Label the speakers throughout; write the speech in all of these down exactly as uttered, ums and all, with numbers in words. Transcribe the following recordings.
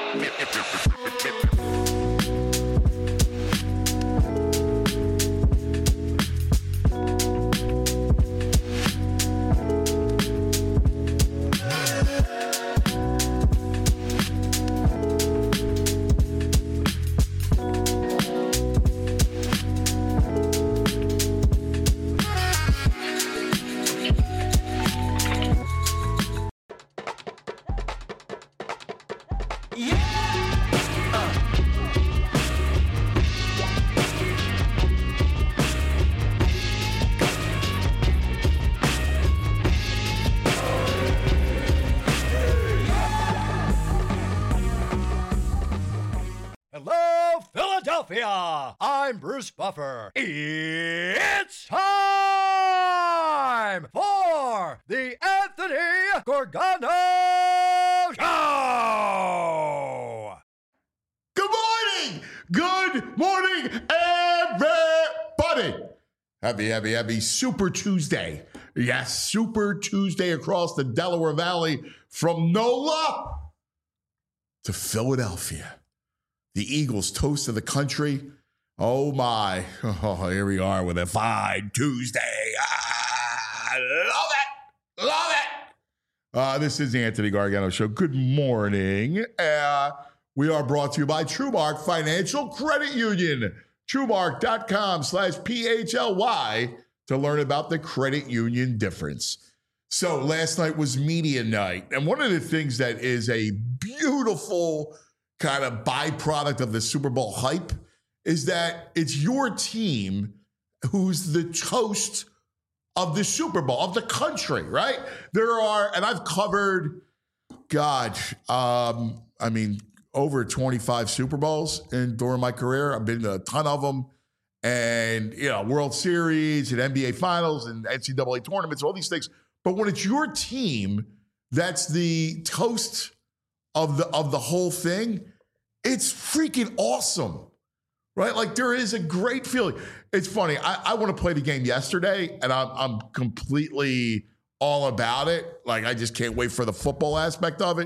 Speaker 1: Hello, Philadelphia! I'm Bruce Buffer. It's time for the Anthony Gorgano Show!
Speaker 2: Good morning! Good morning, everybody! Happy, happy, happy Super Tuesday. Yes, Super Tuesday across the Delaware Valley from NOLA to Philadelphia. The Eagles toast of the country. Oh, my. Oh, here we are with a fine Tuesday. Ah, love it. Love it. Uh, this is the Anthony Gargano Show. Good morning. Uh, we are brought to you by TrueMark Financial Credit Union. TrueMark.com slash P-H-L-Y to learn about the credit union difference. So last night was media night. And one of the things that is a beautiful kind of byproduct of the Super Bowl hype is that it's your team who's the toast of the Super Bowl, of the country, right? There are, and I've covered, God, um, I mean, over twenty-five Super Bowls in during my career. I've been to a ton of them. And, you know, World Series and N B A Finals and N C double A tournaments, all these things. But when it's your team that's the toast of the of the whole thing, it's freaking awesome, right? Like there is a great feeling. It's funny. I, I want to play the game yesterday, and I'm I'm completely all about it. Like I just can't wait for the football aspect of it.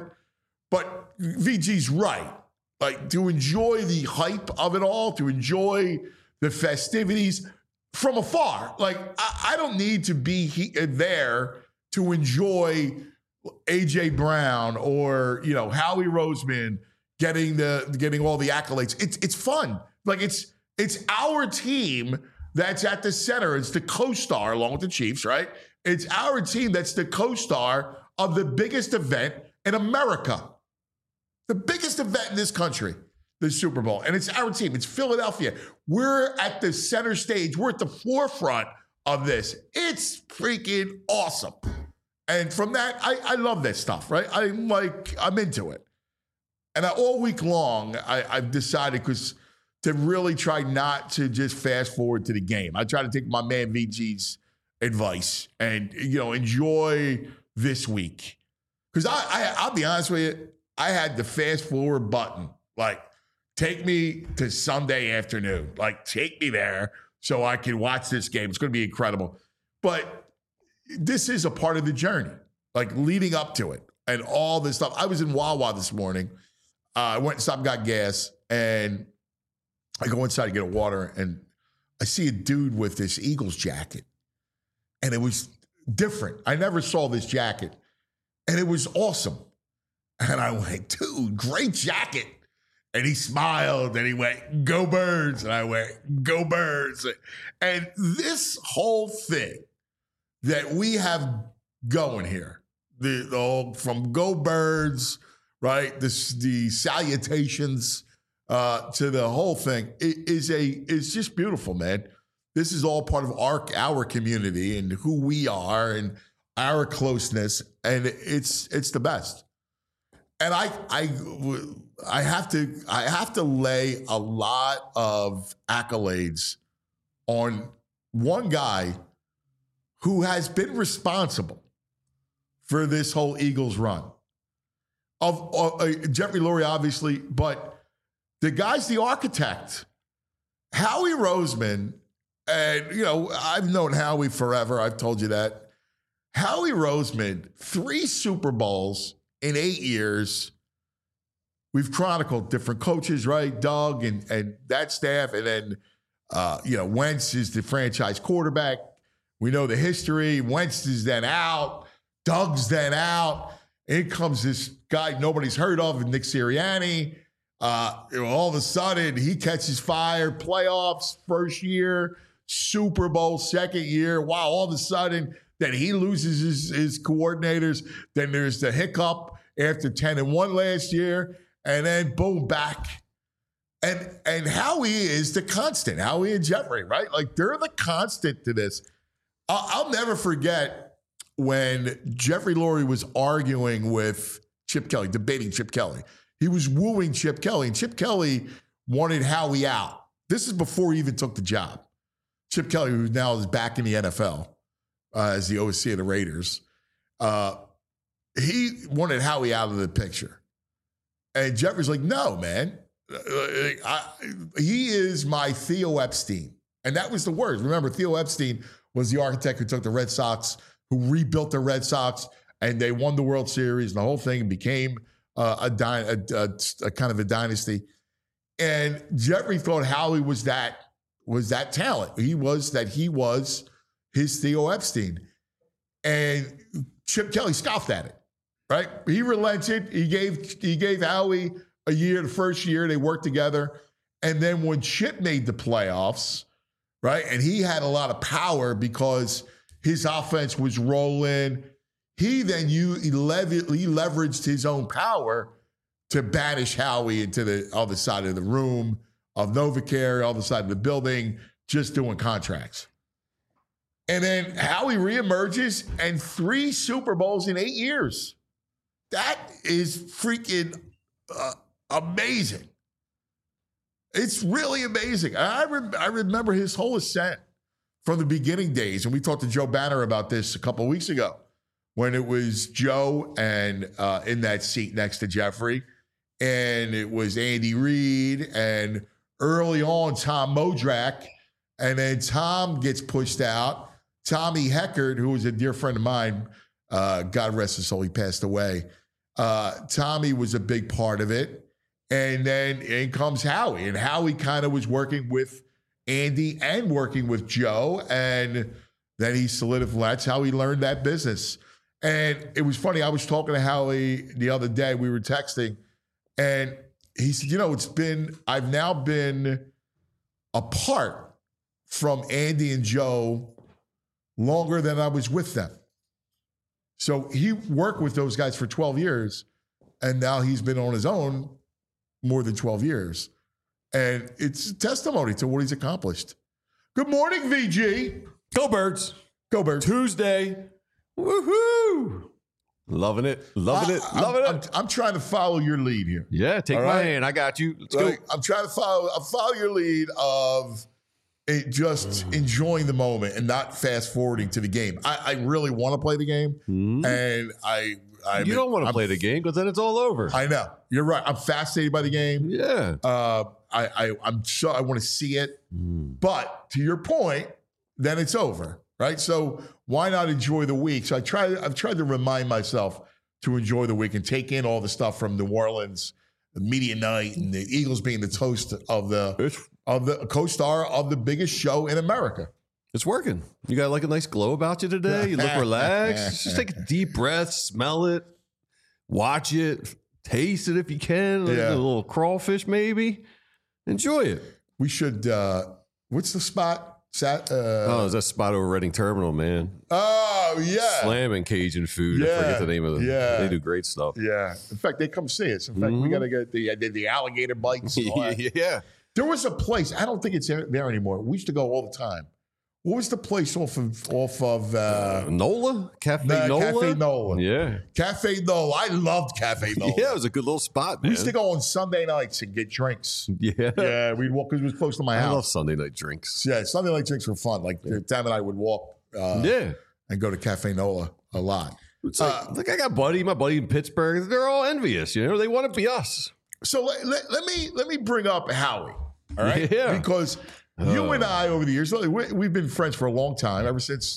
Speaker 2: But V G's right. Like to enjoy the hype of it all, to enjoy the festivities from afar. Like I, I don't need to be he, there to enjoy A J Brown or, you know, Howie Roseman getting the getting all the accolades. It's it's fun. Like it's it's our team that's at the center. It's the co-star along with the Chiefs, right? It's our team that's the co-star of the biggest event in America. The biggest event in this country, the Super Bowl. And it's our team. It's Philadelphia. We're at the center stage. We're at the forefront of this. It's freaking awesome. And from that, I, I love that stuff, right? I'm like, I'm into it. And I, all week long, I, I've decided because to really try not to just fast forward to the game. I try to take my man V G's advice and, you know, enjoy this week. Because I, I, I'll be honest with you, I had the fast forward button. Like, take me to Sunday afternoon. Like, take me there so I can watch this game. It's going to be incredible. But this is a part of the journey, like leading up to it and all this stuff. I was in Wawa this morning. Uh, I went and stopped and got gas, and I go inside to get a water, and I see a dude with this Eagles jacket, and it was different. I never saw this jacket, and it was awesome. And I went, dude, great jacket. And he smiled, and he went, go Birds. And I went, go Birds. And this whole thing that we have going here, the, the whole, from Go Birds, right, this, the salutations uh, to the whole thing, it is a it's just beautiful, man. This is all part of our our community and who we are and our closeness, and it's it's the best. And I I I have to I have to lay a lot of accolades on one guy who has been responsible for this whole Eagles run. Of uh, Jeffrey Lurie, obviously, but the guy's the architect. Howie Roseman, and you know, I've known Howie forever. I've told you that. Howie Roseman, three Super Bowls in eight years, we've chronicled different coaches, right? Doug and, and that staff. And then, uh, you know, Wentz is the franchise quarterback. We know the history. Wentz is then out. Doug's then out. In comes this guy nobody's heard of, Nick Sirianni. Uh, all of a sudden, he catches fire. Playoffs, first year. Super Bowl, second year. Wow, all of a sudden, then he loses his, his coordinators. Then there's the hiccup after ten and one last year. And then, boom, back. And, and Howie is the constant. Howie and Jeffrey, right? Like, they're the constant to this. I'll, I'll never forget when Jeffrey Lurie was arguing with Chip Kelly, debating Chip Kelly. He was wooing Chip Kelly, and Chip Kelly wanted Howie out. This is before he even took the job. Chip Kelly, who now is back in the N F L uh, as the O C of the Raiders, uh, he wanted Howie out of the picture. And Jeffrey's like, no, man. I, he is my Theo Epstein. And that was the word. Remember, Theo Epstein was the architect who took the Red Sox, who rebuilt the Red Sox, and they won the World Series, and the whole thing became uh, a, dy- a, a, a kind of a dynasty. And Jeffrey thought Howie was that was that talent. He was that he was his Theo Epstein. And Chip Kelly scoffed at it, right? He relented. He gave he gave Howie a year, the first year they worked together. And then when Chip made the playoffs, right, and he had a lot of power because his offense was rolling, he then you he, lev- he leveraged his own power to banish Howie into the other side of the room of NovaCare, other side of the building, just doing contracts. And then Howie reemerges and three Super Bowls in eight years. That is freaking uh, amazing. It's really amazing. I, re- I remember his whole ascent from the beginning days. And we talked to Joe Banner about this a couple of weeks ago when it was Joe and uh, in that seat next to Jeffrey. And it was Andy Reid and early on Tom Modrak. And then Tom gets pushed out. Tommy Heckert, who was a dear friend of mine, uh, God rest his soul, he passed away. Uh, Tommy was a big part of it. And then in comes Howie. And Howie kind of was working with Andy and working with Joe. And then he solidified. That's how he learned that business. And it was funny. I was talking to Howie the other day. We were texting. And he said, you know, it's been, I've now been apart from Andy and Joe longer than I was with them. So he worked with those guys for twelve years. And now he's been on his own more than twelve years. And it's a testimony to what he's accomplished. Good morning, V G.
Speaker 3: Go Birds.
Speaker 2: Go Birds.
Speaker 3: Tuesday. Woohoo. Loving it. Loving
Speaker 2: I,
Speaker 3: it. Loving
Speaker 2: I'm,
Speaker 3: it.
Speaker 2: I'm, I'm trying to follow your lead here.
Speaker 3: Yeah, take
Speaker 2: All
Speaker 3: my
Speaker 2: right?
Speaker 3: hand. I got you. Let's
Speaker 2: Like,
Speaker 3: go.
Speaker 2: I'm trying to follow, I follow your lead of it just enjoying the moment and not fast forwarding to the game. I, I really want to play the game.
Speaker 3: Mm-hmm.
Speaker 2: And I, I
Speaker 3: You don't want to play the game because then it's all over.
Speaker 2: I know. You're right. I'm fascinated by the game.
Speaker 3: yeah.
Speaker 2: Uh, I, I, I'm so I want to see it.
Speaker 3: Mm.
Speaker 2: But to your point, then it's over, right? So why not enjoy the week? So I try. I've tried to remind myself to enjoy the week and take in all the stuff from New Orleans, the media night, and the Eagles being the toast of the
Speaker 3: It's,
Speaker 2: of the co-star of the biggest show in America.
Speaker 3: it's working. You got like a nice glow about you today. You look relaxed. Just take a deep breath, smell it, watch it, taste it if you can.
Speaker 2: Yeah.
Speaker 3: A little crawfish maybe. Enjoy it.
Speaker 2: We should. Uh, what's the spot? Sat, uh,
Speaker 3: Oh, is that spot over Reading Terminal, man?
Speaker 2: oh yeah,
Speaker 3: Slamming Cajun food. I
Speaker 2: Yeah,
Speaker 3: forget the name of them.
Speaker 2: yeah.
Speaker 3: They do great stuff.
Speaker 2: yeah. In fact, they come see us. In fact, we
Speaker 3: Mhm.
Speaker 2: got to get the I did the alligator bites. And all that.
Speaker 3: yeah.
Speaker 2: There was a place, I don't think it's there anymore. We used to go all the time. What was the place off of off of uh,
Speaker 3: Uh, Nola? Cafe
Speaker 2: uh,
Speaker 3: Nola?
Speaker 2: Cafe Nola?
Speaker 3: Yeah.
Speaker 2: Cafe Nola. I loved Cafe Nola.
Speaker 3: Yeah, it was a good little spot,
Speaker 2: We
Speaker 3: man.
Speaker 2: used to go on Sunday nights and get drinks.
Speaker 3: Yeah.
Speaker 2: Yeah, we'd walk because it was close to my
Speaker 3: I love
Speaker 2: house.
Speaker 3: Sunday night drinks.
Speaker 2: Yeah, Sunday night drinks were fun. Like Tam and I would walk uh,
Speaker 3: yeah.
Speaker 2: and go to Cafe Nola a lot.
Speaker 3: It's like,
Speaker 2: Uh,
Speaker 3: like I got buddy, my buddy in Pittsburgh. They're all envious, you know. They want to be us.
Speaker 2: So let, let, let me let me bring up Howie, all right?
Speaker 3: Yeah.
Speaker 2: Because you
Speaker 3: Uh.
Speaker 2: and I over the years, we, we've been friends for a long time, ever since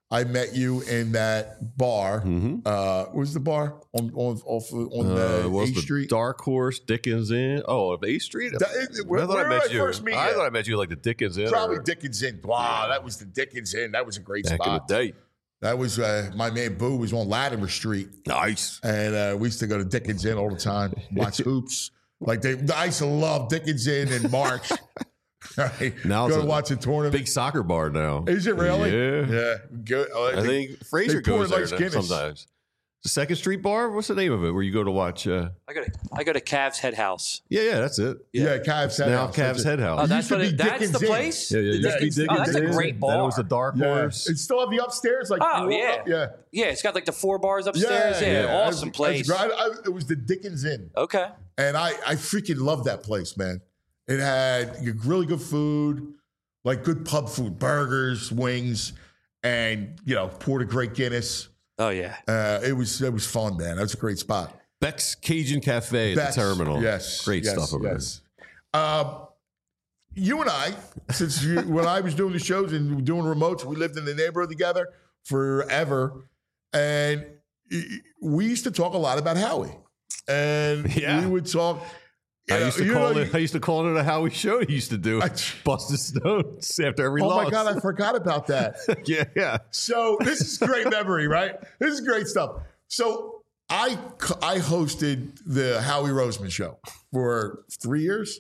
Speaker 2: I met you in that bar.
Speaker 3: Mm-hmm.
Speaker 2: Uh, what was the bar on on off on the
Speaker 3: uh,
Speaker 2: A
Speaker 3: the
Speaker 2: Street?
Speaker 3: Dark Horse Dickens Inn. Oh, of A Street.
Speaker 2: Da- it- where-
Speaker 3: I thought
Speaker 2: where
Speaker 3: I
Speaker 2: did
Speaker 3: met
Speaker 2: I
Speaker 3: you.
Speaker 2: first meet
Speaker 3: I
Speaker 2: you?
Speaker 3: thought I met you like the Dickens Inn.
Speaker 2: Probably
Speaker 3: or
Speaker 2: Dickens Inn. Wow, that was the Dickens Inn. That was a great
Speaker 3: back
Speaker 2: spot.
Speaker 3: in the day.
Speaker 2: That was uh, my man Boo was on Latimer Street,
Speaker 3: Nice.
Speaker 2: and uh, we used to go to Dickens Inn all the time, watch hoops. Like they, I used to love Dickens Inn in March. Right?
Speaker 3: Now
Speaker 2: go
Speaker 3: it's
Speaker 2: to
Speaker 3: a
Speaker 2: watch a tournament.
Speaker 3: Big soccer bar now.
Speaker 2: Is it really?
Speaker 3: Yeah.
Speaker 2: Yeah. Good. Uh,
Speaker 3: I
Speaker 2: they-
Speaker 3: think Fraser
Speaker 2: pour
Speaker 3: goes
Speaker 2: it like
Speaker 3: there
Speaker 2: Guinness.
Speaker 3: sometimes. The Second Street Bar. What's the name of it? Where you go to watch? Uh,
Speaker 4: I go to I go to Cavs Head House.
Speaker 3: yeah, yeah, that's it.
Speaker 2: yeah, Cavs Head
Speaker 3: Now
Speaker 2: House.
Speaker 3: Cavs
Speaker 2: That's it.
Speaker 3: Head House.
Speaker 4: Oh,
Speaker 2: It
Speaker 4: that's
Speaker 2: used to
Speaker 4: what
Speaker 2: be
Speaker 4: it, that's
Speaker 2: Dickens
Speaker 4: the
Speaker 2: Inn.
Speaker 4: place.
Speaker 3: yeah, yeah,
Speaker 4: The
Speaker 3: it used to be
Speaker 4: Dickens- Oh, that's a
Speaker 3: Dickens Inn.
Speaker 4: great bar.
Speaker 3: Then it was the Dark
Speaker 2: Yeah.
Speaker 3: Horse.
Speaker 2: It still have the upstairs. Like
Speaker 4: Oh,
Speaker 2: you walk
Speaker 4: yeah.
Speaker 2: up- yeah.
Speaker 4: Yeah, it's got like the four bars upstairs. Yeah,
Speaker 3: yeah.
Speaker 4: awesome
Speaker 2: That's-
Speaker 4: place.
Speaker 2: that's great. I- I- it was the Dickens Inn.
Speaker 4: Okay.
Speaker 2: And I, I freaking loved that place, man. It had really good food, like good pub food, burgers, wings, and you know, poured a great Guinness.
Speaker 4: Oh yeah.
Speaker 2: Uh, it was it was fun, man. That was a great spot.
Speaker 3: Beck's Cajun Cafe at
Speaker 2: Beck's,
Speaker 3: the terminal.
Speaker 2: Yes,
Speaker 3: Great
Speaker 2: yes,
Speaker 3: stuff over
Speaker 2: yes. Uh, you and I, since you, when I was doing the shows and doing remotes, we lived in the neighborhood together forever, and we used to talk a lot about Howie, and
Speaker 3: Yeah.
Speaker 2: we would talk. you
Speaker 3: I
Speaker 2: know-
Speaker 3: used to
Speaker 2: you
Speaker 3: call
Speaker 2: know,
Speaker 3: it. I used to call it a Howie show. He used to do
Speaker 2: I-
Speaker 3: Busted Stones after every
Speaker 2: Oh
Speaker 3: loss.
Speaker 2: my God, I forgot about that.
Speaker 3: yeah, yeah.
Speaker 2: So this is great memory, right? This is great stuff. So I I hosted the Howie Roseman show for three years,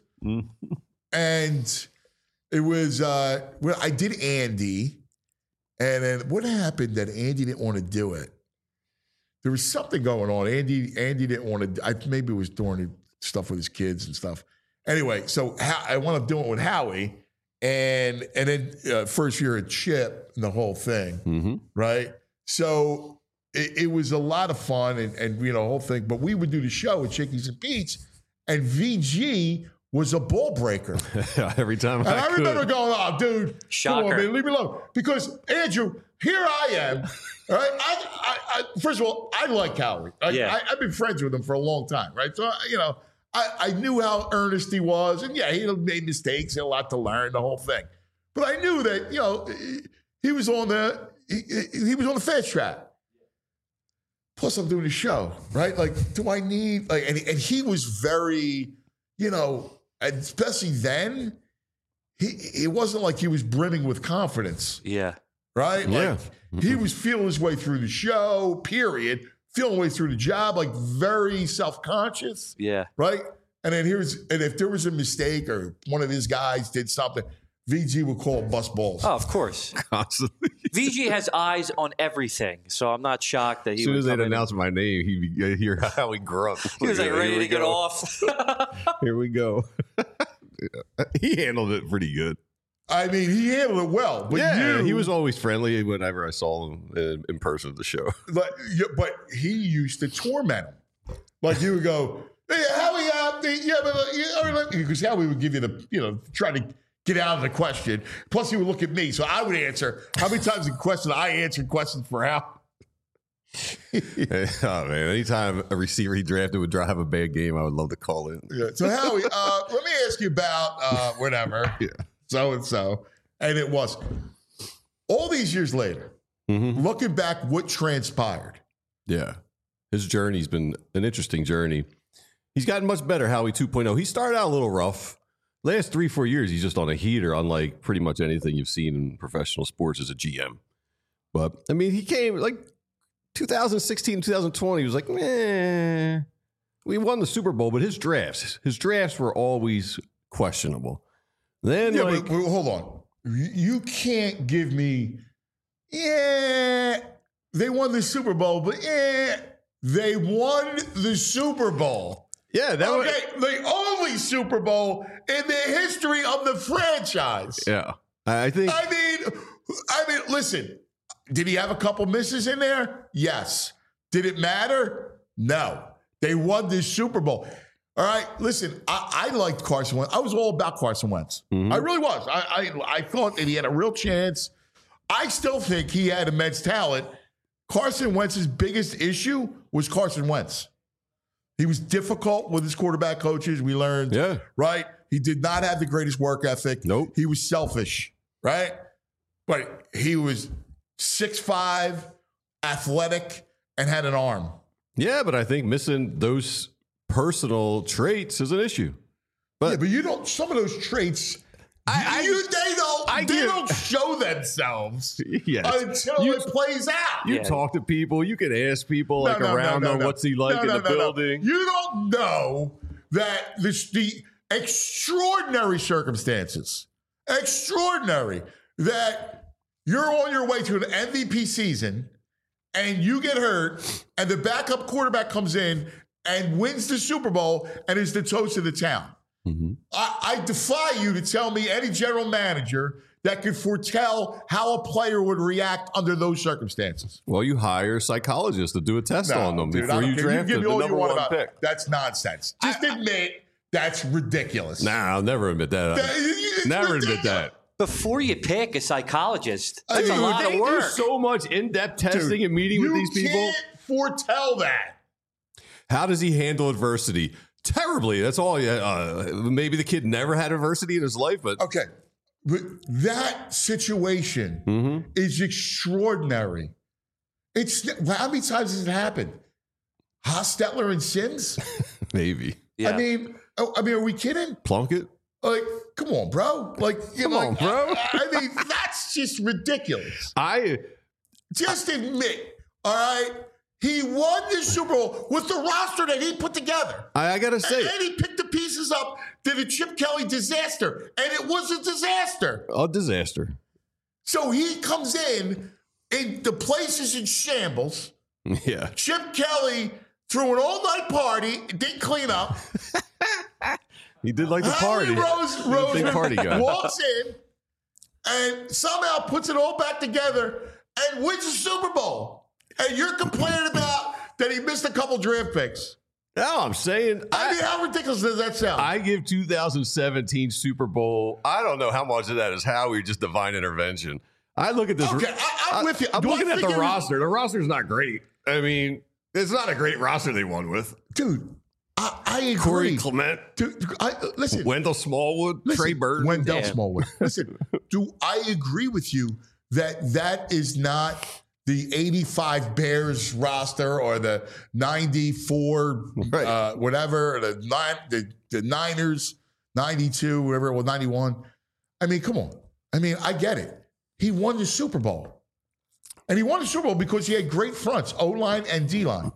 Speaker 2: and it was uh, well, I did Andy, and then what happened that Andy didn't want to do it. There was something going on. Andy Andy didn't want to. I, maybe it was during stuff with his kids and stuff. Anyway, so how, I wound up doing it with Howie, and and then uh, first year at Chip and the whole thing,
Speaker 3: Mm-hmm.
Speaker 2: right? So it, it was a lot of fun and, and you know the whole thing. But we would do the show at Chickies and Pete's, and V G was a ball breaker.
Speaker 3: every time
Speaker 2: And
Speaker 3: I,
Speaker 2: I remember
Speaker 3: could.
Speaker 2: going, "Oh, dude, come
Speaker 4: Shocker.
Speaker 2: on, man, leave me alone." Because Andrew, here I am. All right, I, I, I, first of all, I like Howie. I,
Speaker 4: Yeah.
Speaker 2: I, I've been friends with him for a long time, right? So you know, I, I knew how earnest he was, and yeah, he made mistakes, he had a lot to learn, the whole thing. But I knew that you know he, he was on the he, he was on the fast track. Plus, I'm doing the show, right? Like, do I need like? And, and he was very, you know, especially then. He it wasn't like he was brimming with confidence,
Speaker 4: Yeah.
Speaker 2: right?
Speaker 3: Yeah.
Speaker 2: Like he was feeling his way through the show, period. Feeling his way through the job, like very self-conscious,
Speaker 4: Yeah.
Speaker 2: right? And then here's and if there was a mistake or one of his guys did something, V G would call him bust balls.
Speaker 4: Oh, of course.
Speaker 3: Constantly.
Speaker 4: V G has eyes on everything, so I'm not shocked that he
Speaker 3: As soon
Speaker 4: would
Speaker 3: as they'd
Speaker 4: come in.
Speaker 3: announce my name, he'd hear Howie grunt.
Speaker 4: He was like
Speaker 3: Here
Speaker 4: ready
Speaker 3: we
Speaker 4: to get
Speaker 3: go.
Speaker 4: off.
Speaker 3: Here we go. He handled it pretty good.
Speaker 2: I mean, he handled it well, but
Speaker 3: yeah,
Speaker 2: you,
Speaker 3: he was always friendly whenever I saw him in, in person at the show.
Speaker 2: But, you- but he used to torment him. Like you would go, "Hey, Howie, uh, the- yeah, but uh, yeah, because Howie would give you the, you know, try to get out of the question. Plus, he would look at me, so I would answer. How many times in question I answered questions for Howie?
Speaker 3: Oh man! Anytime a receiver he drafted would drive a bad game, I would love to call in.
Speaker 2: Yeah. So Howie, uh, let me ask you about uh, whatever,
Speaker 3: Yeah.
Speaker 2: so and so, and it was all these years later.
Speaker 3: Mm-hmm.
Speaker 2: Looking back, what transpired?
Speaker 3: Yeah, his journey's been an interesting journey. He's gotten much better. Howie two point oh. He started out a little rough. Last three four years, he's just on a heater, unlike pretty much anything you've seen in professional sports as a G M. But I mean, he came like twenty sixteen, twenty twenty. He was like, meh. We won the Super Bowl, but his drafts, his drafts were always questionable. Then,
Speaker 2: Yeah,
Speaker 3: like,
Speaker 2: but, but hold on. You you can't give me, yeah, they won the Super Bowl, but yeah, they won the Super Bowl.
Speaker 3: yeah, that was,
Speaker 2: Okay, the only Super Bowl in the history of the franchise.
Speaker 3: yeah. I think
Speaker 2: I mean, I mean, listen, did he have a couple misses in there? Yes. Did it matter? No. They won this Super Bowl. All right, listen, I, I liked Carson Wentz. I was all about Carson Wentz.
Speaker 3: Mhm.
Speaker 2: I really was. I, I I thought that he had a real chance. I still think he had immense talent. Carson Wentz's biggest issue was Carson Wentz. He was difficult with his quarterback coaches. We learned,
Speaker 3: yeah.
Speaker 2: right? He did not have the greatest work ethic.
Speaker 3: Nope.
Speaker 2: He was selfish, right? But he was six five, athletic, and had an arm.
Speaker 3: Yeah, but I think missing those personal traits is an issue. But,
Speaker 2: yeah, but you don't. Some of those traits,
Speaker 3: I, I,
Speaker 2: you, they don't.
Speaker 3: I
Speaker 2: they
Speaker 3: give,
Speaker 2: don't show themselves
Speaker 3: yes.
Speaker 2: until
Speaker 3: you,
Speaker 2: it plays out.
Speaker 3: You
Speaker 4: yeah.
Speaker 3: talk to people. You can ask people
Speaker 2: No,
Speaker 3: like
Speaker 2: no,
Speaker 3: around
Speaker 2: no, no,
Speaker 3: on
Speaker 2: no.
Speaker 3: what's he like
Speaker 2: no,
Speaker 3: in
Speaker 2: no,
Speaker 3: the
Speaker 2: no,
Speaker 3: building.
Speaker 2: No. You don't know that this, the extraordinary circumstances, extraordinary that you're on your way to an M V P season and you get hurt and the backup quarterback comes in and wins the Super Bowl and is the toast of the town. Mm-hmm. I, I defy you to tell me any general manager that could foretell how a player would react under those circumstances.
Speaker 3: Well, you hire psychologists to do a test
Speaker 2: No,
Speaker 3: on them
Speaker 2: dude,
Speaker 3: before you draft
Speaker 2: you
Speaker 3: the
Speaker 2: all you
Speaker 3: number
Speaker 2: want
Speaker 3: one
Speaker 2: about,
Speaker 3: pick.
Speaker 2: That's nonsense. Just I, admit that's ridiculous.
Speaker 3: Nah, I'll never admit that.
Speaker 2: that
Speaker 3: never
Speaker 2: ridiculous.
Speaker 3: admit that.
Speaker 4: Before you pick a psychologist, that's
Speaker 2: I mean,
Speaker 4: a lot
Speaker 3: they
Speaker 4: of work.
Speaker 3: do so much in-depth testing
Speaker 2: Dude,
Speaker 3: and meeting with these people.
Speaker 2: You can't foretell that.
Speaker 3: How does he handle adversity? Terribly. That's all. Uh, maybe the kid never had adversity in his life, but
Speaker 2: Okay. But that situation mm-hmm. is extraordinary. It's how many times has it happened? Hostetler and Sims?
Speaker 3: maybe.
Speaker 4: Yeah.
Speaker 2: I mean, oh, I mean, are we kidding?
Speaker 3: Plunkett?
Speaker 2: Like, come on, bro. Like, you
Speaker 3: come
Speaker 2: know,
Speaker 3: on,
Speaker 2: like,
Speaker 3: bro.
Speaker 2: I, I mean, that's just ridiculous.
Speaker 3: I
Speaker 2: just admit, all right, he won the Super Bowl with the roster that he put together.
Speaker 3: I, I gotta say,
Speaker 2: and, and he picked the pieces up to the Chip Kelly disaster, and it was a disaster.
Speaker 3: A disaster.
Speaker 2: So he comes in, and the place is in shambles.
Speaker 3: Yeah.
Speaker 2: Chip Kelly threw an all-night party, didn't clean up.
Speaker 3: He did like the
Speaker 2: Howie
Speaker 3: party.
Speaker 2: Rose,
Speaker 3: He was a big party guy.
Speaker 2: walks in and somehow puts it all back together and wins the Super Bowl. And you're complaining about that he missed a couple draft picks.
Speaker 3: No, I'm saying.
Speaker 2: I,
Speaker 3: I
Speaker 2: mean, how ridiculous does that sound?
Speaker 3: I give two thousand seventeen Super Bowl. I don't know how much of that is Howie just divine intervention. I look at this.
Speaker 2: Okay, I, I'm
Speaker 3: I,
Speaker 2: with you.
Speaker 3: I'm
Speaker 2: Do I
Speaker 3: looking at
Speaker 2: think
Speaker 3: the
Speaker 2: it was-
Speaker 3: roster. The roster's not great. I mean, it's not a great roster they won with.
Speaker 2: Dude, I, I agree.
Speaker 3: Corey Clement,
Speaker 2: Dude, I, listen,
Speaker 3: Wendell Smallwood,
Speaker 2: listen,
Speaker 3: Trey Burton.
Speaker 2: Wendell
Speaker 4: Damn.
Speaker 2: Smallwood. Listen, do I agree with you that that is not the eighty-five Bears roster or the ninety-four,
Speaker 3: Right.
Speaker 2: uh, whatever, the, nine, the the Niners, ninety-two, whatever it was, ninety-one. I mean, come on. I mean, I get it. He won the Super Bowl. And he won the Super Bowl because he had great fronts, O-line and D-line.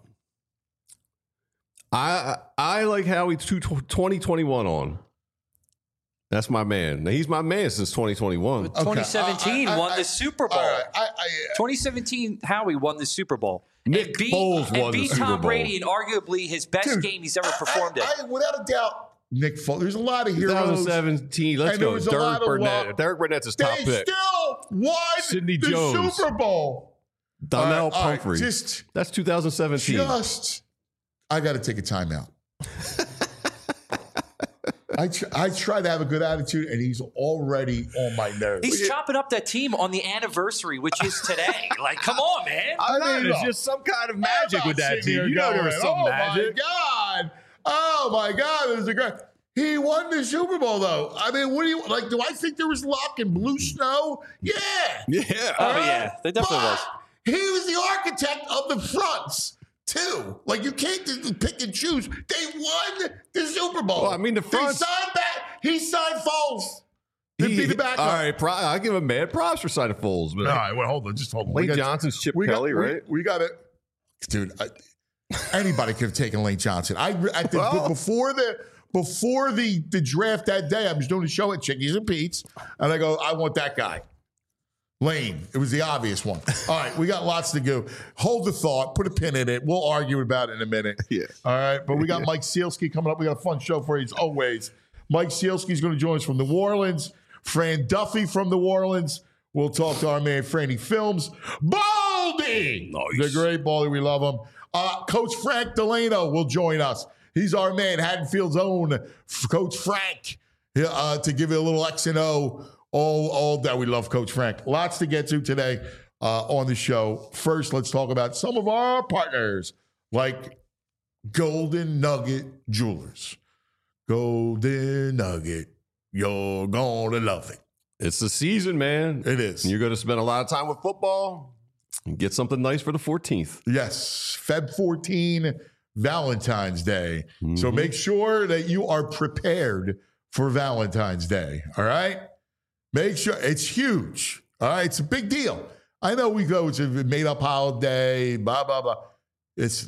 Speaker 3: I I like Howie twenty twenty-one on. That's my man. Now, he's my man since twenty twenty-one.
Speaker 2: Okay.
Speaker 4: twenty seventeen
Speaker 2: I- I-
Speaker 4: won
Speaker 2: I-
Speaker 4: the Super Bowl.
Speaker 2: All right. I, I,
Speaker 4: twenty seventeen, Howie won the Super Bowl.
Speaker 3: Nick
Speaker 4: and beat,
Speaker 3: Foles
Speaker 4: and
Speaker 3: won the
Speaker 4: beat
Speaker 3: Super
Speaker 4: Tom
Speaker 3: Bowl.
Speaker 4: Brady in arguably his best
Speaker 2: Dude,
Speaker 4: game he's ever
Speaker 2: I-
Speaker 4: performed
Speaker 2: I,
Speaker 4: in.
Speaker 2: I, without a doubt, Nick Foles. There's a lot of heroes.
Speaker 3: twenty seventeen. Let's
Speaker 2: And there
Speaker 3: go.
Speaker 2: was a lot
Speaker 3: Derek
Speaker 2: of
Speaker 3: Burnett.
Speaker 2: love.
Speaker 3: Derek Burnett's his top
Speaker 2: They
Speaker 3: pick.
Speaker 2: still won
Speaker 3: Sidney
Speaker 2: the
Speaker 3: Jones.
Speaker 2: Super Bowl.
Speaker 3: Donnell
Speaker 2: All right, all right,
Speaker 3: Pumphrey.
Speaker 2: just,
Speaker 3: That's two thousand seventeen.
Speaker 2: just, I got to take a timeout. I tr- I try to have a good attitude, and he's already on my nerves.
Speaker 4: He's chopping up that team on the anniversary, which is today. Like, come on, man.
Speaker 3: I
Speaker 2: I
Speaker 3: mean,
Speaker 2: mean,
Speaker 3: it's
Speaker 2: look,
Speaker 3: just some kind of
Speaker 2: I'm
Speaker 3: magic
Speaker 2: not
Speaker 3: with that
Speaker 2: sitting
Speaker 3: team.
Speaker 2: here
Speaker 3: You know there was
Speaker 2: going,
Speaker 3: some
Speaker 2: oh
Speaker 3: magic.
Speaker 2: my God. Oh my God. It was a great. He won the Super Bowl, though. I mean, what do you like? Do I think there was luck and blue snow? Yeah.
Speaker 3: Yeah.
Speaker 4: Oh, yeah. There definitely
Speaker 2: But
Speaker 4: was.
Speaker 2: He was the architect of the fronts, too. Like, you can't just pick and choose. They won the Super Bowl.
Speaker 3: Well, I mean, the fronts-
Speaker 2: They signed back. He signed Foles to
Speaker 3: He-
Speaker 2: be the backup.
Speaker 3: All right, pro- I give him mad props for signing Foles, but
Speaker 2: All right, well, hold on. Just hold on. We
Speaker 3: Lane
Speaker 2: got-
Speaker 3: Johnson's Chip
Speaker 2: we got-
Speaker 3: Kelly,
Speaker 2: we-
Speaker 3: right?
Speaker 2: We, got it. Dude, I, anybody could have taken Lane Johnson. I at the,
Speaker 3: Well-
Speaker 2: before the before the, the draft that day, I was doing a show at Chickies and Pete's, and I go, I want that guy. Lane. It was the obvious one. All right, we got lots to go. Hold the thought. Put a pin in it. We'll argue about it in a minute.
Speaker 3: Yeah.
Speaker 2: All right, but we got Mike Sealski coming up. We got a fun show for you as always. Mike Sealski is going to join us from New Orleans. Fran Duffy from New Orleans. We'll talk to our man Franny Films. Baldy!
Speaker 3: Nice.
Speaker 2: The great Baldy. We love him. Uh, Coach Frank Delano will join us. He's our man, Haddonfield's own Coach Frank, uh, to give you a little X and O. All, all that. We love Coach Frank. Lots to get to today uh, on the show. First, let's talk about some of our partners, like Golden Nugget Jewelers. Golden Nugget, you're gonna love it.
Speaker 3: It's the season, man.
Speaker 2: It is.
Speaker 3: And you're going to spend a lot of time with football and get something nice for the fourteenth.
Speaker 2: Yes, February fourteenth, Valentine's Day. Mm-hmm. So make sure that you are prepared for Valentine's Day, all right? Make sure. It's huge, all right? It's a big deal. I know we go, it's a made-up holiday, blah, blah, blah. It's,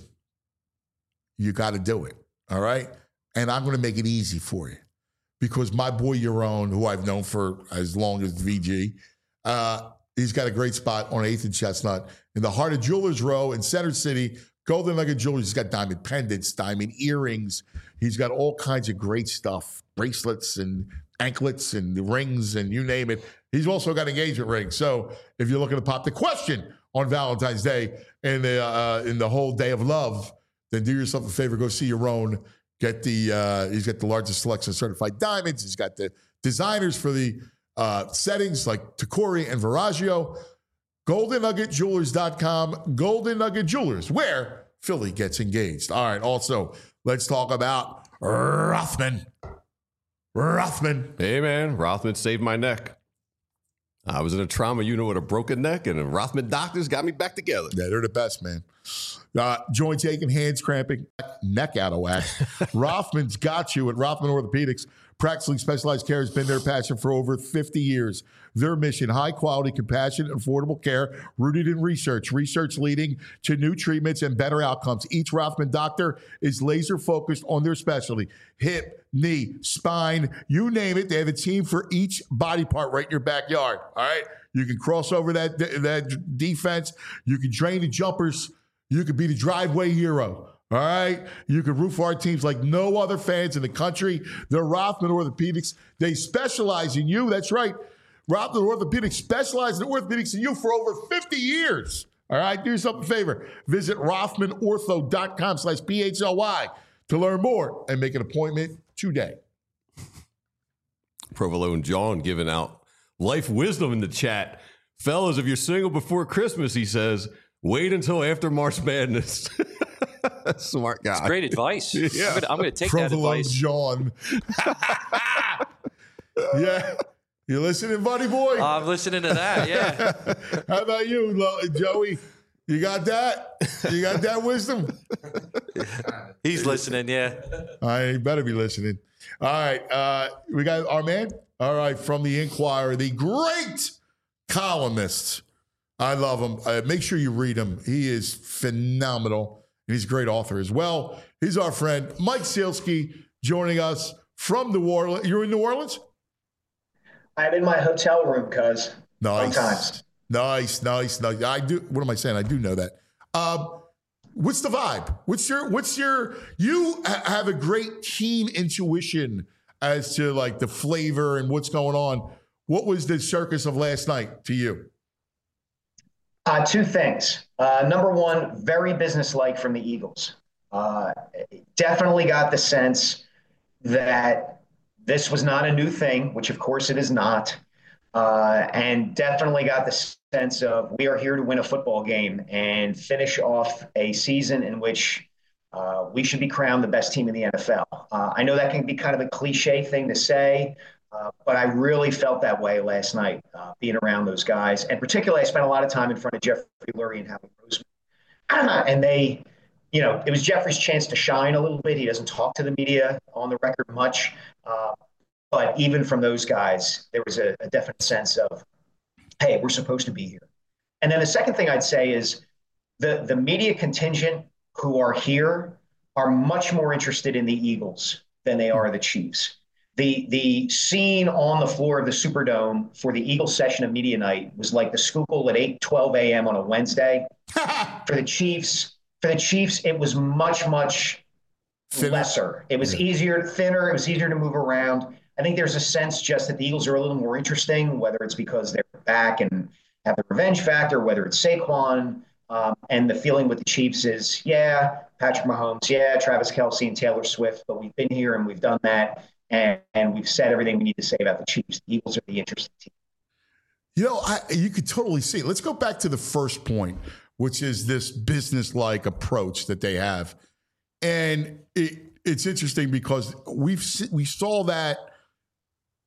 Speaker 2: you got to do it, all right? And I'm going to make it easy for you because my boy Yaron, who I've known for as long as V G, uh, he's got a great spot on eighth and Chestnut in the heart of Jewelers Row in Center City. Golden Nugget Jewelers. He's got diamond pendants, diamond earrings. He's got all kinds of great stuff, bracelets and anklets and rings and you name it. He's also got engagement rings. So if you're looking to pop the question on Valentine's Day and the, uh, in the whole day of love, then do yourself a favor. Go see your own. Get the, uh, he's got the largest selection of certified diamonds. He's got the designers for the uh, settings like Tacori and Viraggio. golden nugget jewelers dot com. Golden Nugget Jewelers, where Philly gets engaged. All right. Also, let's talk about Rothman. Rothman.
Speaker 3: Hey, man. Rothman saved my neck. I was in a trauma unit with a broken neck, and the Rothman doctors got me back together.
Speaker 2: Yeah, they're the best, man. Uh, joints aching, hands cramping, neck out of whack. Rothman's got you at Rothman Orthopedics. Practicing specialized care has been their passion for over fifty years. Their mission, high-quality, compassionate, affordable care rooted in research. Research leading to new treatments and better outcomes. Each Rothman doctor is laser-focused on their specialty. Hip, knee, spine, you name it. They have a team for each body part right in your backyard, all right? You can cross over that, that defense. You can drain the jumpers. You could be the driveway hero. All right. You can root for our teams like no other fans in the country. They're Rothman Orthopedics. They specialize in you. That's right. Rothman Orthopedics specializes in orthopedics in you for over fifty years. All right. Do yourself a favor. Visit rothman ortho dot com slash P H L Y to learn more and make an appointment today.
Speaker 3: Provolone John giving out life wisdom in the chat. Fellas, if you're single before Christmas, he says, wait until after March Madness. Smart guy.
Speaker 4: It's great advice.
Speaker 3: Yeah.
Speaker 4: I'm going to take
Speaker 2: Provolone
Speaker 4: that advice.
Speaker 2: John. Yeah. You listening, buddy boy?
Speaker 4: I'm listening to that, yeah.
Speaker 2: How about you, Lo- Joey? You got that? You got that wisdom?
Speaker 4: He's listening, yeah.
Speaker 2: I better be listening. All right. Uh, we got our man. All right. From the Inquirer, the great columnist. I love him. Uh, make sure you read him. He is phenomenal. And he's a great author as well. He's our friend, Mike Sielski, joining us from New Orleans. You're in New Orleans?
Speaker 5: I'm in my hotel room, cuz.
Speaker 2: Nice.
Speaker 5: Sometimes.
Speaker 2: Nice, nice, nice. I do. What am I saying? I do know that. Um, what's the vibe? What's your, what's your, you ha- have a great keen intuition as to like the flavor and what's going on. What was the circus of last night to you?
Speaker 5: Uh, two things. Uh, number one, very businesslike from the Eagles. Uh, definitely got the sense that this was not a new thing, which of course it is not. Uh, and definitely got the sense of we are here to win a football game and finish off a season in which uh, we should be crowned the best team in the N F L. Uh, I know that can be kind of a cliche thing to say, uh, but I really felt that way last night, uh, being around those guys. And particularly, I spent a lot of time in front of Jeffrey Lurie and Howie Roseman. And they, you know, it was Jeffrey's chance to shine a little bit. He doesn't talk to the media on the record much. Uh, but even from those guys, there was a, a definite sense of, hey, we're supposed to be here. And then the second thing I'd say is the, the media contingent who are here are much more interested in the Eagles than they are the Chiefs. The the scene on the floor of the Superdome for the Eagles session of media night was like the Schuylkill at eight twelve a.m. on a Wednesday. For the Chiefs, for the Chiefs, it was much, much thinner. lesser. It was yeah. easier, thinner. It was easier to move around. I think there's a sense just that the Eagles are a little more interesting, whether it's because they're back and have the revenge factor, whether it's Saquon. Um, and the feeling with the Chiefs is, yeah, Patrick Mahomes, yeah, Travis Kelce and Taylor Swift, but we've been here and we've done that. And, and we've said everything we need to say about the Chiefs. The Eagles are the interesting team.
Speaker 2: You know, I, you could totally see it. Let's go back to the first point, which is this business-like approach that they have. And it, it's interesting because we've we saw that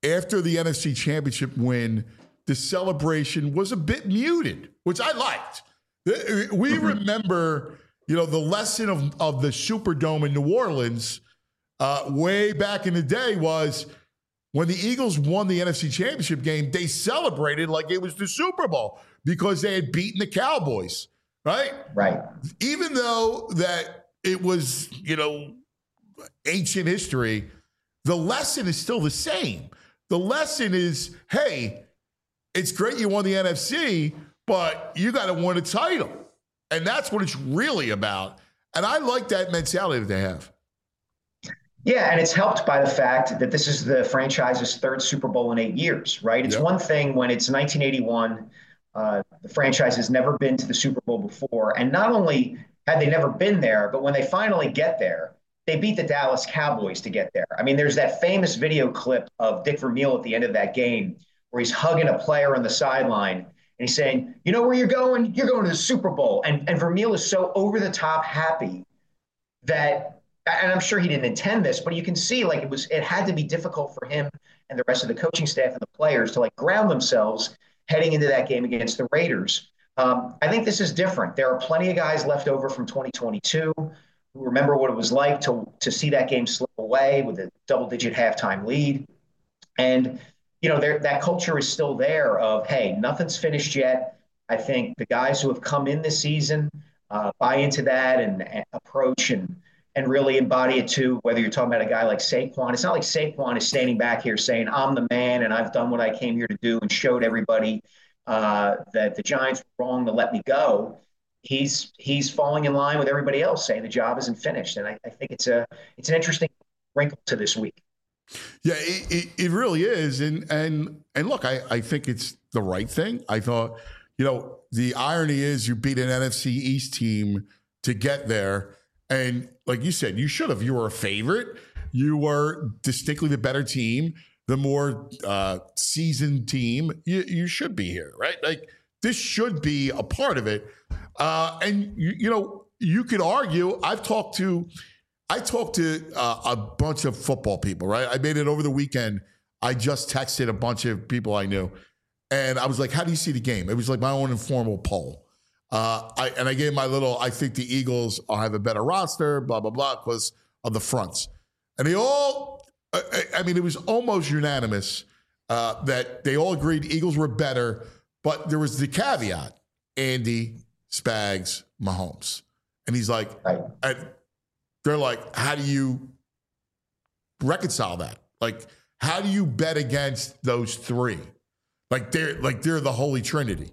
Speaker 2: after the N F C Championship win, the celebration was a bit muted, which I liked. We mm-hmm. remember, you know, the lesson of, of the Superdome in New Orleans uh, way back in the day was when the Eagles won the N F C Championship game, they celebrated like it was the Super Bowl because they had beaten the Cowboys, right?
Speaker 5: Right.
Speaker 2: Even though that it was, you know, ancient history, the lesson is still the same. The lesson is, hey, it's great you won the N F C, but you got to win a title. And that's what it's really about. And I like that mentality that they have.
Speaker 5: Yeah, and it's helped by the fact that this is the franchise's third Super Bowl in eight years, right? It's yep. one thing when it's nineteen eighty-one, uh, the franchise has never been to the Super Bowl before. And not only had they never been there, but when they finally get there, they beat the Dallas Cowboys to get there. I mean, there's that famous video clip of Dick Vermeil at the end of that game where he's hugging a player on the sideline and he's saying, you know where you're going? You're going to the Super Bowl. And, and Vermeil is so over the top happy that, and I'm sure he didn't intend this, but you can see like it was, it had to be difficult for him and the rest of the coaching staff and the players to like ground themselves heading into that game against the Raiders. Um, I think this is different. There are plenty of guys left over from twenty twenty-two who remember what it was like to, to see that game slip away with a double-digit halftime lead. And, you know, there, that culture is still there of, hey, nothing's finished yet. I think the guys who have come in this season uh, buy into that and, and approach and and really embody it too, whether you're talking about a guy like Saquon. It's not like Saquon is standing back here saying, I'm the man and I've done what I came here to do and showed everybody uh, that the Giants were wrong to let me go. He's he's falling in line with everybody else saying the job isn't finished. And I, I think it's a it's an interesting wrinkle to this week.
Speaker 2: Yeah, it, it, it really is. And and and look, I, I think it's the right thing. I thought, you know, the irony is you beat an N F C East team to get there. And like you said, you should have. You were a favorite. You were distinctly the better team, the more uh, seasoned team. You, you should be here, right? Like this should be a part of it. Uh, and you, you know, you could argue. I've talked to, I talked to uh, a bunch of football people, right? I made it over the weekend. I just texted a bunch of people I knew, and I was like, "How do you see the game?" It was like my own informal poll. Uh, I, and I gave my little, I think the Eagles will have a better roster, blah, blah, blah, because of the fronts. And they all, I, I mean, it was almost unanimous uh, that they all agreed Eagles were better, but there was the caveat, Andy, Spags, Mahomes. And he's like, right. and they're like, how do you reconcile that? Like, how do you bet against those three? Like they're like they're the Holy Trinity.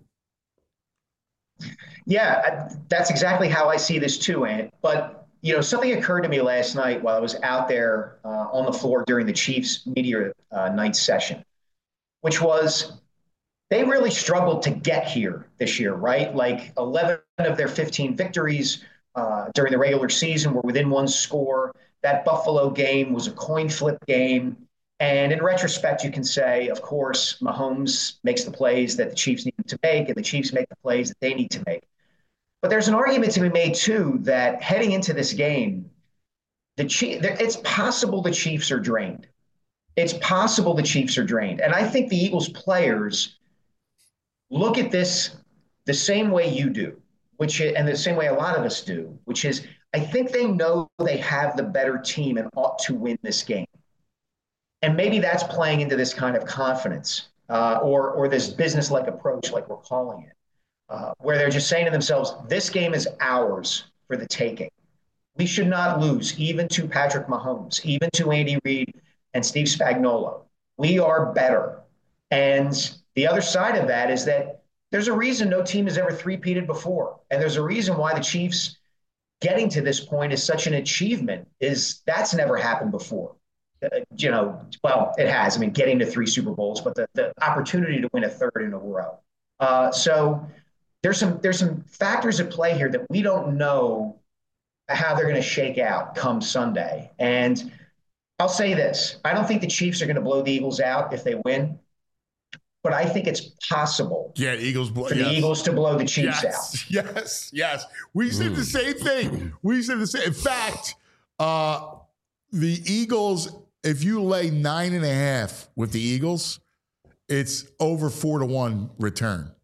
Speaker 5: Yeah, that's exactly how I see this too, Ant. But, you know, something occurred to me last night while I was out there uh, on the floor during the Chiefs media uh, night session, which was they really struggled to get here this year, right? Like eleven of their fifteen victories uh, during the regular season were within one score. That Buffalo game was a coin flip game. And in retrospect, you can say, of course, Mahomes makes the plays that the Chiefs need to make, and the Chiefs make the plays that they need to make. But there's an argument to be made, too, that heading into this game, the Chief, it's possible the Chiefs are drained. It's possible the Chiefs are drained. And I think the Eagles players look at this the same way you do, which is, and the same way a lot of us do, which is I think they know they have the better team and ought to win this game. And maybe that's playing into this kind of confidence uh, or or this business-like approach, like we're calling it, uh, where they're just saying to themselves, this game is ours for the taking. We should not lose, even to Patrick Mahomes, even to Andy Reid and Steve Spagnuolo. We are better. And the other side of that is that there's a reason no team has ever three-peated before. And there's a reason why the Chiefs getting to this point is such an achievement, is that's never happened before. Uh, you know, well, it has. I mean, getting to three Super Bowls, but the, the opportunity to win a third in a row. Uh, so there's some there's some factors at play here that we don't know how they're going to shake out come Sunday. And I'll say this. I don't think the Chiefs are going to blow the Eagles out if they win, but I think it's possible
Speaker 2: yeah, Eagles blow,
Speaker 5: for the
Speaker 2: yes.
Speaker 5: Eagles to blow the Chiefs
Speaker 2: yes,
Speaker 5: out.
Speaker 2: Yes, yes. We said the same thing. We said the same. In fact, uh, the Eagles if you lay nine and a half with the Eagles, it's over four to one return.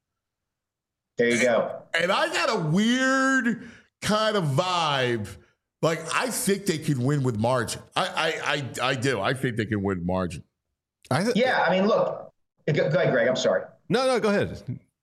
Speaker 5: There you go.
Speaker 2: And I got a weird kind of vibe. Like, I think they could win with margin. I I I, I do. I think they can win margin.
Speaker 3: I th-
Speaker 5: Yeah, I mean, look. Go ahead, Greg. I'm sorry.
Speaker 3: No, no, go ahead.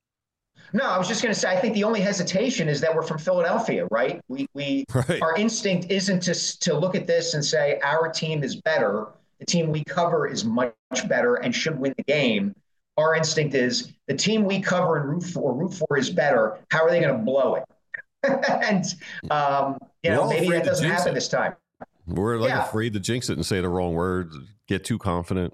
Speaker 5: No, I was just going to say, I think the only hesitation is that we're from Philadelphia, right? We, we,
Speaker 3: Right.
Speaker 5: Our instinct isn't to, to look at this and say our team is better. The team we cover is much better and should win the game. Our instinct is the team we cover and root for, root for is better. How are they going to blow it? and, um, you
Speaker 3: We're
Speaker 5: know,
Speaker 3: all
Speaker 5: maybe
Speaker 3: afraid
Speaker 5: that
Speaker 3: to
Speaker 5: doesn't
Speaker 3: jinx
Speaker 5: happen
Speaker 3: it.
Speaker 5: this time.
Speaker 3: We're like
Speaker 5: Yeah.
Speaker 3: afraid to jinx it and say the wrong words, get too confident.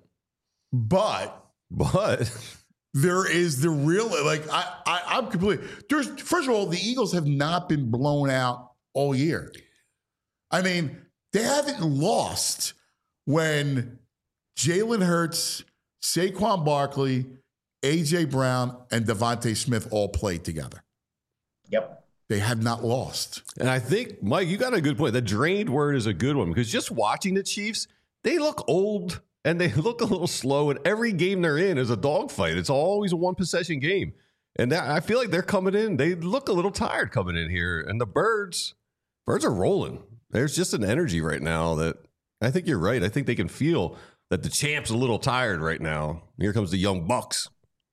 Speaker 2: But
Speaker 3: But
Speaker 2: there is the real, like, I, I, I'm completely, there's, first of all, the Eagles have not been blown out all year. I mean, they haven't lost when Jalen Hurts, Saquon Barkley, A J Brown, and Devontae Smith all played together.
Speaker 5: Yep.
Speaker 2: They have not lost.
Speaker 3: And I think, Mike, you got a good point. The drained word is a good one because just watching the Chiefs, they look old and they look a little slow. And every game they're in is a dogfight. It's always a one possession game. And that, I feel like they're coming in. They look a little tired coming in here. And the birds, birds are rolling. There's just an energy right now that I think you're right. I think they can feel that the champ's a little tired right now. Here comes the young Bucks.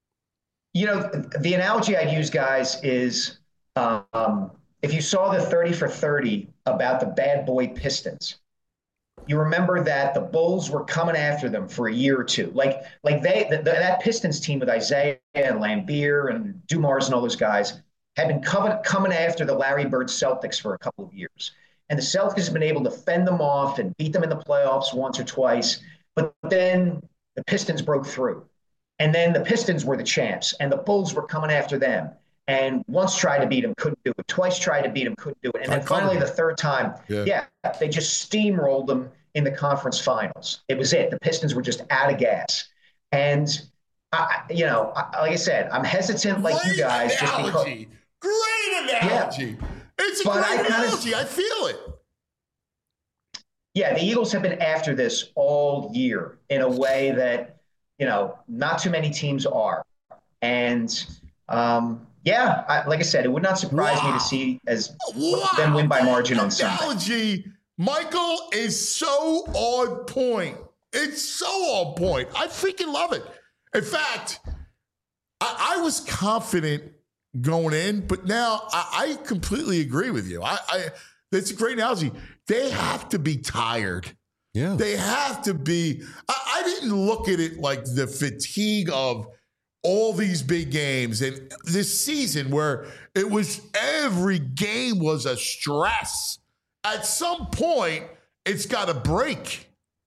Speaker 5: You know, the analogy I'd use, guys, is um, if you saw the thirty for thirty about the bad boy Pistons, you remember that the Bulls were coming after them for a year or two. Like, like they the, the, that Pistons team with Isaiah and Lambeer and Dumars and all those guys had been coming, coming after the Larry Bird Celtics for a couple of years. And the Celtics have been able to fend them off and beat them in the playoffs once or twice. But then the Pistons broke through. And then the Pistons were the champs, and the Bulls were coming after them. And once tried to beat him, couldn't do it. Twice tried to beat him, couldn't do it. And then finally, the third time,
Speaker 2: Yeah.
Speaker 5: yeah, they just steamrolled them in the conference finals. It was it. The Pistons were just out of gas. And, I, you know, I, like I said, I'm hesitant like
Speaker 2: Great
Speaker 5: you guys. Just because,
Speaker 2: analogy. Great analogy. It's a
Speaker 5: But
Speaker 2: great
Speaker 5: I kinda-
Speaker 2: analogy. I feel it.
Speaker 5: yeah, the Eagles have been after this all year in a way that, you know, not too many teams are. And, um, yeah, I, like I said, it would not surprise
Speaker 2: Wow.
Speaker 5: me to see as
Speaker 2: Wow.
Speaker 5: them win by margin on Sunday.
Speaker 2: Analogy, Michael, is so on point. It's so on point. I freaking love it. In fact, I, I was confident going in, but now I, I completely agree with you. I, I it's a great analogy. They have to be tired.
Speaker 3: Yeah.
Speaker 2: They have to be. I, I didn't look at it like the fatigue of all these big games and this season where it was every game was a stress. At some point, it's got to break.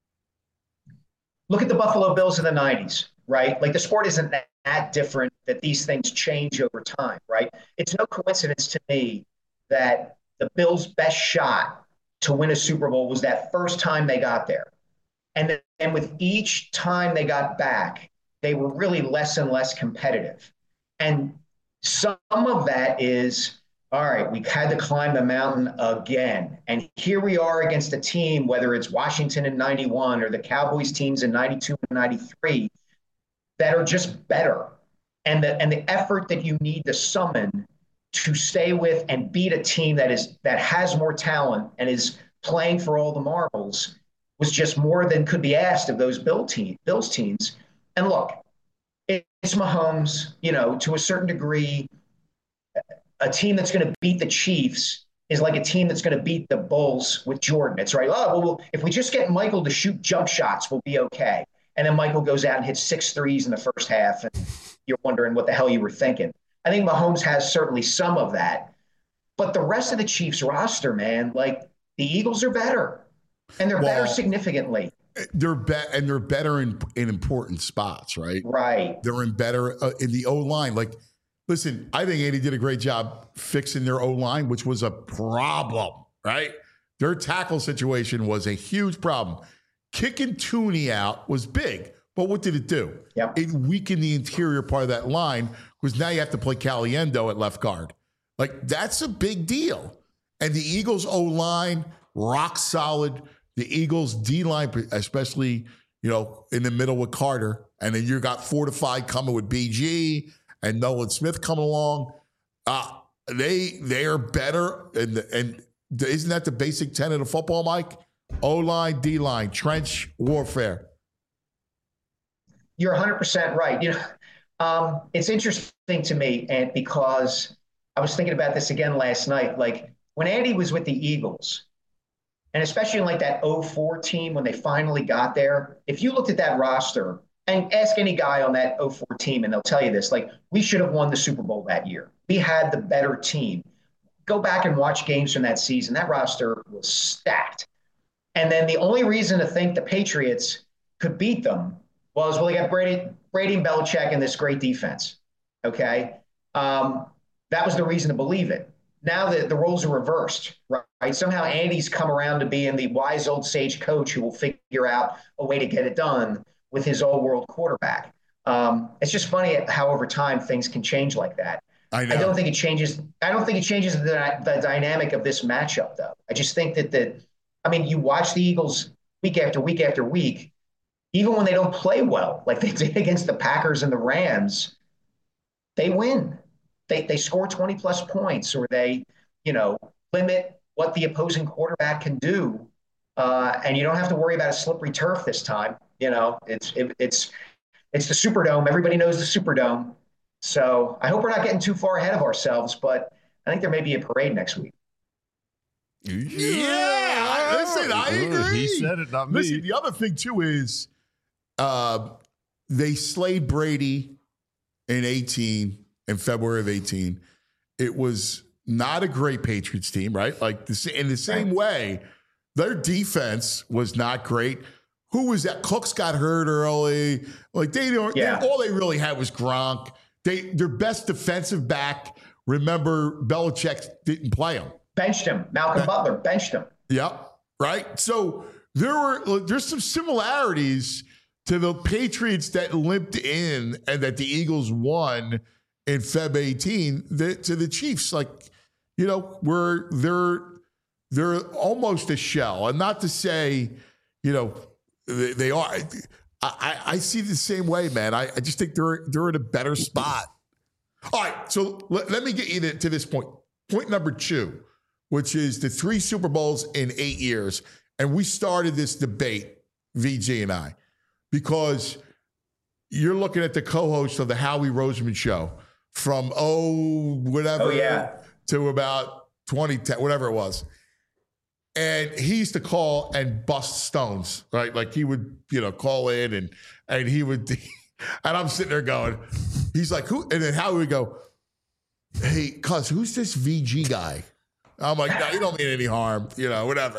Speaker 5: Look at the Buffalo Bills in the nineties, right? Like the sport isn't that, that different, that these things change over time, right? It's no coincidence to me that the Bills' best shot to win a Super Bowl was that first time they got there. And then and with each time they got back, they were really less and less competitive. And some of that is, all right, we had to climb the mountain again. And here we are against a team, whether it's Washington in ninety-one or the Cowboys teams in ninety-two and ninety-three, that are just better. And the, and the effort that you need to summon to stay with and beat a team that is that has more talent and is playing for all the marbles was just more than could be asked of those Bill team, Bills teams. And look, it's Mahomes, you know, to a certain degree, a team that's going to beat the Chiefs is like a team that's going to beat the Bulls with Jordan. It's right. Oh, well, if we just get Michael to shoot jump shots, we'll be okay. And then Michael goes out and hits six threes in the first half, and you're wondering what the hell you were thinking. I think Mahomes has certainly some of that. But the rest of the Chiefs roster, man, like the Eagles are better. And they're
Speaker 2: Well,
Speaker 5: better significantly.
Speaker 2: They're be- and they're better in in important spots, right?
Speaker 5: Right.
Speaker 2: They're in better uh, in the O line. Like, listen, I think Andy did a great job fixing their O line, which was a problem, right? Their tackle situation was a huge problem. Kicking Tooney out was big, but what did it do?
Speaker 5: Yep.
Speaker 2: It weakened the interior part of that line because now you have to play Caliendo at left guard. Like, that's a big deal. And the Eagles' O line, rock solid. the Eagles D-line, especially, you know, in the middle with Carter, and then you got fortified coming with B G and Nolan Smith coming along. Uh, they they are better, and and isn't that the basic tenet of football, Mike? O-line, D-line, trench warfare.
Speaker 5: You're one hundred percent right. You know, um, it's interesting to me, and because I was thinking about this again last night. Like when Andy was with the Eagles, and especially in like that oh four team when they finally got there, if you looked at that roster and ask any guy on that oh four team, and they'll tell you this, like, we should have won the Super Bowl that year. We had the better team. Go back and watch games from that season. That roster was stacked. And then the only reason to think the Patriots could beat them was, well, they got Brady, Brady and Belichick and this great defense. Okay. Um, that was the reason to believe it. Now the, the roles are reversed, right? Somehow Andy's come around to being the wise old sage coach who will figure out a way to get it done with his all-world quarterback. Um, it's just funny how over time things can change like that.
Speaker 2: I, know.
Speaker 5: I don't think it changes. I don't think it changes the, the dynamic of this matchup, though. I just think that the, I mean, you watch the Eagles week after week after week, even when they don't play well, like they did against the Packers and the Rams, they win. They they score twenty plus points, or they, you know, limit what the opposing quarterback can do, uh, and you don't have to worry about a slippery turf this time. You know, it's it, it's it's the Superdome. Everybody knows the Superdome. So I hope we're not getting too far ahead of ourselves, but I think there may be a parade next week.
Speaker 2: Yeah, listen, I agree.
Speaker 3: He said it, not me.
Speaker 2: Listen, the other thing too is, uh, they slayed Brady in eighteen, in February of eighteen. It was not a great Patriots team, right? Like this, in the same way, their defense was not great. Who was that? Cooks got hurt early. Like they don't.
Speaker 5: Yeah.
Speaker 2: They, all they really had was Gronk. They their best defensive back. Remember, Belichick didn't play him.
Speaker 5: Benched him. Malcolm uh, Butler benched him.
Speaker 2: Yeah, right. So there were there's some similarities to the Patriots that limped in and that the Eagles won in February eighteen the, to the Chiefs. Like, you know, where they're they're almost a shell, and not to say, you know, they, they are. I, I see the same way, man. I, I just think they're they're in a better spot. All right, so let, let me get you to, to this point. Point number two, which is the three Super Bowls in eight years. And we started this debate, V G and I, because you're looking at the co-host of the Howie Roseman show from, oh, whatever,
Speaker 5: oh, yeah.
Speaker 2: to about twenty ten, whatever it was. And he used to call and bust stones, right? Like he would, you know, call in and and he would, and I'm sitting there going, he's like, who? And then Howie would go, hey, cuz, who's this V G guy? I'm like, no, you don't mean any harm, you know, whatever.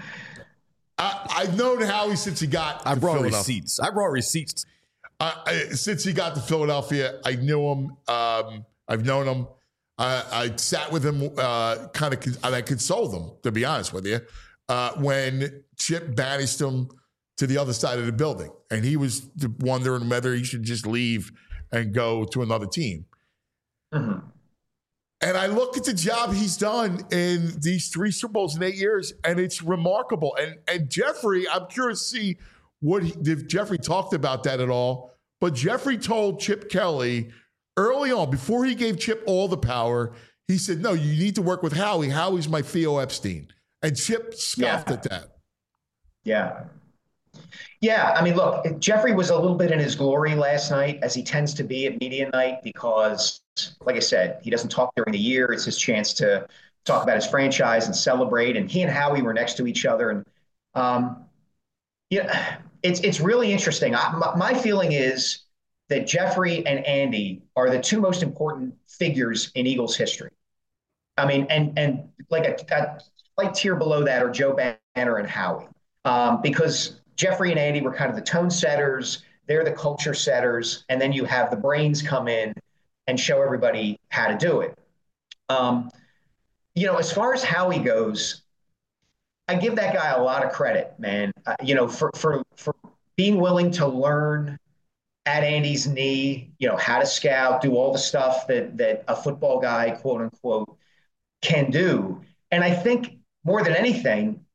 Speaker 2: I, I've known Howie since he got
Speaker 3: I
Speaker 2: to
Speaker 3: brought
Speaker 2: Philadelphia.
Speaker 3: receipts. I brought receipts.
Speaker 2: I, I, since he got to Philadelphia, I knew him. Um, I've known him. I, I sat with him, uh, kind of, and I consoled him, to be honest with you, uh, when Chip banished him to the other side of the building. And he was wondering whether he should just leave and go to another team.
Speaker 5: Mm-hmm.
Speaker 2: And I look at the job he's done in these three Super Bowls in eight years, and it's remarkable. And and Jeffrey, I'm curious to see what he, if Jeffrey talked about that at all. But Jeffrey told Chip Kelly early on, before he gave Chip all the power, he said, no, you need to work with Howie. Howie's my Theo Epstein. And Chip scoffed
Speaker 5: yeah.
Speaker 2: at that.
Speaker 5: Yeah. Yeah, I mean, look, Jeffrey was a little bit in his glory last night, as he tends to be at media night, because, like I said, he doesn't talk during the year. It's his chance to talk about his franchise and celebrate. And he and Howie were next to each other. And, um, yeah, it's it's really interesting. I, my, my feeling is that Jeffrey and Andy are the two most important figures in Eagles history. I mean, and and like a, a slight tier below that are Joe Banner and Howie, um, because Jeffrey and Andy were kind of the tone setters. They're the culture setters. And then you have the brains come in and show everybody how to do it. Um, you know, as far as Howie goes, I give that guy a lot of credit, man. Uh, you know, for, for, for being willing to learn at Andy's knee, you know, how to scout, do all the stuff that, that a football guy, quote unquote, can do. And I think more than anything,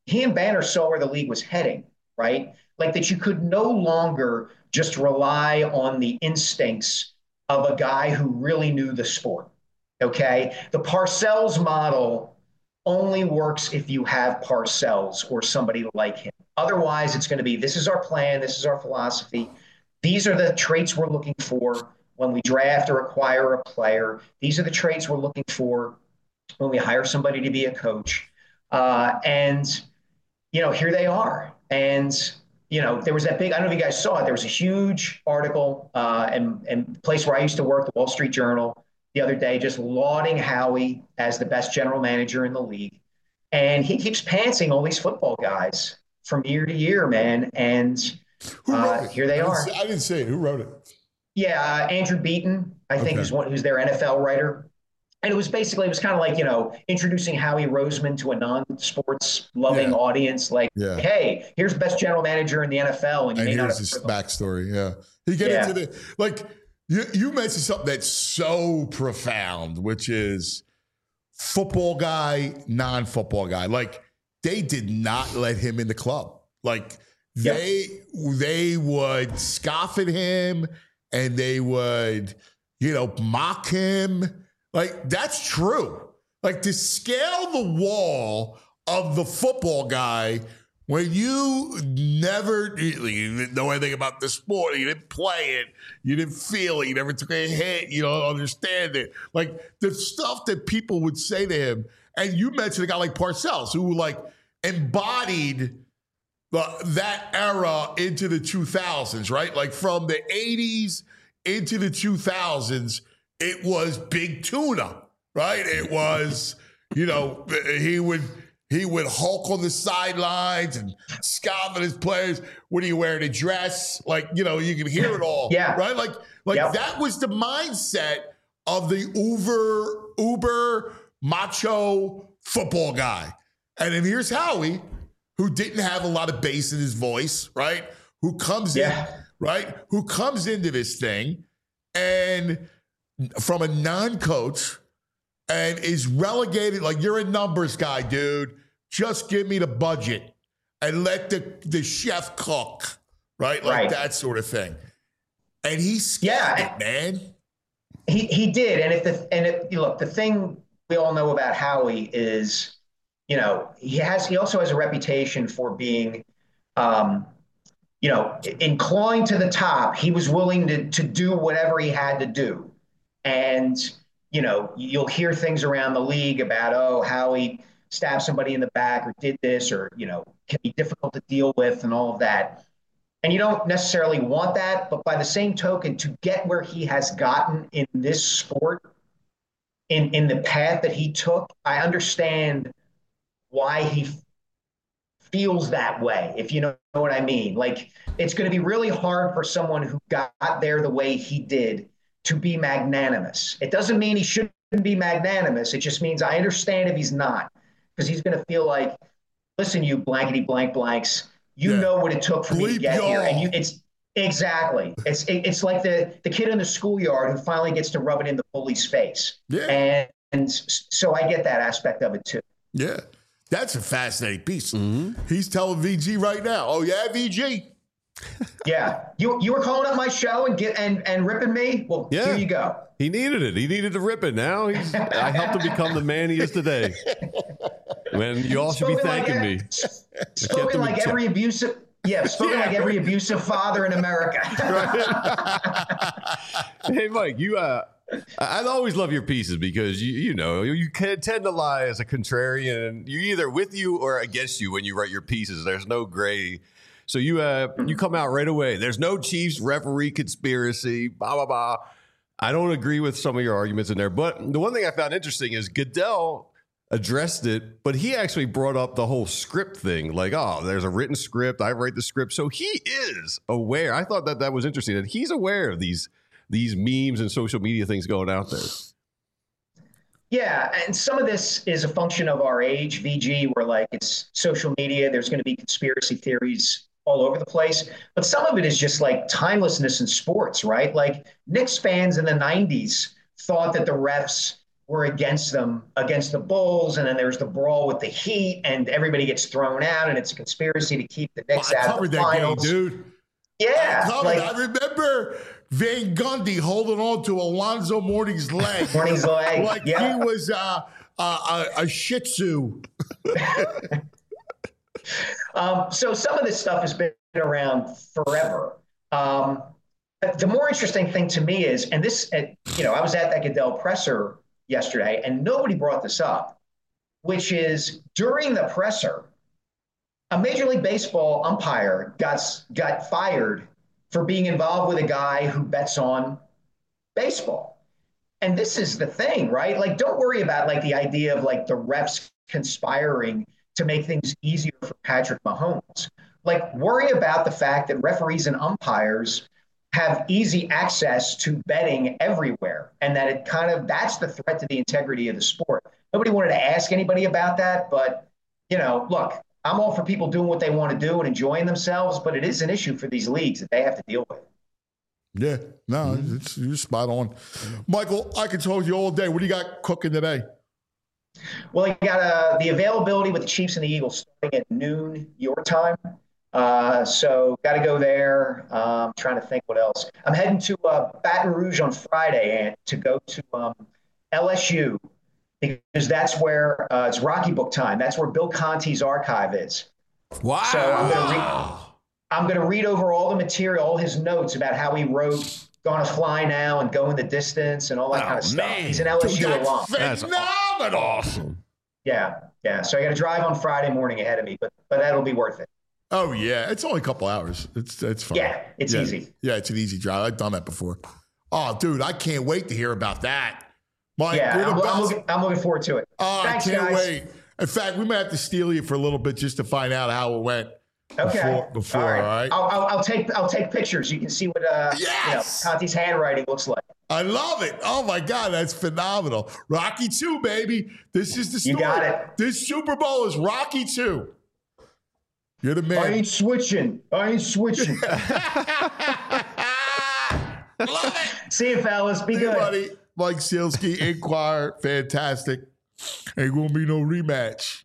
Speaker 5: he and Banner saw where the league was heading, right? Like that you could no longer just rely on the instincts of a guy who really knew the sport, okay? The Parcells model only works if you have Parcells or somebody like him. Otherwise, it's going to be, this is our plan, this is our philosophy. These are the traits we're looking for when we draft or acquire a player. These are the traits we're looking for when we hire somebody to be a coach. Uh, and, you know, here they are. And, you know, there was that big, I don't know if you guys saw it, there was a huge article uh, and, and the place where I used to work, the Wall Street Journal, the other day, just lauding Howie as the best general manager in the league. And he keeps pantsing all these football guys from year to year, man. And uh, here they
Speaker 2: I
Speaker 5: are.
Speaker 2: Didn't I didn't see it. Who wrote it?
Speaker 5: Yeah, uh, Andrew Beaton, I think,
Speaker 2: Okay.
Speaker 5: is one who's their N F L writer. And it was basically, it was kind of like, you know, introducing Howie Roseman to a non-sports loving
Speaker 2: Yeah.
Speaker 5: audience. Like,
Speaker 2: Yeah.
Speaker 5: hey, here's the best general manager in the N F L. And, you
Speaker 2: And
Speaker 5: may not
Speaker 2: here's
Speaker 5: have
Speaker 2: his
Speaker 5: heard of him.
Speaker 2: backstory. Yeah. He get
Speaker 5: Yeah.
Speaker 2: into the, like, you, you mentioned something that's so profound, which is football guy, non-football guy. Like, they did not let him in the club. Like, they they would scoff at him and they would, you know, mock him. Like, that's true. Like, to scale the wall of the football guy when you never, you didn't know anything about the sport, you didn't play it, you didn't feel it, you never took a hit, you don't understand it. Like, the stuff that people would say to him, and you mentioned a guy like Parcells, who, like, embodied the, that era into the two thousands, right? Like, from the eighties into the two thousands, it was big tuna, right? It was, you know, he would he would hulk on the sidelines and scoff at his players. What are you wearing, a dress? Like, you know, you can hear it all,
Speaker 5: Yeah.
Speaker 2: right? Like, like
Speaker 5: Yep.
Speaker 2: that was the mindset of the uber, uber macho football guy. And then here's Howie, who didn't have a lot of bass in his voice, right? Who comes
Speaker 5: Yeah.
Speaker 2: in, right? Who comes into this thing and from a non-coach and is relegated, like, you're a numbers guy, dude. Just give me the budget and let the, the chef cook, right? Like
Speaker 5: Right.
Speaker 2: that sort of thing. And he scammed
Speaker 5: Yeah.
Speaker 2: it, man.
Speaker 5: He he did, and if the and if, look, the thing we all know about Howie is, you know, he has he also has a reputation for being, um, you know, in clawing to the top. He was willing to to do whatever he had to do, and you know, you'll hear things around the league about, oh, Howie stabbed somebody in the back or did this, or, you know, can be difficult to deal with and all of that. And you don't necessarily want that, but by the same token, to get where he has gotten in this sport, in, in the path that he took, I understand why he f- feels that way, if you know what I mean. Like, it's going to be really hard for someone who got there the way he did to be magnanimous. It doesn't mean he shouldn't be magnanimous. It just means I understand if he's not, because he's going to feel like, listen, you blankety blank blanks, you
Speaker 2: Yeah.
Speaker 5: know what it took for me to
Speaker 2: Bleep
Speaker 5: get here.
Speaker 2: y'all.
Speaker 5: And you, it's exactly, it's, it, it's like the, the kid in the schoolyard who finally gets to rub it in the bully's face.
Speaker 2: Yeah.
Speaker 5: And, and so I get that aspect of it too.
Speaker 2: Yeah. That's a fascinating piece. He's telling V G right now, oh, yeah, V G.
Speaker 5: Yeah. You, you were calling up my show and get, and, and ripping me. Well,
Speaker 3: Yeah.
Speaker 5: here you go.
Speaker 3: He needed it. He needed to rip it. Now he's. I helped him become the man he is today. Man, you all should be
Speaker 5: Spoken like
Speaker 3: thanking
Speaker 5: e-
Speaker 3: me.
Speaker 5: Spoken like
Speaker 3: check.
Speaker 5: every abusive, yeah, spoken
Speaker 2: Yeah,
Speaker 5: like every abusive father in America.
Speaker 3: Hey, Mike, you. Uh, I I always love your pieces because you, you know, you, you can tend to lie as a contrarian, and you're either with you or against you when you write your pieces. There's no gray. So you, uh, you come out right away. There's no Chiefs referee conspiracy. Blah blah blah. I don't agree with some of your arguments in there, but the one thing I found interesting is Goodell addressed it, but he actually brought up the whole script thing. Like, oh, there's a written script. I write the script. So he is aware. I thought that that was interesting, that he's aware of these these memes and social media things going out there.
Speaker 5: Yeah, and some of this is a function of our age, V G, where like it's social media, there's going to be conspiracy theories all over the place. But some of it is just like timelessness in sports, right? Like Knicks fans in the nineties thought that the refs were against them, against the Bulls, and then there's the brawl with the Heat, and everybody gets thrown out, and it's a conspiracy to keep the Knicks
Speaker 2: I
Speaker 5: out of
Speaker 2: covered
Speaker 5: the
Speaker 2: that
Speaker 5: finals.
Speaker 2: game, dude.
Speaker 5: Yeah,
Speaker 2: I, covered,
Speaker 5: like,
Speaker 2: I remember Van Gundy holding on to Alonzo Mourning's leg.
Speaker 5: Mourning's leg,
Speaker 2: like
Speaker 5: yeah.
Speaker 2: he was uh, uh, a, a Shih Tzu.
Speaker 5: um, so some of this stuff has been around forever. Um, the more interesting thing to me is, and this, uh, you know, I was at that Goodell presser yesterday, and nobody brought this up, which is during the presser, a Major League Baseball umpire got got fired for being involved with a guy who bets on baseball. And this is the thing, right? Like, don't worry about like the idea of like the refs conspiring to make things easier for Patrick Mahomes. Like, worry about the fact that referees and umpires have easy access to betting everywhere, and that it kind of, that's the threat to the integrity of the sport. Nobody wanted to ask anybody about that, but, you know, look, I'm all for people doing what they want to do and enjoying themselves, but it is an issue for these leagues that they have to deal with.
Speaker 2: Yeah, no, it's, you're spot on. Michael, I can talk to you all day. What do you got cooking today?
Speaker 5: Well, you got uh, the availability with the Chiefs and the Eagles starting at noon your time. Uh, so got to go there. Um, trying to think what else. I'm heading to uh, Baton Rouge on Friday and to go to um, L S U because that's where uh, it's Rocky Book time. That's where Bill Conti's archive is.
Speaker 3: Wow.
Speaker 5: So I'm going to read. I'm going to read over all the material, all his notes about how he wrote "Gonna Fly Now" and "Going the Distance" and all that
Speaker 3: Oh,
Speaker 5: kind of stuff.
Speaker 3: man.
Speaker 5: He's an L S U
Speaker 2: Dude,
Speaker 5: alum.
Speaker 2: that's phenomenal.
Speaker 3: Awesome.
Speaker 5: Yeah, yeah. So I got to drive on Friday morning ahead of me, but but that'll be worth it.
Speaker 2: Oh yeah, it's only a couple hours. It's it's fine.
Speaker 5: Yeah, it's
Speaker 2: yeah.
Speaker 5: easy.
Speaker 2: Yeah, it's an easy drive. I've done that before. Oh, dude, I can't wait to hear about that. Mike,
Speaker 5: Yeah,
Speaker 2: you're the
Speaker 5: I'm, I'm,
Speaker 2: best.
Speaker 5: looking, I'm looking forward to it.
Speaker 2: Oh,
Speaker 5: Thanks,
Speaker 2: I can't
Speaker 5: guys.
Speaker 2: wait. In fact, we might have to steal you for a little bit just to find out how it went.
Speaker 5: Okay.
Speaker 2: Before, before
Speaker 5: all right.
Speaker 2: all right?
Speaker 5: I'll, I'll, I'll take I'll take pictures. You can see what uh,
Speaker 2: Yes!
Speaker 5: you know, Conti's handwriting looks like.
Speaker 2: I love it. Oh my God, that's phenomenal. Rocky two, baby. This is the story.
Speaker 5: You got it.
Speaker 2: This Super Bowl is Rocky two. You're the
Speaker 5: I
Speaker 2: man.
Speaker 5: ain't switching. I ain't switching.
Speaker 2: Love it.
Speaker 5: See you, fellas. Be
Speaker 2: Hey,
Speaker 5: good.
Speaker 2: buddy. Mike Sealski, Inquirer, fantastic. Ain't gonna be no rematch.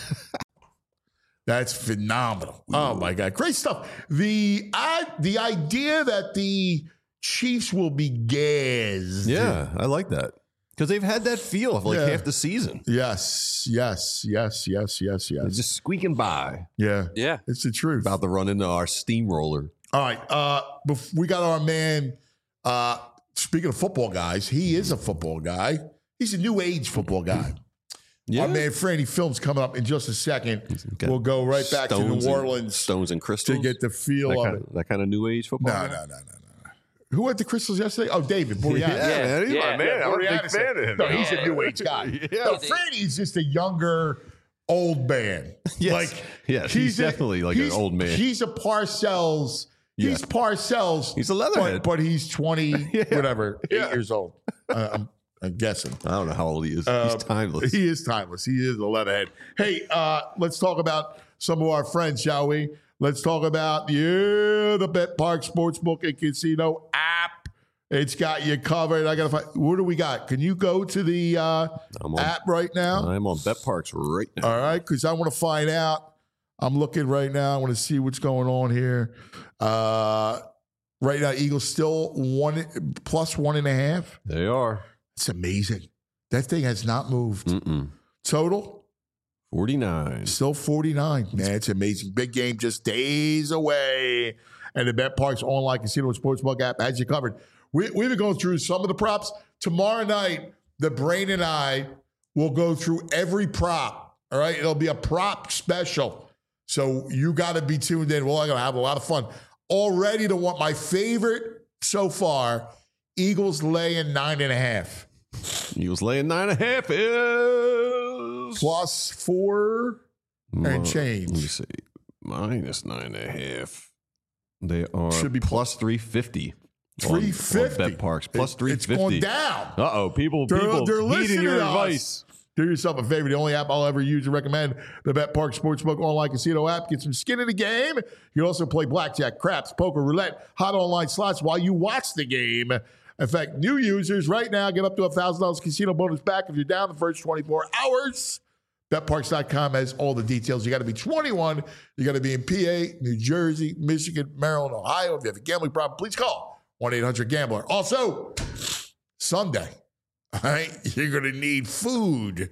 Speaker 2: That's phenomenal. Oh my God, great stuff. The I, the idea that the Chiefs will be gassed.
Speaker 3: Yeah, I like that because they've had that feel of like
Speaker 2: Yeah.
Speaker 3: half the season.
Speaker 2: Yes. Yes. Yes. Yes. Yes.
Speaker 3: They're
Speaker 2: Yes.
Speaker 3: just squeaking by.
Speaker 2: Yeah.
Speaker 4: Yeah.
Speaker 2: It's the truth.
Speaker 3: About to run into our steamroller.
Speaker 2: All right. Uh, bef- we got our man. Uh, speaking of football guys, he is a football guy. He's a new age football guy.
Speaker 3: Yeah,
Speaker 2: Our man Franny Films coming up in just a second.
Speaker 3: got
Speaker 2: We'll go right back to
Speaker 3: Stones
Speaker 2: New
Speaker 3: and-
Speaker 2: Orleans
Speaker 3: Stones and crystals
Speaker 2: to get the feel
Speaker 3: that
Speaker 2: of
Speaker 3: kind
Speaker 2: it.
Speaker 3: of, that kind of new age football.
Speaker 2: No, no, no, no, no. Who went to Crystals yesterday? Oh, David Boreanaz.
Speaker 3: Yeah, man, he's
Speaker 4: Yeah,
Speaker 3: my man. I'm a big
Speaker 2: Boreanaz.
Speaker 3: fan of him.
Speaker 2: No, he's
Speaker 3: man.
Speaker 2: a new age guy.
Speaker 3: Yeah.
Speaker 2: No, Franny's just a younger, old man.
Speaker 3: Yes.
Speaker 2: Like,
Speaker 3: Yes, he's definitely like an
Speaker 2: he's-
Speaker 3: old man.
Speaker 2: He's a Parcells.
Speaker 3: Yeah.
Speaker 2: He's Parcells.
Speaker 3: He's a leatherhead.
Speaker 2: But, but he's twenty,
Speaker 3: Yeah.
Speaker 2: whatever, eight
Speaker 3: Yeah.
Speaker 2: years old. Uh, I'm, I'm guessing.
Speaker 3: I don't know how old he is.
Speaker 2: Uh,
Speaker 3: he's timeless.
Speaker 2: He is timeless. He is a leatherhead. Hey, uh, let's talk about some of our friends, shall we? Let's talk about yeah, the Bet Park Sportsbook and Casino app. It's got you covered. I gotta find. What do we got? Can you go to the uh,
Speaker 3: I'm on-
Speaker 2: app right now?
Speaker 3: I'm on Bet Parks right now.
Speaker 2: All right, because I want to find out. I'm looking right now. I want to see what's going on here. Uh, right now, Eagles still one plus one and a half.
Speaker 3: They are.
Speaker 2: It's amazing. That thing has not moved.
Speaker 3: Mm-mm.
Speaker 2: Total.
Speaker 3: forty-nine.
Speaker 2: Still forty-nine. Man, it's amazing. Big game just days away. And the Bet Parks online casino and sportsbook app has you covered. We, we've been going through some of the props. Tomorrow night, the Brain and I will go through every prop. All right. It'll be a prop special. So you got to be tuned in. We're going to have a lot of fun. Already to want my favorite so far, Eagles laying nine and a half.
Speaker 3: Eagles laying nine and a half is
Speaker 2: Plus four and change.
Speaker 3: Let me see. Minus nine and a half. They are
Speaker 2: Should be
Speaker 3: plus three fifty.
Speaker 2: three fifty.
Speaker 3: Bet Parks plus three
Speaker 2: It's
Speaker 3: fifty.
Speaker 2: going down.
Speaker 3: Uh oh, people,
Speaker 2: They're-
Speaker 3: people
Speaker 2: they're listening
Speaker 3: heeding your
Speaker 2: to us.
Speaker 3: advice.
Speaker 2: Do yourself a favor. The only app I'll ever use and recommend, the Bet Park Sportsbook online casino app. Get some skin in the game. You can also play blackjack, craps, poker, roulette, hot online slots while you watch the game. In fact, new users right now get up to one thousand dollars casino bonus back if you're down the first twenty-four hours. Bet Parks dot com has all the details. You got to be twenty-one. You got to be in P A, New Jersey, Michigan, Maryland, Ohio. If you have a gambling problem, please call one eight hundred gambler. Also, Sunday, all right, you're going to need food.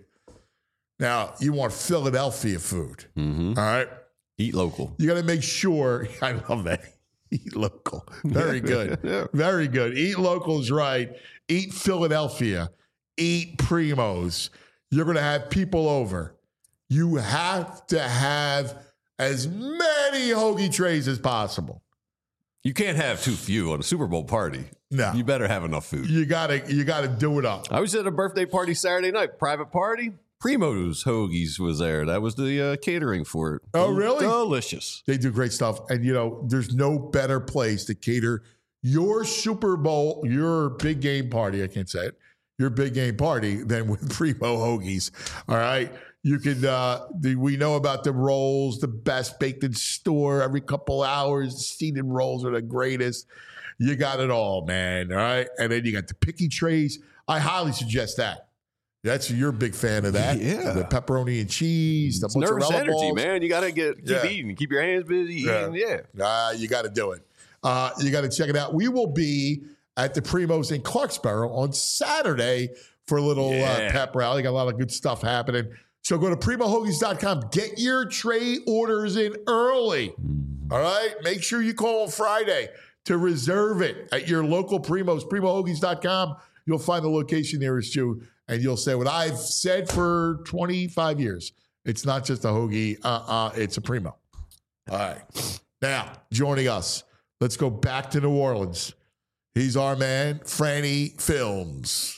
Speaker 2: Now, you want Philadelphia food,
Speaker 3: Mm-hmm.
Speaker 2: all right?
Speaker 3: Eat local.
Speaker 2: You got to make sure. I love that. Eat local. Very good.
Speaker 3: Yeah.
Speaker 2: Very good. Eat local is right. Eat Philadelphia. Eat Primos. You're going to have people over. You have to have as many hoagie trays as possible.
Speaker 3: You can't have too few on a Super Bowl party.
Speaker 2: No.
Speaker 3: You better have enough food.
Speaker 2: You gotta you gotta do it up.
Speaker 3: I was at a birthday party Saturday night, private party. Primo's Hoagies was there. That was the uh, catering for it.
Speaker 2: Oh, really?
Speaker 3: Delicious.
Speaker 2: They do great stuff. And, you know, there's no better place to cater your Super Bowl, your big game party, I can't say it, your big game party than with Primo Hoagies. All right? You can, uh, the, we know about the rolls, the best baked in store every couple hours. Seeded rolls are the greatest. You got it all, man. All right? And then you got the picky trays. I highly suggest that. That's you're a big fan of that.
Speaker 3: Yeah.
Speaker 2: The pepperoni and cheese, the
Speaker 3: It's nervous
Speaker 2: mozzarella
Speaker 3: energy,
Speaker 2: balls.
Speaker 3: man. You got to get keep
Speaker 2: Yeah.
Speaker 3: eating. Keep your hands busy
Speaker 2: Yeah.
Speaker 3: eating. Yeah.
Speaker 2: Uh, you got to do it. Uh, you got to check it out. We will be at the Primos in Clarksboro on Saturday for a little
Speaker 3: Yeah.
Speaker 2: uh, pep rally. Got a lot of good stuff happening. So go to primo hoagies dot com. Get your tray orders in early. All right? Make sure you call on Friday to reserve it at your local Primos, primo hoagies dot com. You'll find the location nearest you, and you'll say what I've said for twenty-five years. It's not just a hoagie. Uh-uh. It's a Primo. All right. Now, joining us, let's go back to New Orleans. He's our man, Franny Films.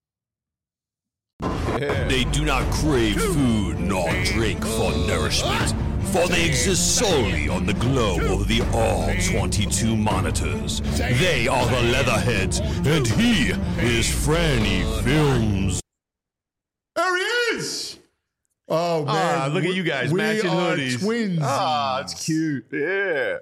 Speaker 6: They do not crave food nor drink for nourishment, for they exist solely on the glow of the all twenty-two monitors. They are the Leatherheads, and he is Franny Films.
Speaker 2: There he is. Oh, man.
Speaker 3: Ah, look at
Speaker 2: We-
Speaker 3: you guys
Speaker 2: we
Speaker 3: matching
Speaker 2: are
Speaker 3: hoodies.
Speaker 2: Twinsies.
Speaker 3: Ah, it's cute. Yeah.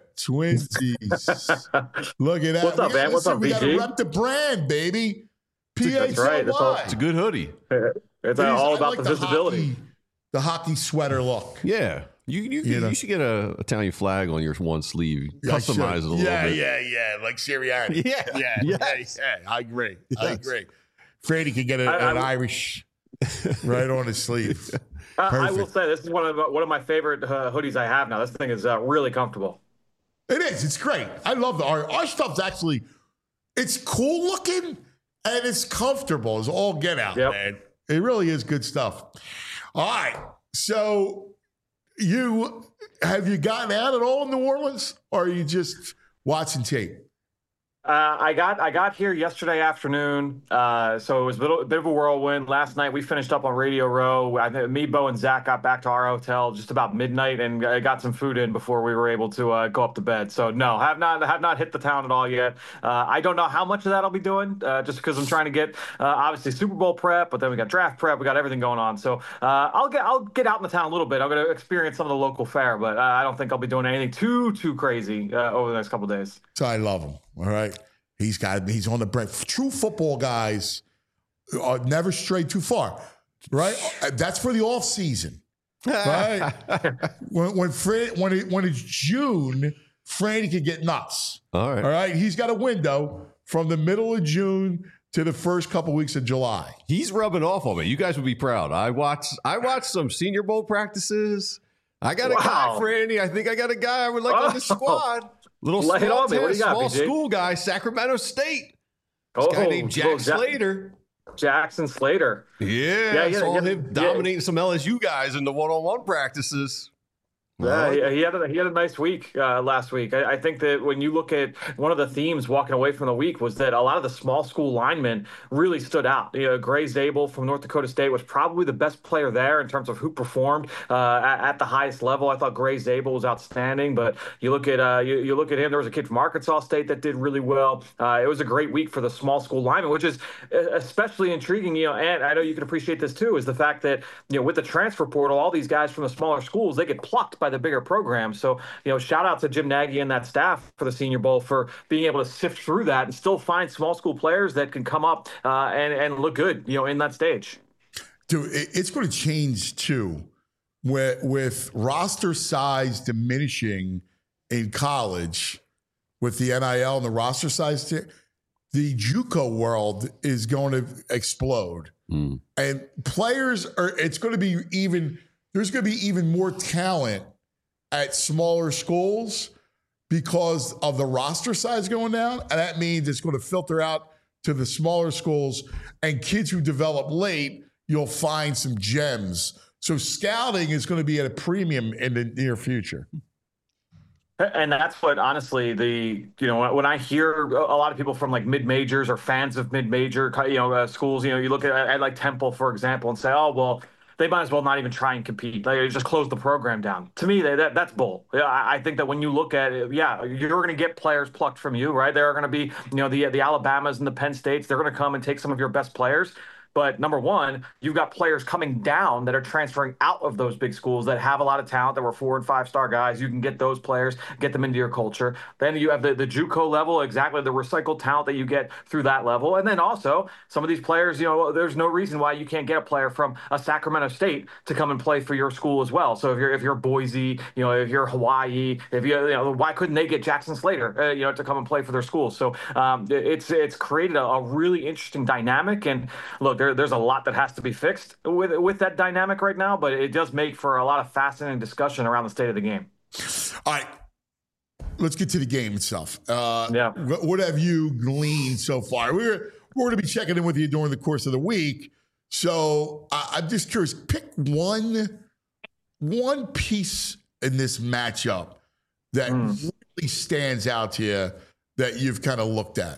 Speaker 2: Twinsies. Look at that.
Speaker 7: What's up,
Speaker 2: We gotta-
Speaker 7: man? What's
Speaker 2: listen,
Speaker 7: up,
Speaker 2: We got to
Speaker 7: B G?
Speaker 2: rep the brand, baby. P H L Y.
Speaker 7: That's right. That's all-
Speaker 3: It's a good hoodie.
Speaker 7: It's
Speaker 2: It is-
Speaker 7: all
Speaker 2: I
Speaker 7: about
Speaker 2: like
Speaker 7: the visibility.
Speaker 2: Hockey, the hockey sweater look.
Speaker 3: Yeah. You you,
Speaker 2: You
Speaker 3: you,
Speaker 2: know.
Speaker 3: you should get a Italian flag on your one sleeve.
Speaker 2: Yeah, I
Speaker 3: Customize it a
Speaker 2: should.
Speaker 3: little
Speaker 2: yeah,
Speaker 3: bit.
Speaker 2: Yeah, yeah, like Sirianni.
Speaker 3: Yeah.
Speaker 2: yeah,
Speaker 3: Yes.
Speaker 2: yeah, yeah. I agree. I
Speaker 3: Yes.
Speaker 2: agree. Freddie could get a,
Speaker 7: I-
Speaker 2: an
Speaker 7: I-
Speaker 2: Irish right on his sleeve.
Speaker 7: Uh, I will
Speaker 2: Perfect.
Speaker 7: say this is one of one of my favorite uh, hoodies I have now. This thing is uh, really comfortable.
Speaker 2: It is. It's great. I love the our our stuff's actually. It's cool looking and it's comfortable. It's all get out,
Speaker 7: Yep.
Speaker 2: man. It really is good stuff. All right. So, you have you gotten out at all in New Orleans, or are you just watching tape?
Speaker 7: Uh, I got I got here yesterday afternoon, uh, so it was a, little, a bit of a whirlwind. Last night we finished up on Radio Row. I think me, Bo, and Zach got back to our hotel just about midnight, and I got some food in before we were able to uh, go up to bed. So no, have not have not hit the town at all yet. Uh, I don't know how much of that I'll be doing, uh, just because I'm trying to get uh, obviously Super Bowl prep, but then we got draft prep, we got everything going on. So uh, I'll get I'll get out in the town a little bit. I'm going to experience some of the local fare, but uh, I don't think I'll be doing anything too too crazy uh, over the next couple of days.
Speaker 2: So I love him. All right. He's got. He's on the brand. True football guys are never stray too far, right? That's for the off season, right? when when Fred, when it, when it's June, Franny can get nuts.
Speaker 3: All right.
Speaker 2: All right. He's got a window from the middle of June to the first couple weeks of July.
Speaker 3: He's rubbing off on me. You guys would be proud. I watched I watched some Senior Bowl practices. I got a
Speaker 7: Wow.
Speaker 3: guy, Franny. I think I got a guy I would like on the
Speaker 7: Oh.
Speaker 3: squad. Little
Speaker 7: Lay it
Speaker 3: small,
Speaker 7: on me. What do you got,
Speaker 3: small
Speaker 7: B J?
Speaker 3: school guy, Sacramento State.
Speaker 7: Oh,
Speaker 3: This guy named Jack
Speaker 7: little Ja-
Speaker 3: Slater.
Speaker 7: Jackson Slater.
Speaker 3: Yeah,
Speaker 7: Yeah,
Speaker 3: I
Speaker 7: yeah,
Speaker 3: saw
Speaker 7: yeah,
Speaker 3: him
Speaker 7: yeah.
Speaker 3: dominating some L S U guys in the one-on-one practices.
Speaker 7: Yeah, he, he had a, he had a nice week uh, last week. I, I think that when you look at one of the themes walking away from the week was that a lot of the small school linemen really stood out. You know, Gray Zabel from North Dakota State was probably the best player there in terms of who performed uh, at, at the highest level. I thought Gray Zabel was outstanding, but you look at uh, you, you look at him. There was a kid from Arkansas State that did really well. Uh, it was a great week for the small school linemen, which is especially intriguing. You know, and I know you can appreciate this too, is the fact that you know with the transfer portal, all these guys from the smaller schools they get plucked by the the bigger programs. So, you know, shout out to Jim Nagy and that staff for the Senior Bowl for being able to sift through that and still find small school players that can come up uh, and, and look good, you know, in that stage.
Speaker 2: Dude, it's going to change too, with, with roster size diminishing in college, with the N I L and the roster size, t- the JUCO world is going to explode, mm. and players are. It's going to be even. There's going to be even more talent at smaller schools because of the roster size going down, and that means it's going to filter out to the smaller schools, and kids who develop late, you'll find some gems. So scouting is going to be at a premium in the near future.
Speaker 7: And that's what, honestly, the, you know, when I hear a lot of people from like mid-majors or fans of mid-major, you know, uh, schools, you know, you look at, at like Temple, for example, and say, oh, well, they might as well not even try and compete. They just close the program down. To me, they, that, that's bull. I, I think that when you look at it, yeah, you're going to get players plucked from you, right? There are going to be, you know, the, the Alabamas and the Penn States. They're going to come and take some of your best players. But number one, you've got players coming down that are transferring out of those big schools that have a lot of talent, that were four and five star guys. You can get those players, get them into your culture. Then you have the, the JUCO level, exactly the recycled talent that you get through that level. And then also some of these players, you know, there's no reason why you can't get a player from a Sacramento State to come and play for your school as well. So if you're if you're Boise, you know, if you're Hawaii, if you, you know, why couldn't they get Jackson Slater, uh, you know, to come and play for their school? So um, it's it's created a, a really interesting dynamic. And look, There, there's a lot that has to be fixed with with that dynamic right now, but it does make for a lot of fascinating discussion around the state of the game.
Speaker 2: All right, let's get to the game itself. Uh,
Speaker 7: yeah.
Speaker 2: What have you gleaned so far? We're we're going to be checking in with you during the course of the week, so I, I'm just curious. Pick one one piece in this matchup that mm. really stands out to you that you've kind of looked at.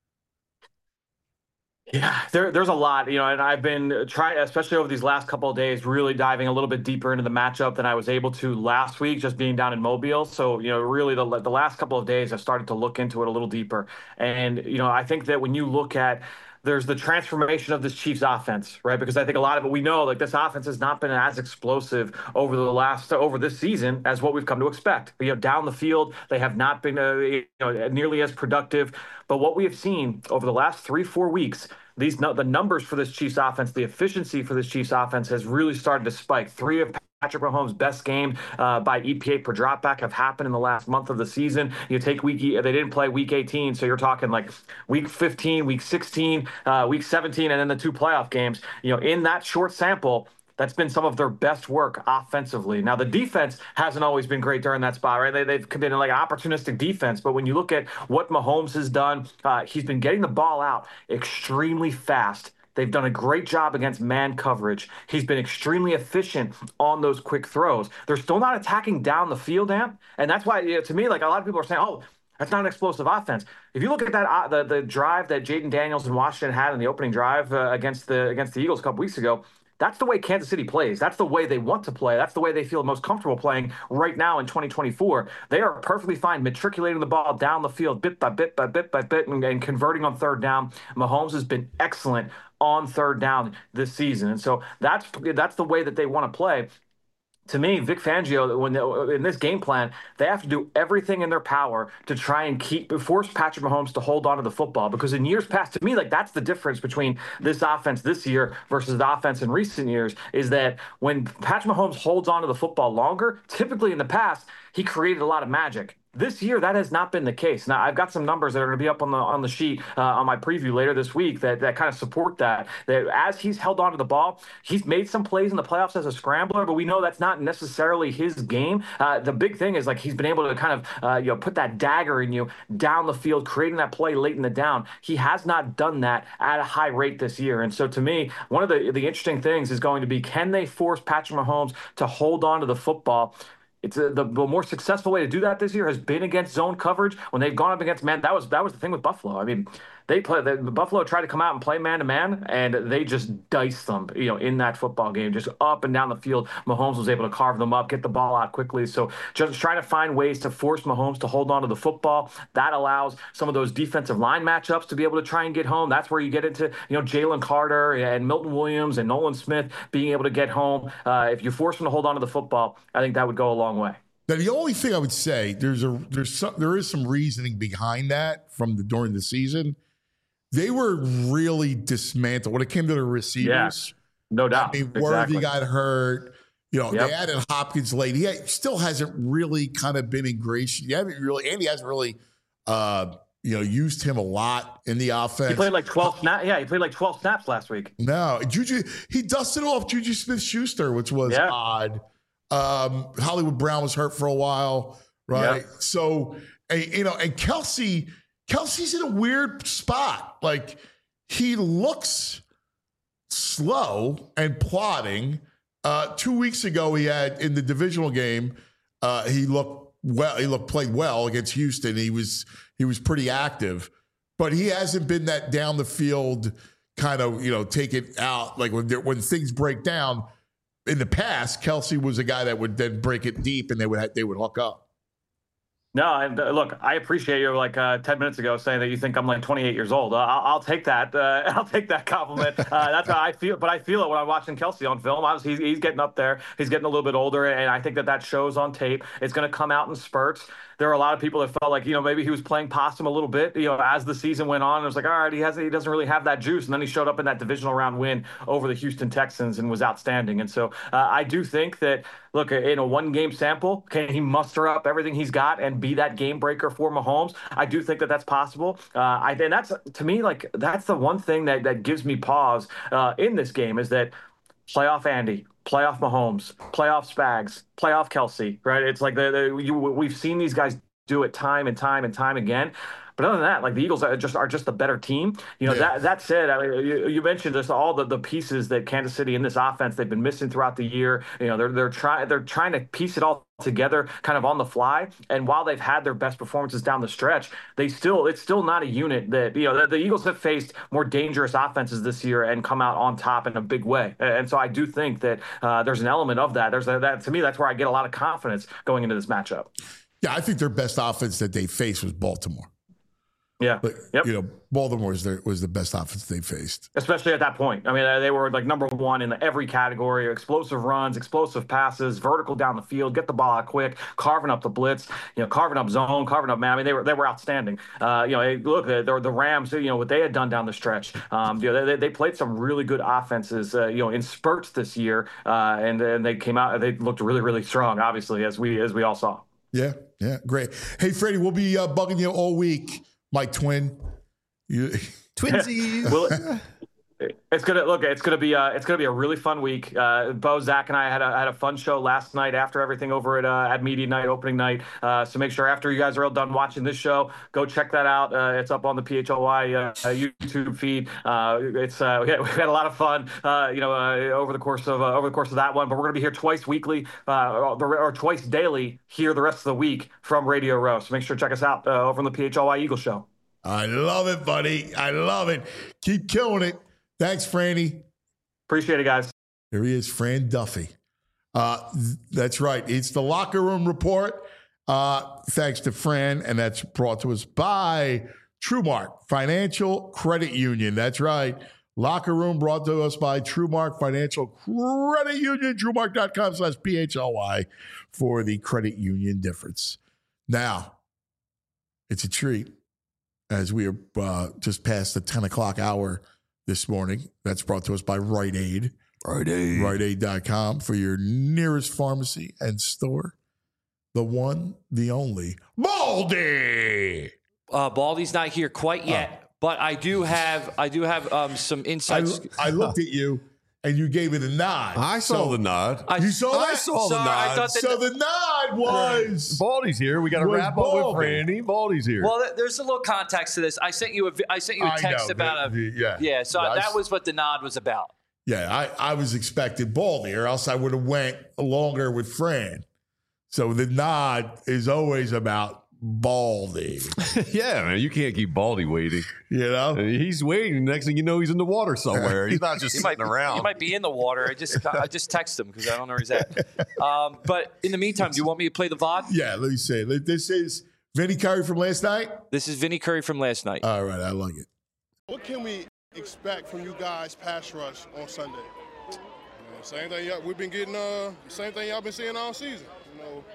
Speaker 7: Yeah, there, there's a lot, you know, and I've been trying, especially over these last couple of days, really diving a little bit deeper into the matchup than I was able to last week, just being down in Mobile. So, you know, really the, the last couple of days, I've started to look into it a little deeper. And, you know, I think that when you look at, there's the transformation of this Chiefs offense, right? Because I think a lot of it, we know, like this offense has not been as explosive over the last, over this season as what we've come to expect. You know, down the field, they have not been uh, you know, nearly as productive. But what we have seen over the last three, four weeks, these the numbers for this Chiefs offense, the efficiency for this Chiefs offense has really started to spike. Three of Patrick Mahomes' best game uh, by E P A per dropback have happened in the last month of the season. You take week, they didn't play week eighteen, so you're talking like week fifteen, week sixteen, uh, week seventeen, and then the two playoff games. You know, in that short sample, that's been some of their best work offensively. Now, the defense hasn't always been great during that spot, right? They, they've been like an opportunistic defense. But when you look at what Mahomes has done, uh, he's been getting the ball out extremely fast. They've done a great job against man coverage. He's been extremely efficient on those quick throws. They're still not attacking down the field, Amp. And that's why, you know, to me, like a lot of people are saying, oh, that's not an explosive offense. If you look at that, uh, the, the drive that Jaden Daniels and Washington had in the opening drive uh, against the against the Eagles a couple weeks ago, that's the way Kansas City plays. That's the way they want to play. That's the way they feel most comfortable playing right now in twenty twenty-four. They are perfectly fine matriculating the ball down the field bit by bit by bit by bit and, and converting on third down. Mahomes has been excellent on third down this season. And so that's that's the way that they want to play. To me, Vic Fangio, when they, in this game plan, they have to do everything in their power to try and keep force Patrick Mahomes to hold on to the football. Because in years past, to me, like that's the difference between this offense this year versus the offense in recent years, is that when Patrick Mahomes holds on to the football longer, typically in the past, he created a lot of magic. This year, that has not been the case. Now, I've got some numbers that are going to be up on the on the sheet uh, on my preview later this week that, that kind of support that. That as he's held onto the ball, he's made some plays in the playoffs as a scrambler, but we know that's not necessarily his game. Uh, the big thing is like he's been able to kind of uh, you know put that dagger in you down the field, creating that play late in the down. He has not done that at a high rate this year. And so to me, one of the, the interesting things is going to be, can they force Patrick Mahomes to hold on to the football? It's a, the, the more successful way to do that this year has been against zone coverage. When they've gone up against man, that was that was the thing with Buffalo. I mean, they play the, the Buffalo tried to come out and play man to man, and they just diced them. You know, in that football game, just up and down the field. Mahomes was able to carve them up, get the ball out quickly. So just trying to find ways to force Mahomes to hold on to the football. That allows some of those defensive line matchups to be able to try and get home. That's where you get into you know Jalen Carter and Milton Williams and Nolan Smith being able to get home. Uh, if you force them to hold on to the football, I think that would go a long way.
Speaker 2: Now, the only thing I would say, there's a there's some there is some reasoning behind that from the during the season. They were really dismantled when it came to the receivers.
Speaker 7: Yeah, no doubt.
Speaker 2: I mean,
Speaker 7: exactly.
Speaker 2: Worthy got hurt. You know,
Speaker 7: Yep.
Speaker 2: they added Hopkins late. He still hasn't really kind of been ingratiated. You haven't really, Andy hasn't really, uh, you know, used him a lot in the offense.
Speaker 7: He played like twelve snaps. Yeah, he played like twelve snaps last week.
Speaker 2: No, Juju, he dusted off Juju Smith-Schuster, which was
Speaker 7: Yeah.
Speaker 2: odd. Um, Hollywood Brown was hurt for a while, right?
Speaker 7: Yep.
Speaker 2: So, and, you know, and Kelsey, Kelsey's in a weird spot. Like, he looks slow and plodding. Uh, two weeks ago, he had in the divisional game, uh, he looked well. He looked played well against Houston. He was he was pretty active, but he hasn't been that down the field kind of, you know, take it out like when there, when things break down. In the past, Kelsey was a guy that would then break it deep, and they would they would hook up.
Speaker 7: No, and uh, look, I appreciate you like uh, ten minutes ago saying that you think I'm like twenty-eight years old. Uh, I'll, I'll take that. Uh, I'll take that compliment. Uh, that's how I feel. But I feel it when I'm watching Kelsey on film. Obviously, he's, he's getting up there. He's getting a little bit older, and I think that that shows on tape. It's going to come out in spurts. There are a lot of people that felt like, you know, maybe he was playing possum a little bit, you know, as the season went on. It was like, all right, he has he doesn't really have that juice. And then he showed up in that divisional round win over the Houston Texans and was outstanding. And so uh, I do think that, look, in a one-game sample, can he muster up everything he's got and be that game breaker for Mahomes? I do think that that's possible. Uh, I, and that's, to me, like, that's the one thing that, that gives me pause uh, in this game is that playoff Andy, playoff Mahomes, playoff Spags, playoff Kelsey, right? It's like the, the you, we've seen these guys do it time and time and time again. But other than that, like the Eagles are just are just the better team. You know,
Speaker 2: Yeah.
Speaker 7: that that said, I mean, you, you mentioned just all the, the pieces that Kansas City in this offense they've been missing throughout the year. You know, they're they're trying they're trying to piece it all together kind of on the fly. And while they've had their best performances down the stretch, they still it's still not a unit that, you know, the, the Eagles have faced more dangerous offenses this year and come out on top in a big way. And so I do think that uh, there's an element of that. There's a, that to me, that's where I get a lot of confidence going into this matchup.
Speaker 2: Yeah, I think their best offense that they faced was Baltimore.
Speaker 7: Yeah.
Speaker 2: But,
Speaker 7: Yep.
Speaker 2: you know, Baltimore was, their, was the best offense they faced.
Speaker 7: Especially at that point. I mean, they were like number one in every category: explosive runs, explosive passes, vertical down the field, get the ball out quick, carving up the blitz, you know, carving up zone, carving up man. I mean, they were they were outstanding. Uh, you know, look, the, the Rams, you know, what they had done down the stretch. Um, you know, they, they played some really good offenses, uh, you know, in spurts this year, uh, and and they came out, they looked really really strong, obviously, as we as we all saw.
Speaker 2: Yeah, yeah, great. Hey, Freddie, we'll be uh, bugging you all week. My twin, you,
Speaker 3: Twinsies.
Speaker 7: Well, it's gonna look. It's gonna be. Uh, it's gonna be a really fun week. Uh, Bo, Zach, and I had a had a fun show last night after everything over at uh, at media night, opening night. Uh, so make sure after you guys are all done watching this show, go check that out. Uh, it's up on the P H L Y uh, YouTube feed. Uh, it's uh, we, had, we had a lot of fun. Uh, you know, uh, over the course of uh, over the course of that one. But we're gonna be here twice weekly, uh, or, or twice daily here the rest of the week from Radio Row. So make sure to check us out uh, over on the P H L Y Eagle Show.
Speaker 2: I love it, buddy. I love it. Keep killing it. Thanks, Franny.
Speaker 7: Appreciate it, guys.
Speaker 2: There he is, Fran Duffy. Uh, th- that's right. It's the Locker Room Report. Uh, thanks to Fran, and that's brought to us by TrueMark Financial Credit Union. That's right. Locker Room brought to us by TrueMark Financial Credit Union. TrueMark.com slash P H L Y for the credit union difference. Now, it's a treat as we are uh, just past the ten o'clock hour this morning. That's brought to us by Rite Aid.
Speaker 3: Rite Aid.
Speaker 2: Rite Aid dot com for your nearest pharmacy and store. The one, the only, Baldy.
Speaker 8: Uh, Baldy's not here quite yet, oh. but I do have I do have um, some insights.
Speaker 2: I, I looked at you and you gave it a nod.
Speaker 3: I saw
Speaker 2: so,
Speaker 3: the nod.
Speaker 2: I, you saw that?
Speaker 3: I saw
Speaker 8: Sorry,
Speaker 3: the nod.
Speaker 8: I thought that
Speaker 2: so the nod was
Speaker 3: Baldy's here. We got to
Speaker 2: was
Speaker 3: wrap up
Speaker 2: Baldy.
Speaker 3: with Franny. Baldy's here.
Speaker 8: Well, there's a little context to this. I sent you a I sent you a
Speaker 2: I
Speaker 8: text
Speaker 2: know,
Speaker 8: about
Speaker 2: the,
Speaker 8: a
Speaker 2: the, yeah
Speaker 8: yeah. So
Speaker 2: Yes.
Speaker 8: that was what the nod was about.
Speaker 2: Yeah, I, I was expecting Baldy, or else I would have went longer with Fran. So the nod is always about Baldy.
Speaker 3: Yeah, man, you can't keep Baldy waiting.
Speaker 2: You know,
Speaker 3: he's waiting. Next thing you know, he's in the water somewhere. He's not just
Speaker 8: He
Speaker 3: sitting
Speaker 8: might,
Speaker 3: around.
Speaker 8: he might be in the water. I just I just text him because I don't know where he's at. Um, but in the meantime, do you want me to play the V O D?
Speaker 2: Yeah, let me say this is Vinny Curry from last night.
Speaker 8: This is Vinny Curry from last night.
Speaker 2: All right, I like it.
Speaker 9: What can we expect from you guys pass rush on Sunday? You know, same thing y'all, we've been getting. Uh, same thing y'all been seeing all season. You know,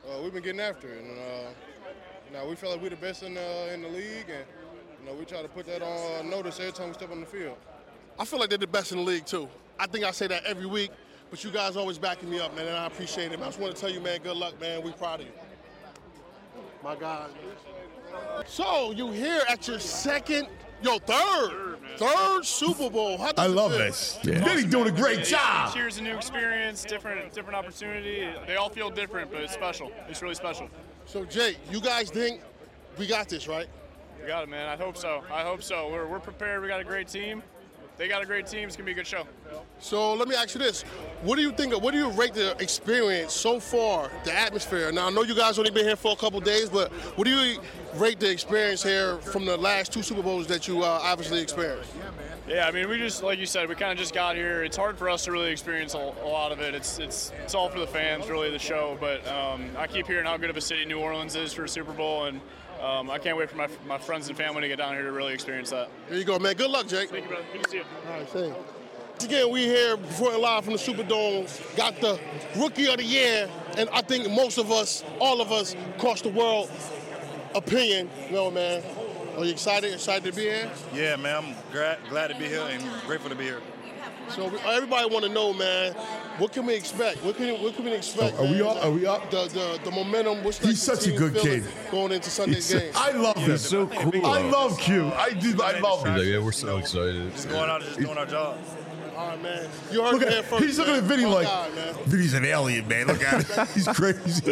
Speaker 9: uh, we've been getting after it. And uh, you know, we feel like we're the best in the, in the league, and you know, we try to put that on notice every time we step on the field.
Speaker 10: I feel like they're the best in the league, too. I think I say that every week, but you guys always backing me up, man, and I appreciate it. I just want to tell you, man, good luck, man. We proud of you. My God. So, you here at your second, yo, third, third Super Bowl. How does
Speaker 2: I
Speaker 10: it
Speaker 2: love
Speaker 10: feel?
Speaker 2: this. Yeah. Vinny's doing a great job.
Speaker 11: Cheers, a new experience, different different opportunity. They all feel different, but it's special. It's really special.
Speaker 10: So, Jay, you guys think we got this, right?
Speaker 11: We got it, man. I hope so. I hope so. We're, we're prepared. We got a great team. They got a great team. It's going to be a good show.
Speaker 10: So let me ask you this. What do you think, of, what do you rate the experience so far, the atmosphere? Now, I know you guys only been here for a couple days, but what do you rate the experience here from the last two Super Bowls that you uh, obviously experienced?
Speaker 11: Yeah, I mean, we just, like you said, we kind of just got here. It's hard for us to really experience a, a lot of it. It's it's it's all for the fans, really, the show. But um, I keep hearing how good of a city New Orleans is for a Super Bowl, and um, I can't wait for my my friends and family to get down here to really experience that.
Speaker 10: There you go, man. Good luck, Jake.
Speaker 11: Thank you, brother. Good to see you.
Speaker 10: All right, thanks. Once again, we here before live from the Superdome, got the Rookie of the Year, and I think most of us, all of us across the world, opinion. You know, man. Are you excited? Excited to be here?
Speaker 12: Yeah, man. I'm glad, glad to be here and grateful to be here.
Speaker 10: So everybody want to know, man, what can we expect? What can what can we expect?
Speaker 2: Oh, are we
Speaker 10: man?
Speaker 2: up? Are we up?
Speaker 10: The the, the momentum. What's
Speaker 2: He's such a good kid.
Speaker 10: Going into Sunday's game.
Speaker 2: I love him.
Speaker 3: He's so cool.
Speaker 2: I love Q. I do. I love
Speaker 3: He's
Speaker 2: him.
Speaker 3: like, yeah, we're so excited.
Speaker 12: Just going out and just doing our job.
Speaker 10: All right, man. You heard
Speaker 2: Look
Speaker 10: it here
Speaker 2: at,
Speaker 10: first.
Speaker 2: he's looking
Speaker 10: man.
Speaker 2: at Vinny
Speaker 10: Oh,
Speaker 2: like,
Speaker 10: God, man.
Speaker 2: Vinny's an alien, man. Look at him. He's crazy.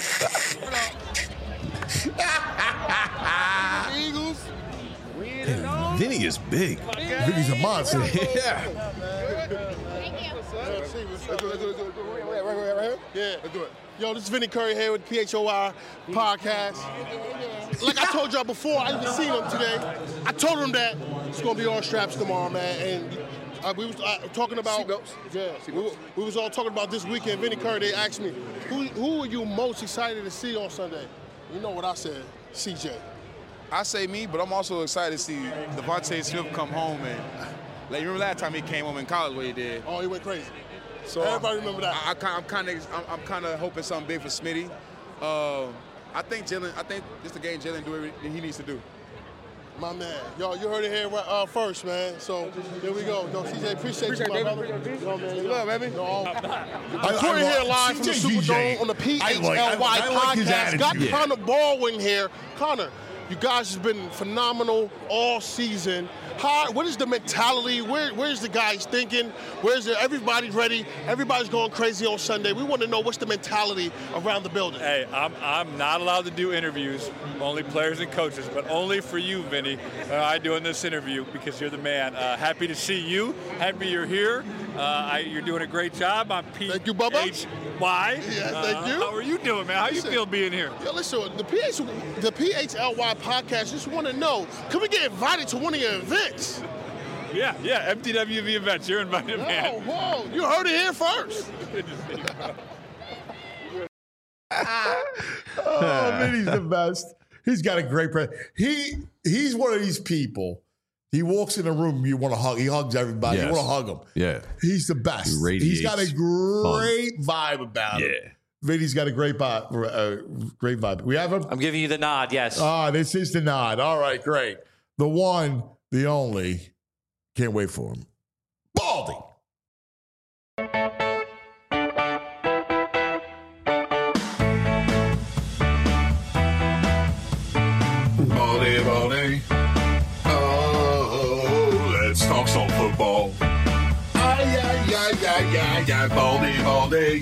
Speaker 10: Eagles.
Speaker 3: Vinny is big.
Speaker 2: Vinny's a monster.
Speaker 3: Yeah.
Speaker 10: Yeah. Let's do it. Yo, this is Vinny Curry here with P H O I podcast. Like I told y'all before, I even seen him today. I told him that it's gonna be all straps tomorrow, man. And uh, we was uh, talking about, yeah, we, we was all talking about this weekend. Vinny Curry, they asked me, who who are you most excited to see on Sunday? You know what I said, C J.
Speaker 13: I say me, but I'm also excited to see Devontae Smith come home and like you remember last time he came home in college what he did.
Speaker 10: Oh, he went crazy. So everybody remember that.
Speaker 13: I, I, I'm kind of I'm, I'm kind of hoping something big for Smitty. Uh, I think Jalen. I think this is the game Jalen do everything he needs to do.
Speaker 10: My man, yo, you heard it here uh, first, man. So here we go. Yo, C J, appreciate, appreciate you, my brother. Yo, man, yo, love, baby. Yo, I'm recording here live from the Superdome on the P H L Y
Speaker 2: I like, I like
Speaker 10: podcast. Got
Speaker 2: yeah.
Speaker 10: Connor Baldwin here. Connor, you guys have been phenomenal all season. How, what is the mentality? Where, where's the guys thinking? Where's the, everybody ready? Everybody's going crazy on Sunday. We want to know what's the mentality around the building.
Speaker 14: Hey, I'm I'm not allowed to do interviews, only players and coaches, but only for you, Vinny. Uh, I'm doing this interview because you're the man. Uh, happy to see you. Happy you're here. Uh, I, you're doing a great job. I'm P H Y.
Speaker 10: Thank you, Bubba.
Speaker 14: Yeah,
Speaker 10: thank you.
Speaker 14: How are you doing, man? How
Speaker 10: Listen,
Speaker 14: you feel being here?
Speaker 10: Yo, listen, the P H, the P H L Y podcast just want to know, can we get invited to one of your events?
Speaker 14: Yeah, yeah, M T W V events. You're invited, man.
Speaker 10: Whoa, whoa, you heard it here first.
Speaker 2: Oh, Vinny's the best. He's got a great pre- He he's one of these people. He walks in a room, you want to hug. He hugs everybody.
Speaker 3: Yes.
Speaker 2: You want to hug him.
Speaker 3: Yeah.
Speaker 2: He's the best.
Speaker 3: He
Speaker 2: He's got a
Speaker 3: radiates
Speaker 2: great vibe about him.
Speaker 3: Yeah.
Speaker 2: Vinny's got a great vibe. Uh, great vibe. We have him?
Speaker 4: I'm giving you the nod, yes.
Speaker 2: Ah, this is the nod. All right, great. The one, the only. Can't wait for him. Baldy.
Speaker 6: Baldy, Baldy. Oh, let's talk some football. Ay, ay, ay, ay, ay, ay, Baldy, Baldy.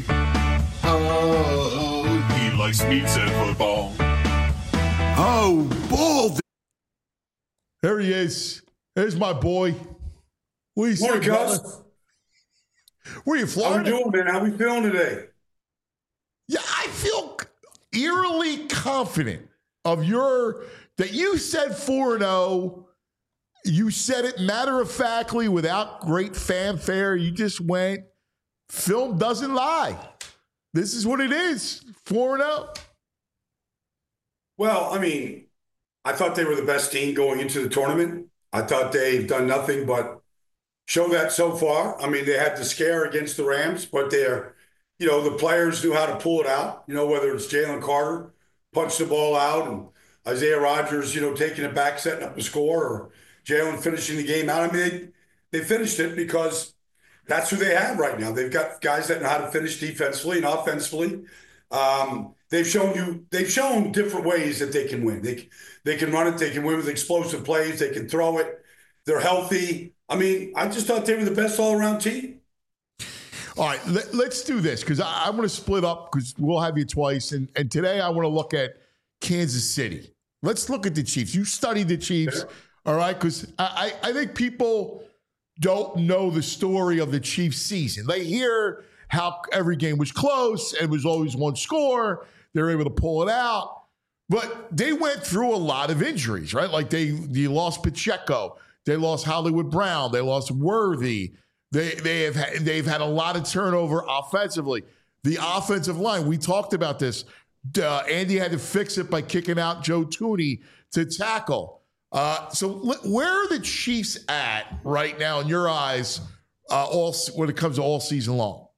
Speaker 6: Oh, he likes meats and football. Oh, Baldy.
Speaker 2: There he is. There's my boy. What you
Speaker 15: Morning,
Speaker 2: say,
Speaker 15: Cuz.
Speaker 2: brother? Where you,
Speaker 15: How
Speaker 2: Florida?
Speaker 15: we doing, man? How we feeling today?
Speaker 2: Yeah, I feel eerily confident of your that you said four and oh. You said it matter-of-factly without great fanfare. You just went, film doesn't lie. This is what it is, four and oh.
Speaker 15: Well, I mean, I thought they were the best team going into the tournament. I thought they've done nothing but show that so far. I mean, they had the scare against the Rams, but they're you know, the players knew how to pull it out, you know, whether it's Jalen Carter punched the ball out and Isaiah Rodgers, you know, taking it back, setting up the score, or Jalen finishing the game out. I mean, they, they finished it because that's who they have right now. They've got guys that know how to finish defensively and offensively. Um, they've shown you, they've shown different ways that they can win. They, they can run it. They can win with explosive plays. They can throw it. They're healthy. I mean, I just thought they were the best all-around team.
Speaker 2: All right, let, let's do this because I, I want to split up because we'll have you twice. And, and today I want to look at Kansas City. Let's look at the Chiefs. You studied the Chiefs, all right? Because I, I think people don't know the story of the Chiefs season. They hear how every game was close and was always one score. They were able to pull it out. But they went through a lot of injuries, right? Like they, they lost Pacheco. They lost Hollywood Brown. They lost Worthy. They they have had, they've had a lot of turnover offensively. The offensive line, we talked about this. Uh, Andy had to fix it by kicking out Joe Thuney to tackle. Uh, so where are the Chiefs at right now in your eyes uh, all when it comes to all season long?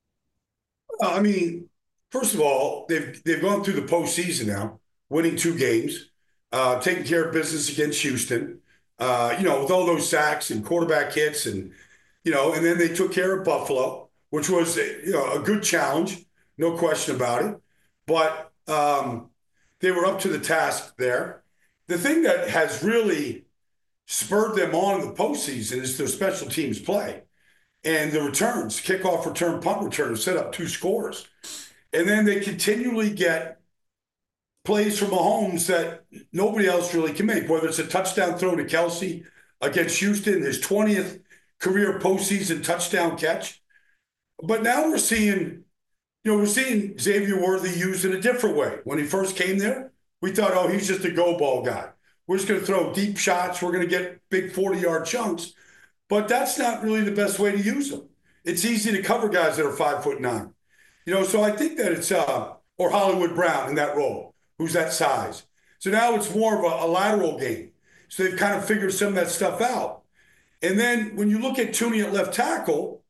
Speaker 15: I mean, first of all, they've they've gone through the postseason now, winning two games, uh, taking care of business against Houston. Uh, you know, with all those sacks and quarterback hits and You know, and then they took care of Buffalo, which was, you know, a good challenge, no question about it. But um, they were up to the task there. The thing that has really spurred them on in the postseason is their special teams play and the returns, kickoff return, punt return, set up two scores. And then they continually get plays from Mahomes that nobody else really can make, whether it's a touchdown throw to Kelsey against Houston, his twentieth career postseason touchdown catch. But now we're seeing, you know, we're seeing Xavier Worthy used in a different way. When he first came there, we thought, oh, he's just a go ball guy. We're just going to throw deep shots. We're going to get big forty-yard chunks. But that's not really the best way to use them. It's easy to cover guys that are five foot nine. You know, so I think that it's, uh, or Hollywood Brown in that role, who's that size. So now it's more of a, a lateral game. So they've kind of figured some of that stuff out. And then when you look at Thuney at left tackle,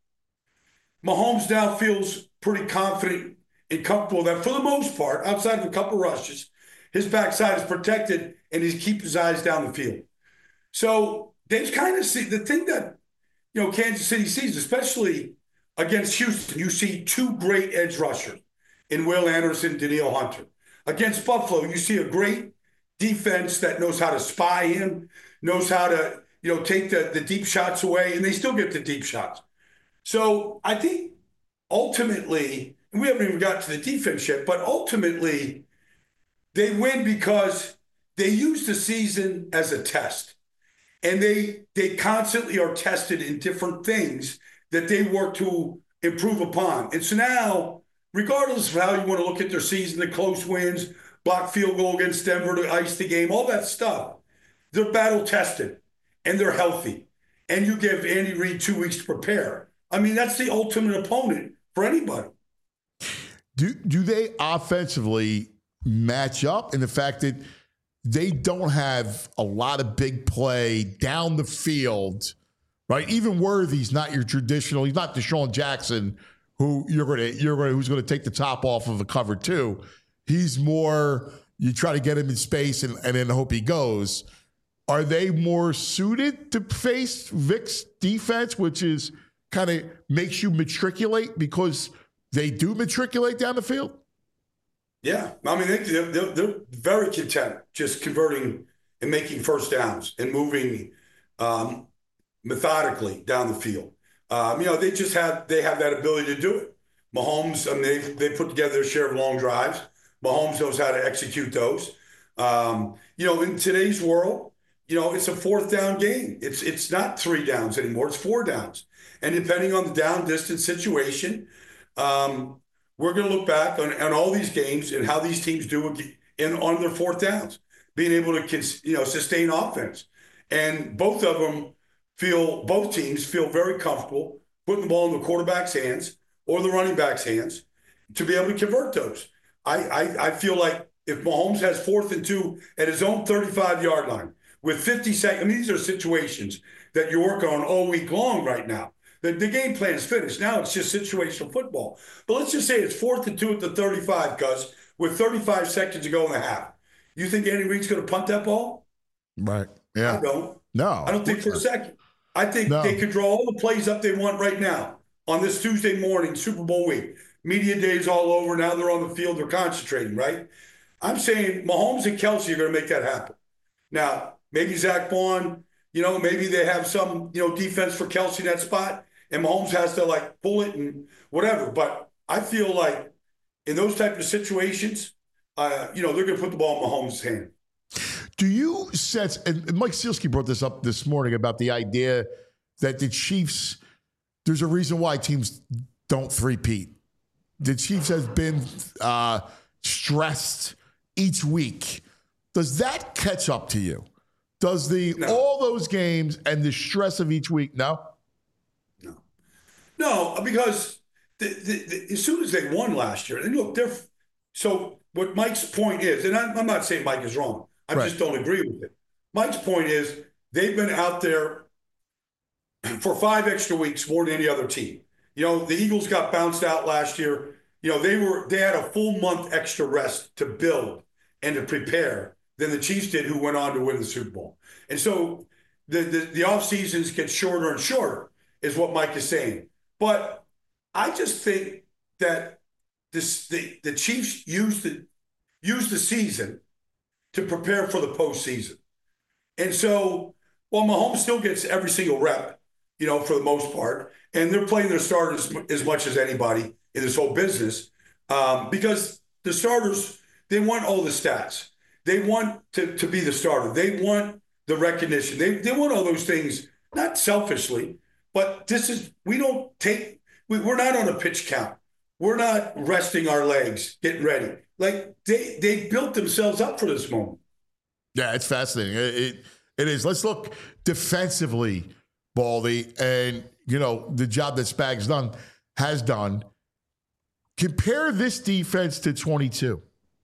Speaker 15: Mahomes now feels pretty confident and comfortable that for the most part, outside of a couple rushes, his backside is protected and he keeps his eyes down the field. So they've kind of see the thing that, you know, Kansas City sees, especially against Houston, you see two great edge rushers in Will Anderson, Danielle Hunter. Against Buffalo, you see a great defense that knows how to spy him, knows how to, you know, take the, the deep shots away, and they still get the deep shots. So I think ultimately, and we haven't even got to the defense yet, but ultimately they win because they use the season as a test. And they they constantly are tested in different things that they work to improve upon. And so now, regardless of how you want to look at their season, the close wins, block field goal against Denver to ice the game, all that stuff, they're battle tested and they're healthy. And you give Andy Reid two weeks to prepare. I mean, that's the ultimate opponent for anybody.
Speaker 2: Do do they offensively match up in the fact that they don't have a lot of big play down the field, right? Even Worthy's not your traditional. He's not Deshaun Jackson, who you're going to you're going to who's going to take the top off of a cover two. He's more you try to get him in space and, and then hope he goes. Are they more suited to face Vic's defense, which is kind of makes you matriculate because they do matriculate down the field?
Speaker 15: Yeah, I mean, they, they're, they're very content just converting and making first downs and moving um, methodically down the field. Um, you know, they just have they have that ability to do it. Mahomes, I mean, they they put together their share of long drives. Mahomes knows how to execute those. Um, you know, in today's world, you know, it's a fourth down game. It's it's not three downs anymore. It's four downs, and depending on the down distance situation. Um, We're going to look back on, on all these games and how these teams do in on their fourth downs, being able to you know sustain offense. And both of them feel, both teams feel very comfortable putting the ball in the quarterback's hands or the running back's hands to be able to convert those. I, I, I feel like if Mahomes has fourth and two at his own thirty-five-yard line with fifty seconds, I mean, these are situations that you're working on all week long right now. The, the game plan is finished. Now it's just situational football. But let's just say it's fourth and two at the thirty-five, Gus, with thirty-five seconds to go in the half. You think Andy Reid's going to punt that ball?
Speaker 2: Right. Yeah.
Speaker 15: I don't.
Speaker 2: No.
Speaker 15: I don't think for a second. I think
Speaker 2: No.
Speaker 15: they could draw all the plays up they want right now on this Tuesday morning, Super Bowl week. Media day's all over. Now they're on the field. They're concentrating, right? I'm saying Mahomes and Kelsey are going to make that happen. Now, maybe Zach Vaughn, you know, maybe they have some, you know, defense for Kelsey in that spot, and Mahomes has to, like, pull it and whatever. But I feel like in those type of situations, uh, you know, they're going to put the ball in Mahomes' hand.
Speaker 2: Do you sense, and Mike Sealski brought this up this morning about the idea that the Chiefs, there's a reason why teams don't three-peat. The Chiefs have been uh, stressed each week. Does that catch up to you? Does the no. all those games and the stress of each week, no?
Speaker 15: No. No, because the, the, the, as soon as they won last year, and look, they're, so what Mike's point is, and I'm, I'm not saying Mike is wrong. I right. just don't agree with it. Mike's point is they've been out there for five extra weeks more than any other team. You know, the Eagles got bounced out last year. You know, they were they had a full month extra rest to build and to prepare than the Chiefs did, who went on to win the Super Bowl. And so the the, the off seasons get shorter and shorter, is what Mike is saying. But I just think that this the, the Chiefs use the use the season to prepare for the postseason. And so, well, Mahomes still gets every single rep, you know, for the most part. And they're playing their starters as much as anybody in this whole business um, because the starters, they want all the stats. They want to, to be the starter. They want the recognition. They, they want all those things, not selfishly, but this is, we don't take, we, we're not on a pitch count. We're not resting our legs, getting ready. Like they they built themselves up for this moment.
Speaker 2: Yeah, it's fascinating. It, it it is. Let's look defensively, Baldy, and you know the job that Spags done has done. Compare this defense to twenty-two.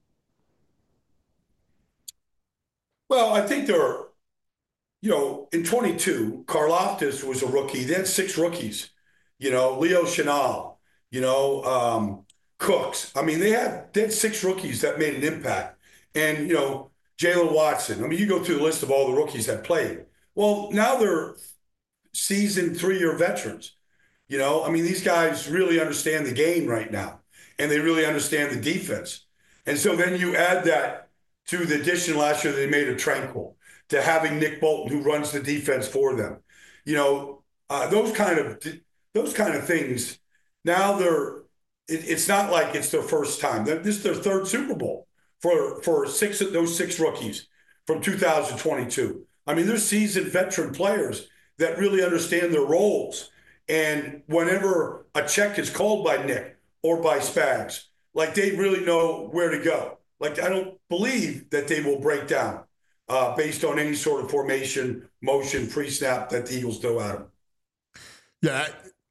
Speaker 15: Well, I think there are, you know, in twenty-two, Karlaftis was a rookie. They had six rookies. You know, Leo Chenal. You know. Um, Cooks. I mean, they had they had six rookies that made an impact. And, you know, Jalen Watson. I mean, you go through the list of all the rookies that played. Well, now they're seasoned three-year veterans. You know, I mean, these guys really understand the game right now. And they really understand the defense. And so then you add that to the addition last year they made of Tranquil, to having Nick Bolton, who runs the defense for them. You know, uh, those kind of those kind of things. Now they're It, it's not like it's their first time. This is their third Super Bowl for, for six of those six rookies from two thousand twenty-two. I mean, they're seasoned veteran players that really understand their roles. And whenever a check is called by Nick or by Spags, like they really know where to go. Like I don't believe that they will break down uh, based on any sort of formation, motion, pre-snap that the Eagles throw at them.
Speaker 2: Yeah.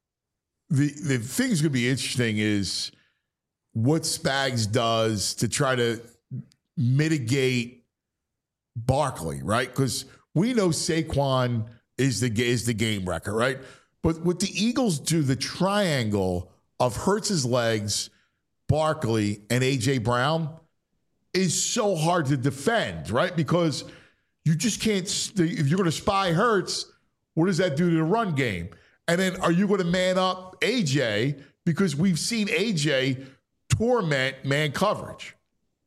Speaker 2: The the thing that's going to be interesting is what Spags does to try to mitigate Barkley, right? Because we know Saquon is the is the game wrecker, right? But what the Eagles do, the triangle of Hurts's legs, Barkley, and A J Brown is so hard to defend, right? Because you just can't. If you're going to spy Hurts, what does that do to the run game? And then are you going to man up A J? Because we've seen A J torment man coverage.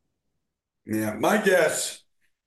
Speaker 15: Yeah, my guess,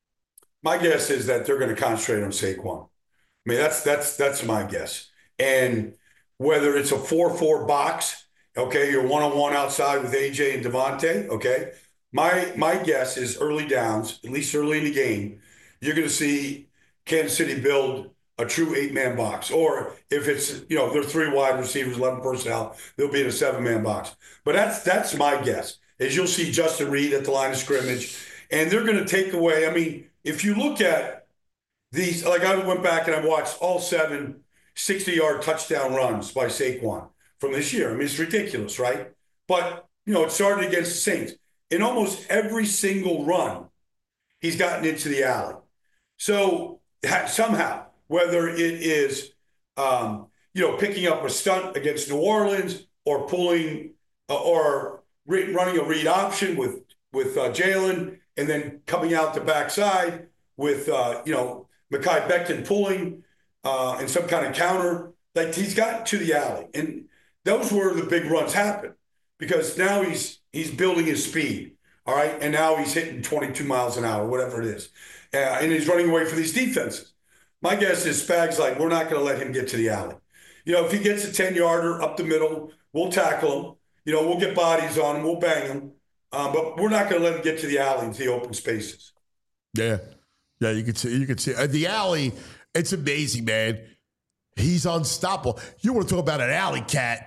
Speaker 15: my guess is that they're going to concentrate on Saquon. I mean, that's that's that's my guess. And whether it's a four four box, okay, you're one-on-one outside with A J and Devontae, okay, my my guess is early downs, at least early in the game, you're going to see Kansas City build a true eight-man box. Or if it's, you know, they're three wide receivers, eleven personnel, they'll be in a seven-man box. But that's that's my guess, is you'll see Justin Reed at the line of scrimmage, and they're going to take away, I mean, if you look at these, like I went back and I watched all seven sixty-yard touchdown runs by Saquon from this year. I mean, it's ridiculous, right? But, you know, it started against the Saints. In almost every single run, he's gotten into the alley. So somehow, whether it is um, you know, picking up a stunt against New Orleans or pulling uh, or re- running a read option with with uh, Jalen, and then coming out the backside with uh, you know Mekhi Becton pulling uh, and some kind of counter. Like he's got to the alley, and those were the big runs happen because now he's he's building his speed. All right, and now he's hitting twenty-two miles an hour, whatever it is, uh, and he's running away from these defenses. My guess is Spag's like, we're not going to let him get to the alley. You know, if he gets a ten-yarder up the middle, we'll tackle him. You know, we'll get bodies on him, we'll bang him, um, but we're not going to let him get to the alley into the open spaces.
Speaker 2: Yeah, yeah, you can see, you can see uh, the alley. It's amazing, man. He's unstoppable. You want to talk about an alley cat?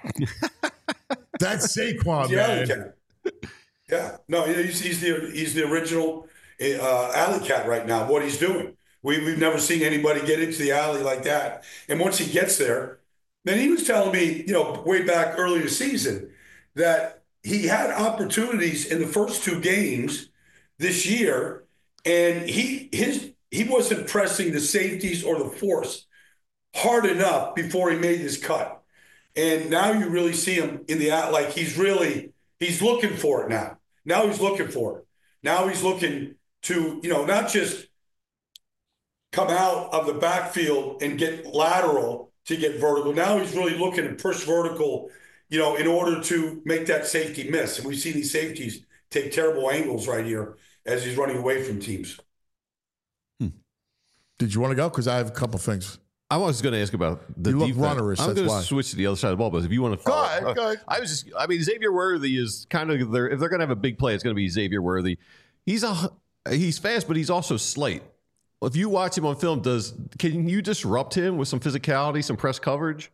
Speaker 2: That's Saquon,
Speaker 15: He's
Speaker 2: man.
Speaker 15: the alley cat. Yeah, no, he's, he's the he's the original uh, alley cat right now. What he's doing, we we've never seen anybody get into the alley like that. And once he gets there, then he was telling me, you know, way back early in the season, that he had opportunities in the first two games this year, and he his he wasn't pressing the safeties or the force hard enough before he made his cut. And now you really see him in the like he's really he's looking for it now. Now he's looking for it. Now he's looking to, you know, not just come out of the backfield and get lateral to get vertical. Now he's really looking to push vertical, you know, in order to make that safety miss. And we see these safeties take terrible angles right here as he's running away from teams.
Speaker 2: Hmm. Did you want to go? Because I have a couple things.
Speaker 3: I was going to ask about the
Speaker 2: you look
Speaker 3: defense.
Speaker 2: runnerish,
Speaker 3: I'm
Speaker 2: that's
Speaker 3: going
Speaker 2: why.
Speaker 3: to switch to the other side of the ball, but if you want to follow,
Speaker 2: Go ahead, go ahead.
Speaker 3: I was just, I mean, Xavier Worthy is kind of their, if they're going to have a big play, it's going to be Xavier Worthy. He's a, he's fast, but he's also slight. If you watch him on film, does can you disrupt him with some physicality, some press coverage?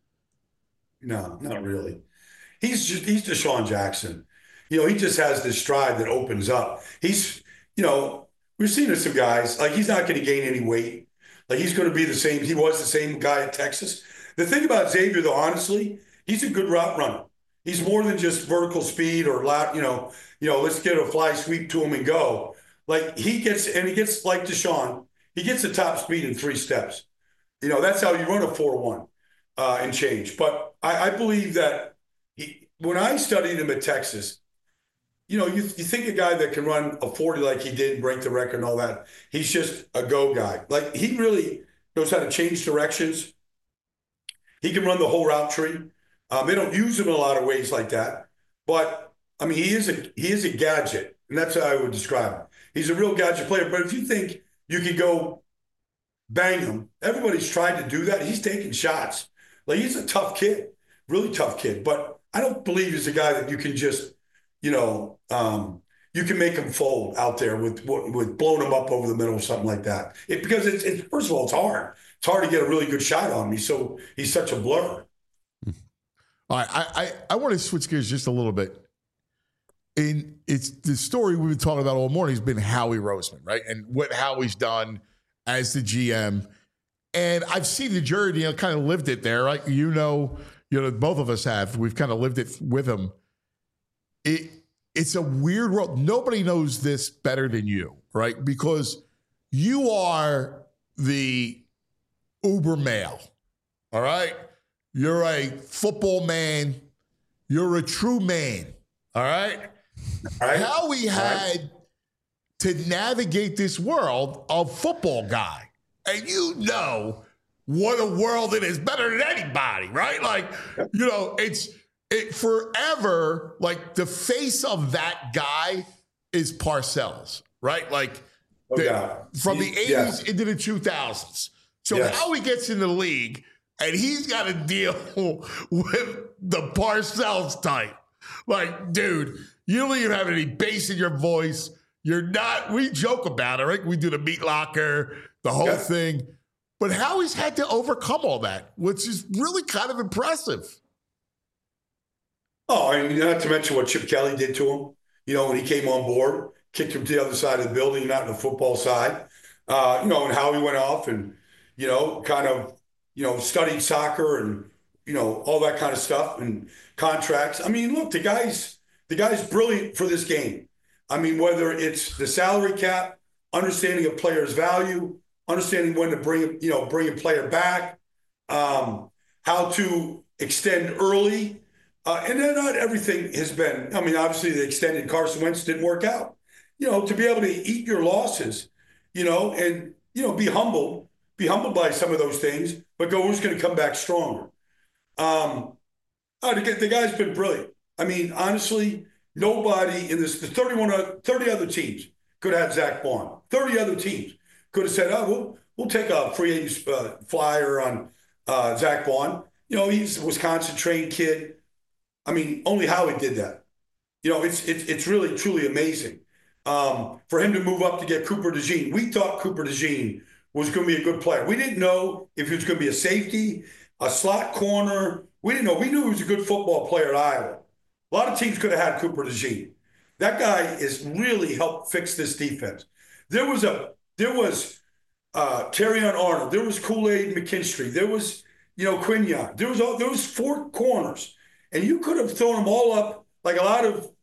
Speaker 15: No, not really. He's just, he's Deshaun Jackson. You know, he just has this stride that opens up. He's, you know, we've seen some guys, like he's not going to gain any weight. Like he's going to be the same. He was the same guy at Texas. The thing about Xavier, though, honestly, he's a good route runner. He's more than just vertical speed or lat, you know, you know, let's get a fly sweep to him and go. Like he gets, and he gets like Deshaun, he gets the top speed in three steps. You know, that's how you run a four one uh, and change. But I, I believe that he, when I studied him at Texas, you know, you, you think a guy that can run a forty like he did, break the record and all that, he's just a go guy. Like he really knows how to change directions. He can run the whole route tree. Um, they don't use him in a lot of ways like that. But, I mean, he is a he is a gadget, and that's how I would describe him. He's a real gadget player. But if you think you could go bang him, everybody's tried to do that. He's taking shots. Like he's a tough kid, really tough kid. But I don't believe he's a guy that you can just, you know, um, you can make him fold out there with with blowing him up over the middle or something like that. It, because it's, it's first of all, it's hard. It's hard to get a really good shot on me. So he's such a blur.
Speaker 2: All right, I, I, I want to switch gears just a little bit. In it's the story we've been talking about all morning has been Howie Roseman, right? And what Howie's done as the G M. And I've seen the journey, you know, kind of lived it there, right? You know, you know, both of us have. We've kind of lived it with him. It it's a weird world. Nobody knows this better than you, right? Because you are the uber male, all right? You're a football man. You're a true man, all right?
Speaker 15: All right.
Speaker 2: How we had
Speaker 15: right.
Speaker 2: to navigate this world of football guy. And you know what a world it is, better than anybody, right? Like, you know, it's it forever, like the face of that guy is Parcells, right? Like
Speaker 15: Oh,
Speaker 2: the-
Speaker 15: yeah.
Speaker 2: from the
Speaker 15: He-
Speaker 2: eighties
Speaker 15: yeah.
Speaker 2: into the two thousands. So
Speaker 15: Yes.
Speaker 2: how he gets in the league and he's got to deal with the Parcells type. Like, dude, you don't even have any bass in your voice. You're not, we joke about it, right? We do the meat locker, the whole
Speaker 15: Yeah.
Speaker 2: thing. But Howie's had to overcome all that, which is really kind of impressive.
Speaker 15: Oh, and not to mention what Chip Kelly did to him. You know, when he came on board, kicked him to the other side of the building, not the football side. Uh, you know, and how he went off and, you know, kind of, you know, studied soccer and, you know, all that kind of stuff and contracts. I mean, look, the guy's the guy's brilliant for this game. I mean, whether it's the salary cap, understanding a player's value, understanding when to bring, you know, bring a player back. Um, how to extend early. Uh, and then not everything has been, I mean, obviously the extended Carson Wentz didn't work out. You know, to be able to eat your losses, you know, and, you know, be humble, be humbled by some of those things, but go, who's going to come back stronger? Um, oh, the, the guy's been brilliant. I mean, honestly, nobody in this, the thirty-one, thirty other teams could have had Zach Bond. thirty other teams could have said, oh, we'll, we'll take a free agent uh, flyer on uh, Zach Bond. You know, he's a Wisconsin-trained kid. I mean, only Howie did that. You know, it's it's it's really, truly amazing. Um, for him to move up to get Cooper DeJean. We thought Cooper DeJean was going to be a good player. We didn't know if he was going to be a safety, a slot corner. We didn't know. We knew he was a good football player at Iowa. A lot of teams could have had Cooper DeJean. That guy has really helped fix this defense. There was a there was uh, Terrion Arnold. There was Kool-Aid McKinstry. There was, you know, Quinyon. There was all, there was four corners. And you could have thrown them all up like a lot of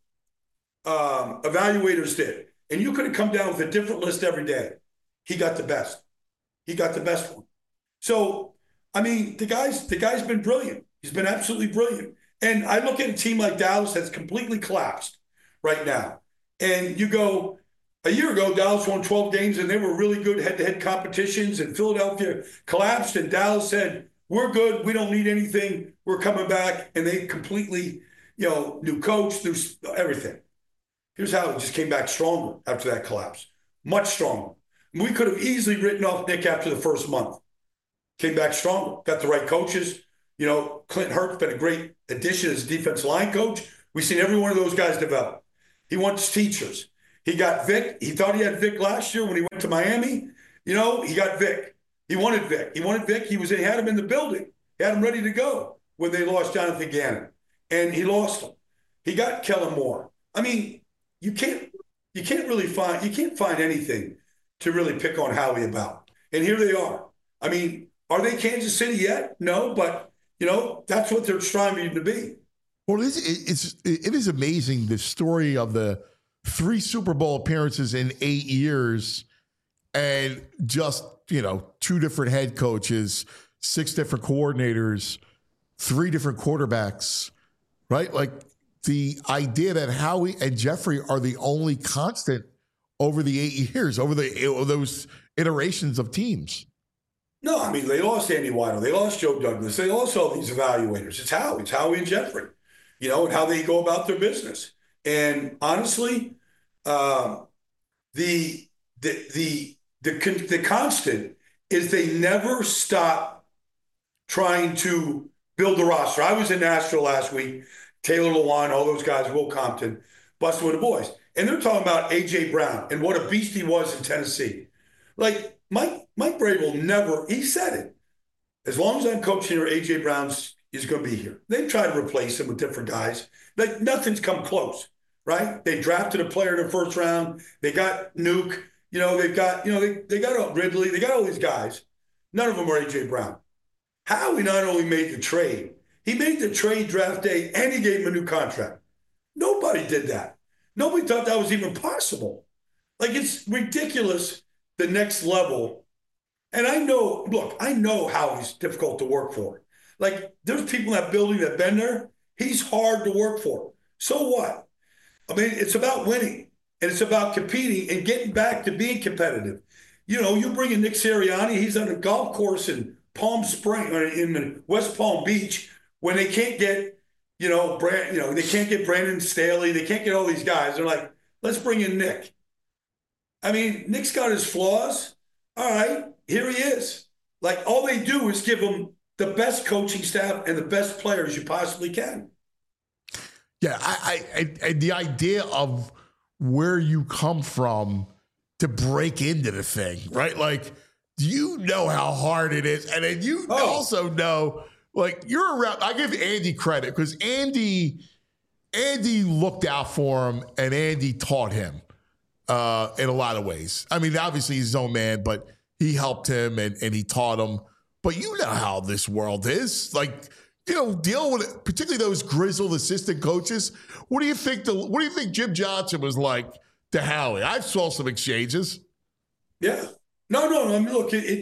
Speaker 15: um, evaluators did. And you could have come down with a different list every day. He got the best. He got the best one. So, I mean, the guy's the guy's been brilliant. He's been absolutely brilliant. And I look at a team like Dallas that's completely collapsed right now. And you go, a year ago, Dallas won twelve games and they were really good head-to-head competitions, and Philadelphia collapsed and Dallas said, we're good. We don't need anything. We're coming back. And they completely, you know, new coach, new everything. Here's how it just came back stronger after that collapse. Much stronger. We could have easily written off Nick after the first month. Came back stronger. Got the right coaches. You know, Clint Hurt's been a great addition as a defensive line coach. We've seen every one of those guys develop. He wants teachers. He got Vic. He thought he had Vic last year when he went to Miami. You know, he got Vic. He wanted Vic. He wanted Vic. He was. He had him in the building. He had him ready to go when they lost Jonathan Gannon, and he lost him. He got Kellen Moore. I mean, you can't. You can't really find. You can't find anything to really pick on Howie about. And here they are. I mean, are they Kansas City yet? No, but you know that's what they're striving to be.
Speaker 2: Well, it's it's it is amazing, the story of the three Super Bowl appearances in eight years, and just, you know, two different head coaches, six different coordinators, three different quarterbacks, right? Like the idea that Howie and Jeffrey are the only constant over the eight years, over the those iterations of teams.
Speaker 15: No, I mean, they lost Andy Weidel. They lost Joe Douglas. They lost all these evaluators. It's Howie. It's Howie and Jeffrey, you know, and how they go about their business. And honestly, um, the, the, the, the, the constant is they never stop trying to build the roster. I was in Nashville last week, Taylor Lewan, all those guys, Will Compton, busting with the boys. And they're talking about A J Brown and what a beast he was in Tennessee. Like, Mike Mike Vrabel never, he said it. As long as I'm coaching here, A J Brown's is going to be here. They tried to replace him with different guys. Like, nothing's come close, right? They drafted a player in the first round. They got Nuke. You know, they've got, you know, they, they got Ridley. They got all these guys. None of them are A J Brown. Howie not only made the trade, he made the trade draft day and he gave him a new contract. Nobody did that. Nobody thought that was even possible. Like, it's ridiculous, the next level. And I know, look, I know how he's difficult to work for. Like, there's people in that building that have been there. He's hard to work for. So what? I mean, it's about winning, and it's about competing and getting back to being competitive. You know, you bring in Nick Sirianni, he's on a golf course in Palm Springs, or in West Palm Beach, when they can't get, you know, Brand, you know, they can't get Brandon Staley, they can't get all these guys. They're like, let's bring in Nick. I mean, Nick's got his flaws. All right, here he is. Like, all they do is give him the best coaching staff and the best players you possibly can.
Speaker 2: Yeah, I, I, I the idea of where you come from to break into the thing, right? Like, you know how hard it is, and then you oh. also know, like, you're around. I give Andy credit because Andy, Andy looked out for him, and Andy taught him uh, in a lot of ways. I mean, obviously he's his own man, but he helped him and, and he taught him. But you know how this world is. Like, you know, deal with it, particularly those grizzled assistant coaches. What do you think the what do you think Jim Johnson was like to Howie? I saw some exchanges.
Speaker 15: Yeah. No, no, I mean, look, it, it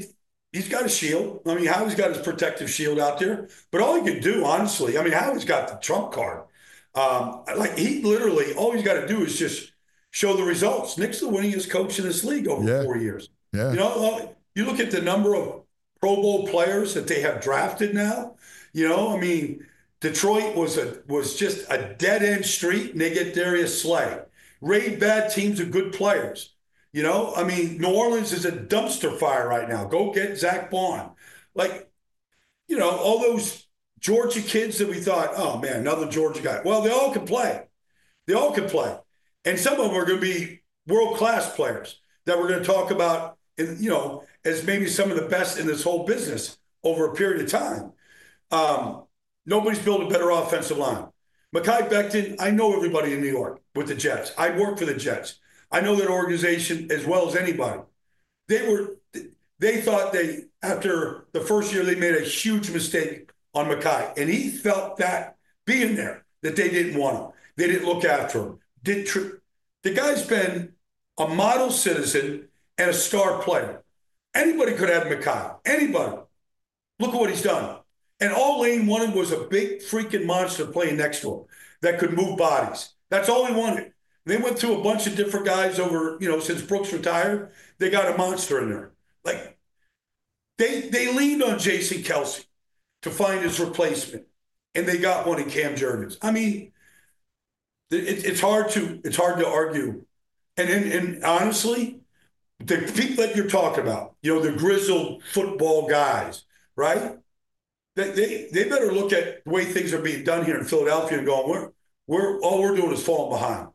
Speaker 15: he's got a shield. I mean, Howie's got his protective shield out there. But all he could do, honestly, I mean, Howie's got the trump card. Um, like he literally, all he's got to do is just show the results. Nick's the winningest coach in this league over
Speaker 2: Yeah.
Speaker 15: four years.
Speaker 2: Yeah.
Speaker 15: You know, you look at the number of Pro Bowl players that they have drafted now. You know, I mean, Detroit was a was just a dead end street, and they get Darius Slay. Raid bad teams of good players. You know, I mean, New Orleans is a dumpster fire right now. Go get Zach Bond. Like, you know, all those Georgia kids that we thought, oh man, another Georgia guy. Well, they all can play. They all can play. And some of them are going to be world-class players that we're going to talk about, in, you know, as maybe some of the best in this whole business over a period of time. Um, nobody's built a better offensive line. Mekhi Becton, I know everybody in New York with the Jets. I work for the Jets. I know that organization as well as anybody. They were, they thought they, after the first year, they made a huge mistake on Mekhi. And he felt that being there, that they didn't want him. They didn't look after him. Did tr- the guy's been a model citizen and a star player. Anybody could have Mekhi. Anybody. Look at what he's done. And all Lane wanted was a big freaking monster playing next to him that could move bodies. That's all he wanted. They went through a bunch of different guys over, you know, since Brooks retired. They got a monster in there. Like, they they leaned on Jason Kelce to find his replacement, and they got one in Cam Jurgens. I mean, it, it's hard to it's hard to argue. And, and and honestly, the people that you're talking about, you know, the grizzled football guys, right? They they, they better look at the way things are being done here in Philadelphia and going, we're we're all we're doing is falling behind.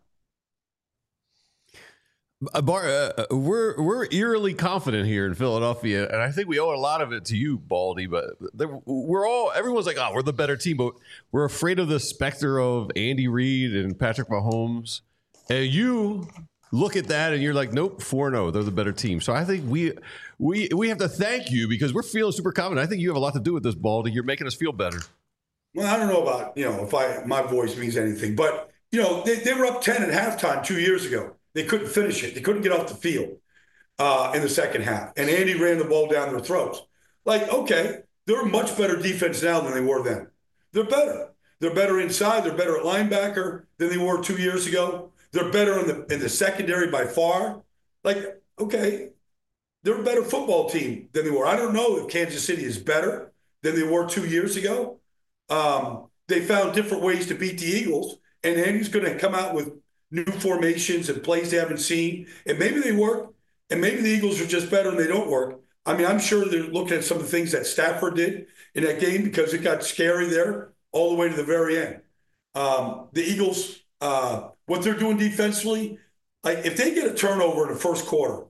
Speaker 3: Uh, Bar, uh, we're we're eerily confident here in Philadelphia, and I think we owe a lot of it to you, Baldy. But we're all everyone's like, oh, we're the better team, but we're afraid of the specter of Andy Reid and Patrick Mahomes. And you look at that, and you're like, nope, four and oh, they're the better team. So I think we we we have to thank you because we're feeling super confident. I think you have a lot to do with this, Baldy. You're making us feel better.
Speaker 15: Well, I don't know about you know if I my voice means anything, but you know they, they were up ten at halftime two years ago. They couldn't finish it. They couldn't get off the field uh, in the second half. And Andy ran the ball down their throats. Like, okay, they're a much better defense now than they were then. They're better. They're better inside. They're better at linebacker than they were two years ago. They're better in the in the secondary by far. Like, okay, they're a better football team than they were. I don't know if Kansas City is better than they were two years ago. Um, they found different ways to beat the Eagles. And Andy's going to come out with new formations and plays they haven't seen, and maybe they work, and maybe the Eagles are just better and they don't work. I mean, I'm sure they're looking at some of the things that Stafford did in that game because it got scary there all the way to the very end. Um, the Eagles, uh, what they're doing defensively, like if they get a turnover in the first quarter,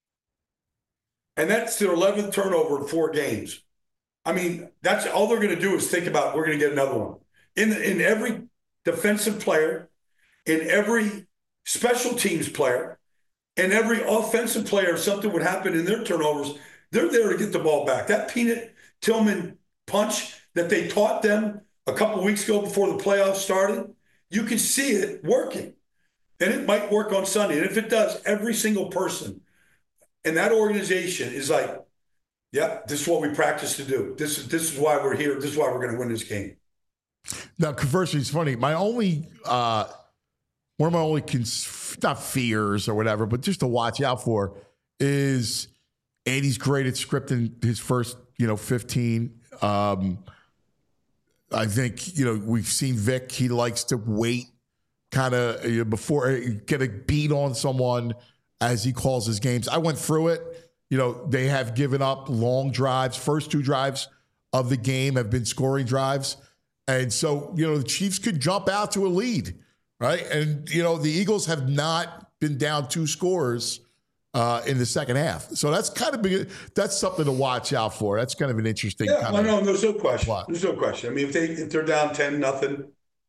Speaker 15: and that's their eleventh turnover in four games, I mean, that's all they're going to do is think about, we're going to get another one. In in every defensive player, in every special teams player, and every offensive player, something would happen in their turnovers, they're there to get the ball back. That Peanut Tillman punch that they taught them a couple weeks ago before the playoffs started, you can see it working. And it might work on Sunday. And if it does, every single person in that organization is like, yeah, this is what we practice to do. This is this is why we're here. This is why we're going to win this game.
Speaker 2: Now, conversely, it's funny. My only uh, – one of my only, cons- not fears or whatever, but just to watch out for is Andy's great at scripting his first, you know, fifteen. Um, I think, you know, we've seen Vic. He likes to wait kind of you know, before get a beat on someone as he calls his games. I went through it. You know, they have given up long drives. First two drives of the game have been scoring drives. And so, you know, the Chiefs could jump out to a lead. Right. And, you know, the Eagles have not been down two scores uh, in the second half. So that's kind of big. That's something to watch out for. That's kind of an interesting
Speaker 15: yeah,
Speaker 2: kind
Speaker 15: well,
Speaker 2: of.
Speaker 15: No, there's no question.
Speaker 2: Plot.
Speaker 15: There's no question. I mean, if they if they're down ten nothing,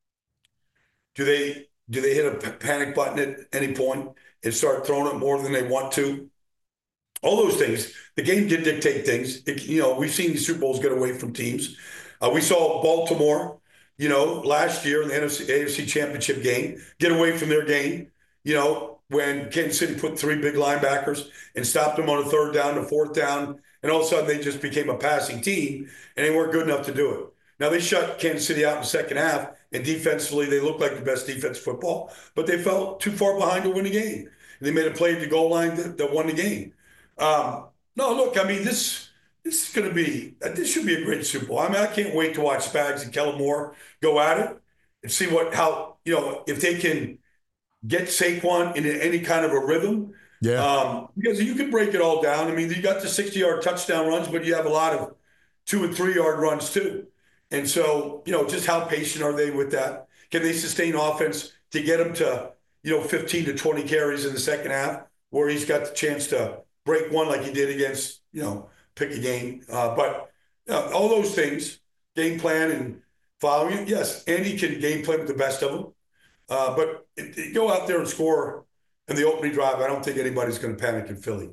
Speaker 15: do they do they hit a panic button at any point and start throwing it more than they want to? All those things. The game did dictate things. It, you know, we've seen these Super Bowls get away from teams. Uh, we saw Baltimore. You know, last year in the N F C, A F C Championship game, get away from their game. You know, when Kansas City put three big linebackers and stopped them on a third down to fourth down, and all of a sudden they just became a passing team, and they weren't good enough to do it. Now, they shut Kansas City out in the second half, and defensively they looked like the best defense football, but they fell too far behind to win the game. And they made a play at the goal line that, that won the game. Um, no, look, I mean, this this is going to be – this should be a great Super Bowl. I mean, I can't wait to watch Spags and Kellen Moore go at it and see what how – you know, if they can get Saquon in any kind of a rhythm.
Speaker 2: Yeah.
Speaker 15: Um, because you can break it all down. I mean, you got the sixty-yard touchdown runs, but you have a lot of two- and three-yard runs too. And so, you know, just how patient are they with that? Can they sustain offense to get him to, you know, fifteen to twenty carries in the second half where he's got the chance to break one like he did against, you know, pick a game. Uh, but you know, all those things, game plan and following it, yes, Andy can game plan with the best of them. Uh, but it, it, go out there and score in the opening drive. I don't think anybody's going to panic in Philly.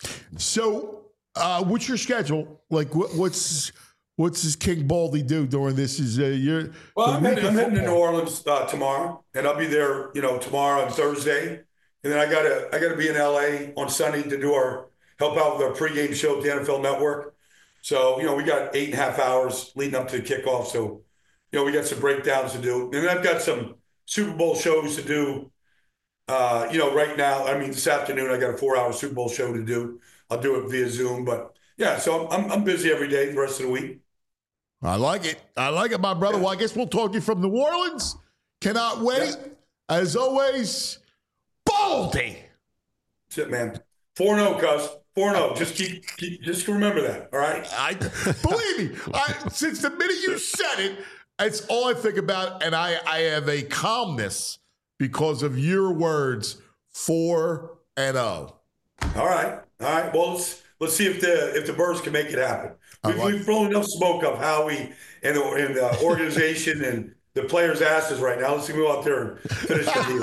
Speaker 2: So uh, what's your schedule? Like, what, what's – What's this King Baldy do during this? Is uh, your
Speaker 15: well? I'm heading, I'm heading to New Orleans uh, tomorrow, and I'll be there, you know, tomorrow and Thursday, and then I gotta I gotta be in L A on Sunday to do our help out with our pregame show at the N F L Network. So you know, we got eight and a half hours leading up to the kickoff. So you know, we got some breakdowns to do, and then I've got some Super Bowl shows to do. Uh, you know, right now, I mean, this afternoon I got a four-hour Super Bowl show to do. I'll do it via Zoom, but yeah, so I'm I'm busy every day the rest of the week.
Speaker 2: I like it. I like it, my brother. Well, I guess we'll talk to you from New Orleans. Cannot wait.
Speaker 15: Yes.
Speaker 2: As always, Baldy.
Speaker 15: That's it, man. four and oh, cuz. four and oh. Just keep, keep, just remember that, all right?
Speaker 2: I believe me. I, since the minute you said it, it's all I think about, and I, I have a calmness because of your words, four and oh.
Speaker 15: All right. All right. Well, let's, let's see if the if the Birds can make it happen. We've, like we've blown enough smoke up Howie and the, and the organization and the players' asses right now. Let's go out there and finish the deal.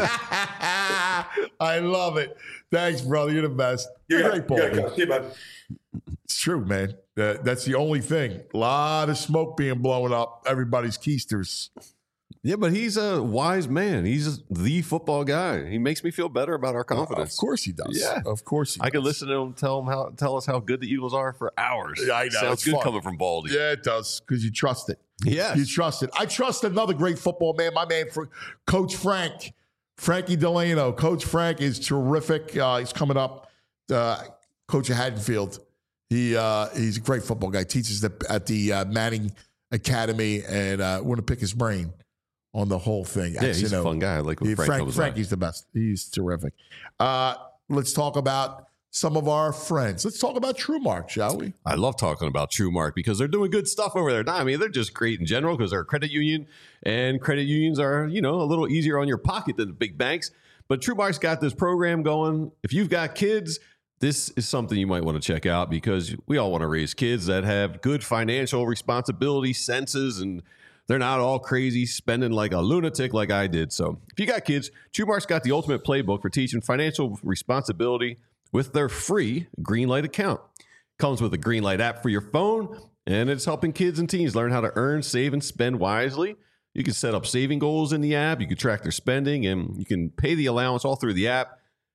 Speaker 2: I love it. Thanks, brother. You're the best.
Speaker 15: You're
Speaker 2: You're a great ball.
Speaker 15: you see you, bud.
Speaker 2: It's true, man. Uh, that's the only thing. A lot of smoke being blown up everybody's keisters.
Speaker 3: Yeah, but he's a wise man. He's the football guy. He makes me feel better about our confidence.
Speaker 2: Of course he does.
Speaker 3: Yeah,
Speaker 2: of course he
Speaker 3: I
Speaker 2: does.
Speaker 3: could listen to him tell him how tell us how good the Eagles are for hours.
Speaker 2: Yeah, I know.
Speaker 3: Sounds
Speaker 2: it's
Speaker 3: good
Speaker 2: fun.
Speaker 3: coming from Baldy.
Speaker 2: Yeah, it does because you trust it.
Speaker 3: Yes.
Speaker 2: You trust it. I trust another great football man, my man, for Coach Frank, Frankie Delano. Coach Frank is terrific. Uh, he's coming up. Uh, Coach of Haddonfield. He uh, he's a great football guy. Teaches the, at the uh, Manning Academy, and uh, we're gonna pick his brain on the whole thing.
Speaker 3: Yeah, he's you know, a fun guy. I like when
Speaker 2: he,
Speaker 3: Frank,
Speaker 2: Frank
Speaker 3: comes
Speaker 2: Frankie's the best. He's terrific. Uh, let's talk about some of our friends. Let's talk about TrueMark, shall we?
Speaker 3: I love talking about TrueMark because they're doing good stuff over there. I mean, they're just great in general because they're a credit union, and credit unions are, you know, a little easier on your pocket than the big banks. But TrueMark's got this program going. If you've got kids, this is something you might want to check out because we all want to raise kids that have good financial responsibility senses, and they're not all crazy spending like a lunatic like I did. So if you got kids, TrueMark's got the ultimate playbook for teaching financial responsibility with their free Greenlight account. Comes with a Greenlight app for your phone, and it's helping kids and teens learn how to earn, save, and spend wisely. You can set up saving goals in the app. You can track their spending, and you can pay the allowance all through the app.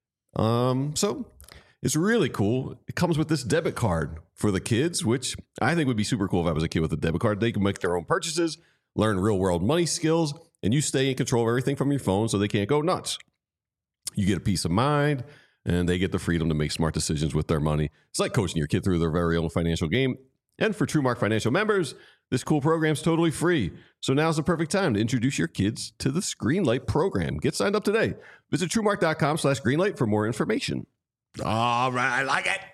Speaker 3: Um, so it's really cool. It comes with this debit card for the kids, which I think would be super cool if I was a kid with a debit card. They can make their own purchases, learn real-world money skills, and you stay in control of everything from your phone so they can't go nuts. You get a peace of mind, and they get the freedom to make smart decisions with their money. It's like coaching your kid through their very own financial game. And for TrueMark Financial members, this cool program is totally free. So now's the perfect time to introduce your kids to the Greenlight program. Get signed up today. Visit TrueMark.com slash Greenlight for more information.
Speaker 2: All right, I like it.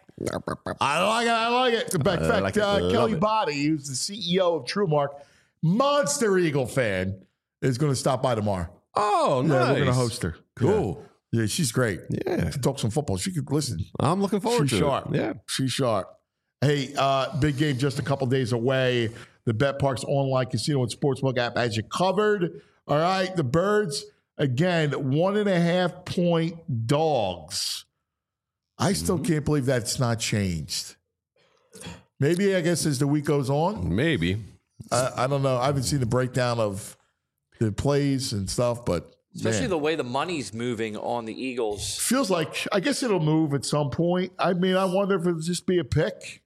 Speaker 2: I like it. I like it. In fact,
Speaker 3: I like it.
Speaker 2: uh, Kelly
Speaker 3: it.
Speaker 2: Body, who's the C E O of TrueMark, monster Eagle fan, is going to stop by tomorrow.
Speaker 3: Oh, nice.
Speaker 2: Yeah, we're going to host her.
Speaker 3: Cool.
Speaker 2: Yeah, yeah, she's great.
Speaker 3: Yeah.
Speaker 2: To talk some football. She could listen.
Speaker 3: I'm looking forward
Speaker 2: she's
Speaker 3: to
Speaker 2: sharp.
Speaker 3: it. Yeah.
Speaker 2: She's sharp. Hey, uh, big game just a couple days away. The BetParx online casino and sportsbook app has you covered. All right, the Birds, again, one and a half point dogs. I still mm-hmm. can't believe that's not changed. Maybe, I guess, as the week goes on.
Speaker 3: Maybe.
Speaker 2: I, I don't know. I haven't seen the breakdown of the plays and stuff, but
Speaker 8: Especially
Speaker 2: Man.
Speaker 8: the way the money's moving on the Eagles.
Speaker 2: Feels like, I guess it'll move at some point. I mean, I wonder if it'll just be a pick.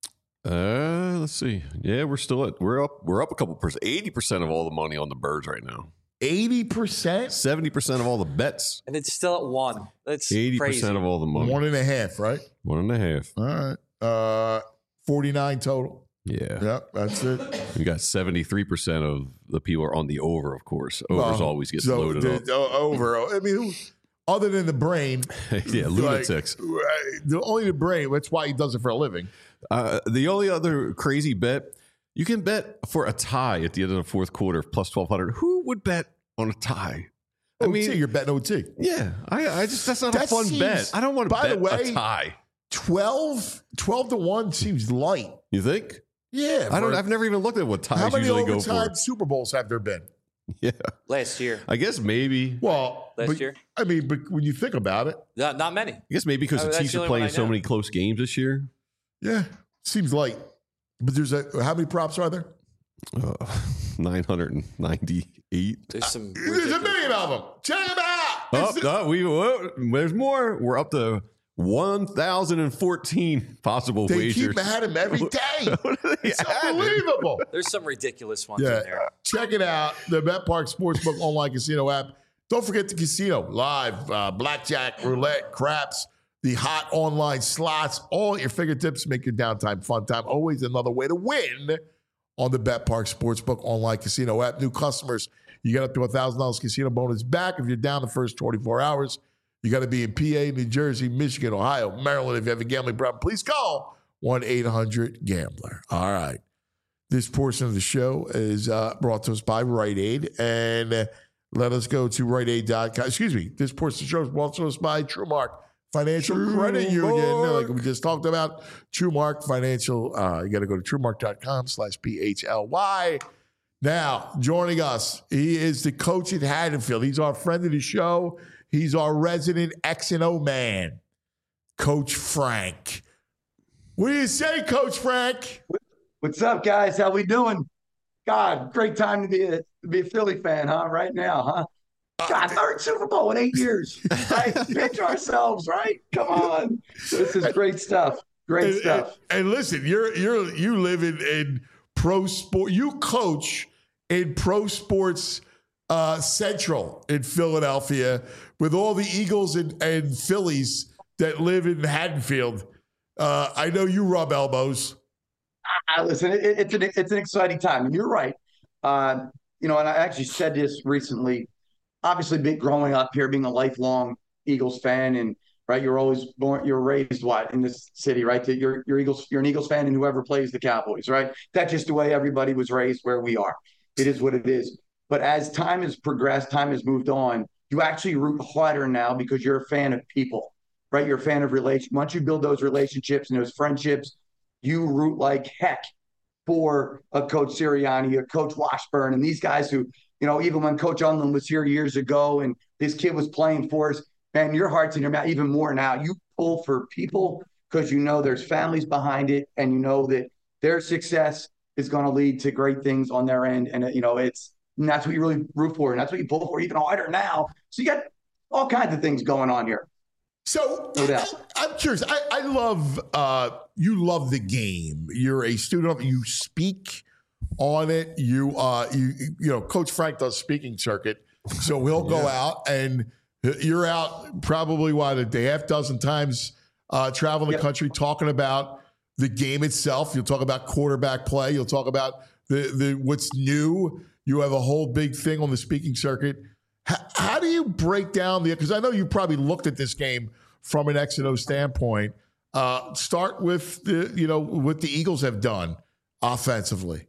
Speaker 3: Uh, let's see. Yeah, we're still at we're up we're up a couple percent. Eighty percent of all the money on the Birds right now.
Speaker 2: Eighty percent.
Speaker 3: Seventy percent of all the bets.
Speaker 8: And it's still at one. That's
Speaker 3: Eighty
Speaker 8: crazy.
Speaker 3: percent of all the money.
Speaker 2: One and a half, right?
Speaker 3: One and a half.
Speaker 2: All right. Uh, forty-nine total.
Speaker 3: Yeah.
Speaker 2: Yep, that's it.
Speaker 3: You got seventy-three percent of the people are on the over, of course. Overs
Speaker 2: Well,
Speaker 3: always get
Speaker 2: so
Speaker 3: loaded
Speaker 2: the,
Speaker 3: up.
Speaker 2: the over. I mean, who, other than the brain.
Speaker 3: Yeah, lunatics.
Speaker 2: Like, the, only the brain. That's why he does it for a living.
Speaker 3: Uh, the only other crazy bet, you can bet for a tie at the end of the fourth quarter, plus twelve hundred. Who would bet on a tie? I
Speaker 2: O T,
Speaker 3: mean,
Speaker 2: you're betting O T.
Speaker 3: Yeah, I, I just that's not
Speaker 2: That
Speaker 3: a fun
Speaker 2: seems-
Speaker 3: bet. I don't want to
Speaker 2: by
Speaker 3: bet
Speaker 2: the way,
Speaker 3: a tie.
Speaker 2: twelve, twelve to one seems light.
Speaker 3: You think?
Speaker 2: Yeah.
Speaker 3: I don't.
Speaker 2: for-
Speaker 3: I've never even looked at what ties
Speaker 2: How many
Speaker 3: usually go
Speaker 2: overtime
Speaker 3: for.
Speaker 2: Super Bowls have there been?
Speaker 3: Yeah,
Speaker 8: Last year.
Speaker 3: I guess maybe.
Speaker 2: Well,
Speaker 8: Last
Speaker 2: but-
Speaker 8: year?
Speaker 2: I mean, but when you think about it,
Speaker 8: Not, not many.
Speaker 3: I guess maybe because
Speaker 8: Oh,
Speaker 3: the
Speaker 8: that's
Speaker 3: Chiefs
Speaker 8: the
Speaker 3: are
Speaker 8: only one
Speaker 3: playing
Speaker 8: I
Speaker 3: so
Speaker 8: know.
Speaker 3: many close games this year.
Speaker 2: yeah, seems light. But there's a how many props are there?
Speaker 3: Uh, Nine hundred and ninety-eight.
Speaker 8: There's some.
Speaker 2: There's a million of them. Check them out.
Speaker 3: Oh,
Speaker 2: It's-
Speaker 3: no, we whoa, there's more. We're up to one thousand fourteen possible
Speaker 2: They
Speaker 3: wagers.
Speaker 2: keep at him every day.
Speaker 3: What are they
Speaker 2: It's
Speaker 3: adding?
Speaker 2: unbelievable.
Speaker 8: There's some ridiculous ones
Speaker 2: Yeah,
Speaker 8: in there.
Speaker 2: check it out. The BetPark Sportsbook online casino app. Don't forget the casino live, uh, blackjack, roulette, craps, the hot online slots, all at your fingertips. Make your downtime fun time. Always another way to win on the BetPark Sportsbook online casino app. New customers, you get up to one thousand dollars casino bonus back if you're down the first twenty-four hours. You got to be in P A, New Jersey, Michigan, Ohio, Maryland. If you have a gambling problem, please call one eight hundred gambler. All right. This portion of the show is uh, brought to us by Rite Aid. And uh, let us go to Rite Aid dot com. Excuse me. This portion of the show is brought to us by TrueMark Financial Credit Union. Like we just talked about, TrueMark Financial. Uh, you got to go to TrueMark dot com slash P H L Y. Now, joining us, he is the coach at Haddonfield. He's our friend of the show. He's our resident X and O man, Coach Frank. What do you say, Coach Frank?
Speaker 16: What's up, guys? How we doing? God, great time to be a, to be a Philly fan, huh? Right now, huh? God, third Super Bowl in eight years. Right? Pinch ourselves, right? Come on. This is great stuff. Great
Speaker 2: and,
Speaker 16: stuff.
Speaker 2: And, and listen, you're you're you live in, in pro sport. You coach in pro sports uh, Central in Philadelphia with all the Eagles and, and Phillies that live in Haddonfield. Uh, I know you rub elbows.
Speaker 16: Uh, listen, it, it's an it's an exciting time, and you're right. Uh, you know, and I actually said this recently. Obviously, being growing up here, being a lifelong Eagles fan, and right, you're always born, you're raised what in this city, right? That you're you're Eagles, you're an Eagles fan, and whoever plays the Cowboys, right? That's just the way everybody was raised where we are. It is what it is. But as time has progressed, time has moved on. You actually root harder now because you're a fan of people, right? You're a fan of relation. Once you build those relationships and those friendships, you root like heck for a Coach Sirianni, a Coach Washburn, and these guys who, you know, even when Coach Unlin was here years ago and this kid was playing for us, man, your heart's in your mouth even more now. You pull for people because you know there's families behind it, and you know that their success is going to lead to great things on their end. And, you know, it's and that's what you really root for, and that's what you pull for even harder now. So you got all kinds of things going on here.
Speaker 2: So
Speaker 16: No doubt.
Speaker 2: I, I'm curious. I, I love uh, you. Love the game. You're a student of it. You speak on it. You uh, you you know, Coach Frank does speaking circuit, so he'll go
Speaker 3: Yeah.
Speaker 2: out and you're out probably what a half dozen times uh, traveling
Speaker 16: Yep.
Speaker 2: the country talking about the game itself. You'll talk about quarterback play. You'll talk about the the what's new. You have a whole big thing on the speaking circuit. How, how do you break down the? Because I know you probably looked at this game from an X and O standpoint. Uh, start with the you know what the Eagles have done offensively.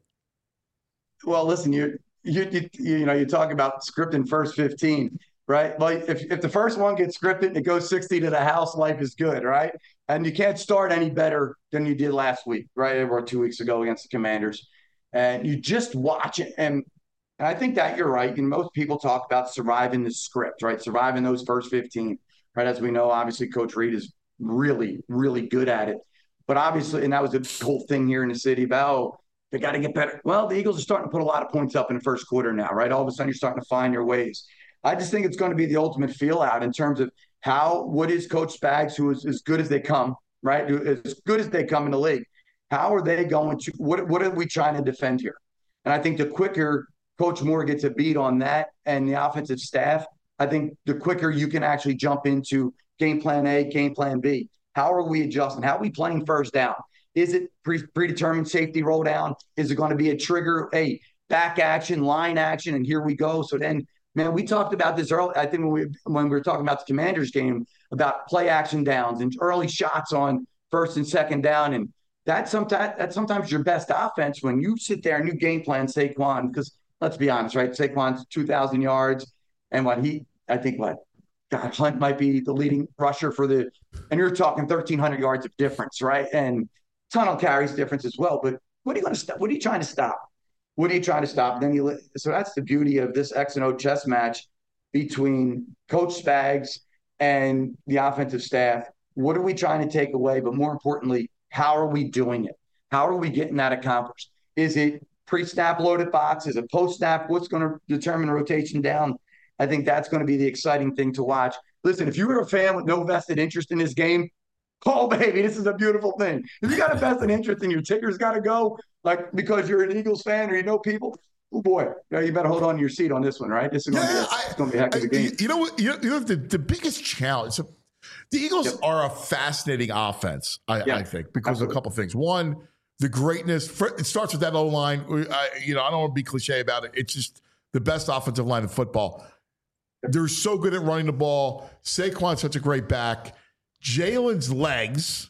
Speaker 16: Well, listen, you you you, you know, you talk about scripting first fifteen, right? Like if, if the first one gets scripted and it goes sixty to the house, life is good, right? And you can't start any better than you did last week, right? Or two weeks ago against the Commanders. And you just watch it. And, and I think that you're right. And most people talk about surviving the script, right? Surviving those first fifteen, right? As we know, obviously, Coach Reed is really, really good at it. But obviously, and that was the whole thing here in the city about, oh, they got to get better. Well, the Eagles are starting to put a lot of points up in the first quarter now, right? All of a sudden, you're starting to find your ways. I just think it's going to be the ultimate feel out in terms of how, what is Coach Spags, who is as good as they come, right? As good as they come in the league. How are they going to, what, what are we trying to defend here? And I think the quicker Coach Moore gets a beat on that and the offensive staff, I think the quicker you can actually jump into game plan A, game plan B. How are we adjusting? How are we playing first down? Is it pre- predetermined safety roll down? Is it going to be a trigger, a back action, line action, and here we go? So then, man, we talked about this early. I think when we when we were talking about the Commanders game, about play action downs and early shots on first and second down. And that's sometimes that's sometimes your best offense when you sit there and you game plan Saquon, because let's be honest, right? Saquon's two thousand yards, and what he, I think what, God, Hunt might be the leading rusher for the, and you're talking thirteen hundred yards of difference, right? And tunnel carries difference as well. But what are you going to stop? What are you trying to stop? What are you trying to stop? Then you, so that's the beauty of this X and O chess match between Coach Spags and the offensive staff. What are we trying to take away? But more importantly, how are we doing it? How are we getting that accomplished? Is it pre-snap loaded box? Is it post-snap? What's going to determine rotation down? I think that's going to be the exciting thing to watch. Listen, if you were a fan with no vested interest in this game, oh, baby, this is a beautiful thing. If you got a vested interest and your ticker's got to go, like because you're an Eagles fan or you know people, oh, boy, you better hold on to your seat on this one, right? This is going yeah, to be a heck of a game.
Speaker 2: You know what? You know, you know the, the biggest challenge – the Eagles yep. are a fascinating offense, I, yeah, I think, because absolutely. of a couple of things. One, the greatness. For, it starts with that O-line. I, you know, I don't want to be cliche about it. It's just the best offensive line in football. They're so good at running the ball. Saquon's such a great back. Jalen's legs.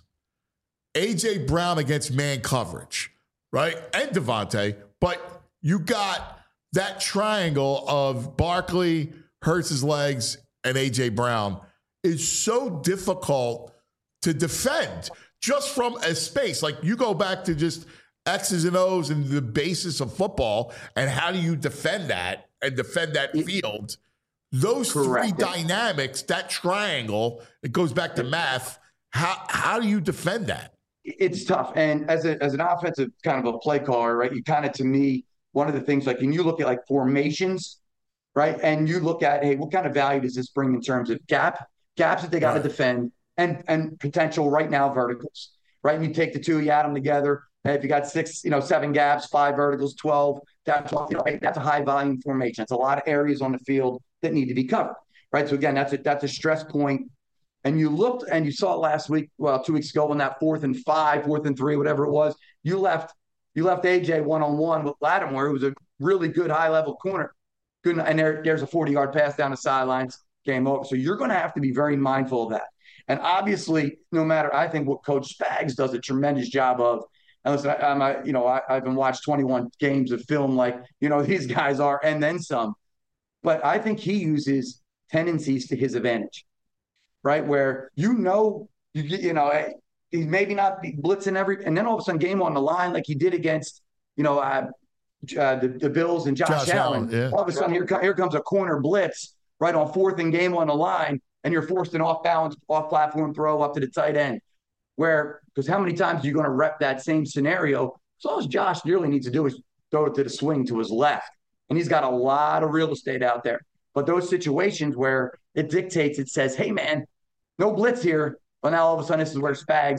Speaker 2: A J. Brown against man coverage, right? And Devontae. But you got that triangle of Barkley, Hurts' legs, and A J. Brown is so difficult to defend just from a space. Like you go back to just X's and O's and the basis of football, and how do you defend that and defend that field? Those Correct. three dynamics, that triangle, it goes back to math. How how do you defend that?
Speaker 16: It's tough. And as a, as an offensive kind of a play caller, right, you kind of, to me, one of the things, like, when you look at like formations, right, and you look at, hey, what kind of value does this bring in terms of gap, gaps that they got to right. defend, and and potential right now verticals, right? And you take the two, you add them together. And if you got six, you know, seven gaps, five verticals, twelve, down twelve, you know, that's a high volume formation. It's a lot of areas on the field that need to be covered, right? So again, that's a that's a stress point. And you looked and you saw it last week, well, two weeks ago, when that fourth and five, fourth and three, whatever it was, you left you left A J one on one with Lattimore, who was a really good high level corner. Good, and there, there's a forty yard pass down the sidelines. Game over. So you're going to have to be very mindful of that. And obviously, no matter, I think what Coach Spags does a tremendous job of. And listen, I, I'm, a, you know, I, I've been watched twenty-one games of film, like, you know, these guys are, and then some. But I think he uses tendencies to his advantage, right? Where you know, you you know, he's maybe not blitzing every, and then all of a sudden, game on the line, like he did against, you know, uh, uh, the, the Bills and Josh, Josh Allen. Allen yeah. All of a sudden, here, here comes a corner blitz. Right on fourth and game on the line, and you're forced an off-balance, off-platform throw up to the tight end. Where, because how many times are you going to rep that same scenario? So all Josh really needs to do is throw it to the swing to his left. And he's got a lot of real estate out there. But those situations where it dictates, it says, hey, man, no blitz here. Well, now all of a sudden this is where Spags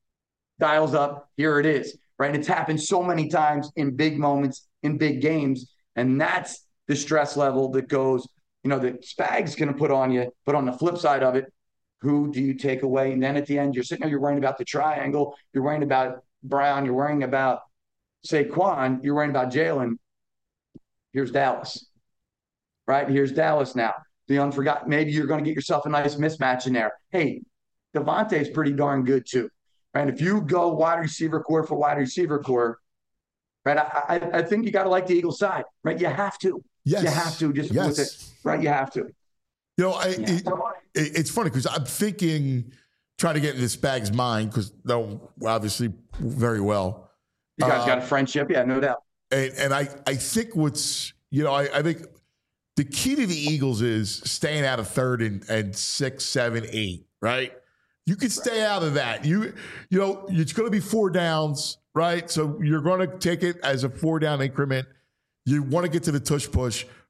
Speaker 16: dials up. Here it is, right? And it's happened so many times in big moments, in big games. And that's the stress level that goes, you know, that Spags going to put on you. But on the flip side of it, who do you take away? And then at the end, you're sitting there, you're worrying about the triangle. You're worrying about Brown. You're worrying about Saquon. You're worrying about Jalen. Here's Dallas, right? Here's Dallas now. The unforgotten. Maybe you're going to get yourself a nice mismatch in there. Hey, Devontae is pretty darn good too, right? If you go wide receiver core for wide receiver core, right? I, I, I think you got to like the Eagles side, right? You have to.
Speaker 2: Yes.
Speaker 16: You have to just
Speaker 2: yes.
Speaker 16: with it, right? You have to.
Speaker 2: You know, I, yeah. it, it, it's funny because I'm thinking, trying to get into Spags' mind because they're obviously very well.
Speaker 16: You guys uh, got a friendship, yeah, no doubt.
Speaker 2: And, and I, I think what's, you know, I, I think the key to the Eagles is staying out of third and, and six, seven, eight, right? You can stay out of that. You, you know, it's going to be four downs, right? So you're going to take it as a four down increment. You want to get to the tush push,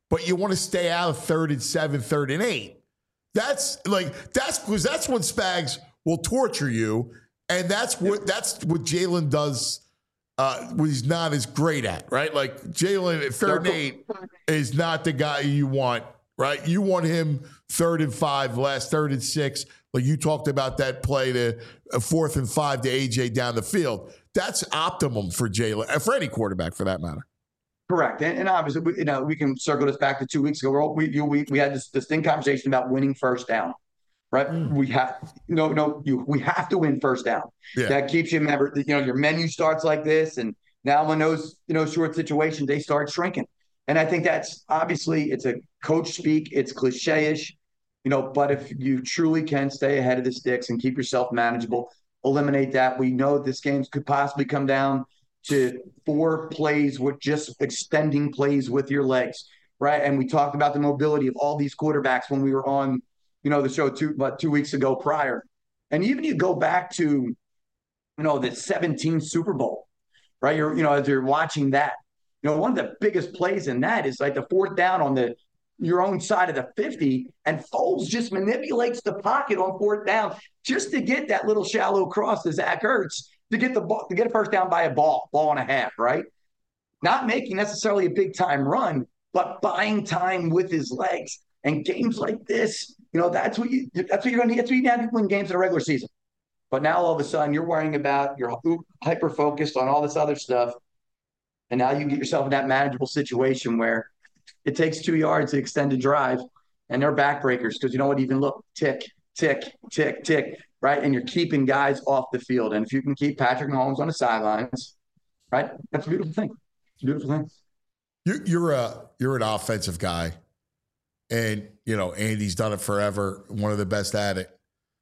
Speaker 2: but you want to stay out of third and seven, third and eight. That's like that's because that's when Spags will torture you, and that's what that's what Jalen does. Uh, what he's not as great at, right? Like Jalen at third and eight is not the guy you want, right? You want him third and five, last third and six. Like you talked about that play to uh, fourth and five to A J down the field. That's optimum for Jalen, for any quarterback for that matter.
Speaker 16: Correct, and, and obviously, we, you know, we can circle this back to two weeks ago. We're all, we you, we we had this distinct conversation about winning first down, right? Mm. We have no no you we have to win first down. Yeah. That keeps you remember. You know, your menu starts like this, and now in those you know short situations, they start shrinking. And I think that's obviously it's a coach speak. It's cliche-ish, you know. But if you truly can stay ahead of the sticks and keep yourself manageable, eliminate that. We know this game could possibly come down to four plays with just extending plays with your legs, right? And we talked about the mobility of all these quarterbacks when we were on, you know, the show two about two weeks ago prior. And even you go back to, you know, the seventeen Super Bowl, right? You're, you know, as you're watching that, you know, one of the biggest plays in that is like the fourth down on the your own side of the fifty, and Foles just manipulates the pocket on fourth down just to get that little shallow cross to Zach Ertz to get the ball, to get a first down by a ball, ball and a half, right? Not making necessarily a big time run, but buying time with his legs. And games like this, you know, that's what you that's what you're going to that's what you have to win games in the regular season. But now all of a sudden you're worrying about you're hyper focused on all this other stuff, and now you get yourself in that manageable situation where it takes two yards to extend a drive, and they're backbreakers because you know what? Even look, tick, tick, tick, tick. Right, and you're keeping guys off the field. And if you can keep Patrick Mahomes on the sidelines, right, that's a beautiful thing. It's a beautiful thing.
Speaker 2: You're, you're a you're an offensive guy, and you know Andy's done it forever. One of the best at it,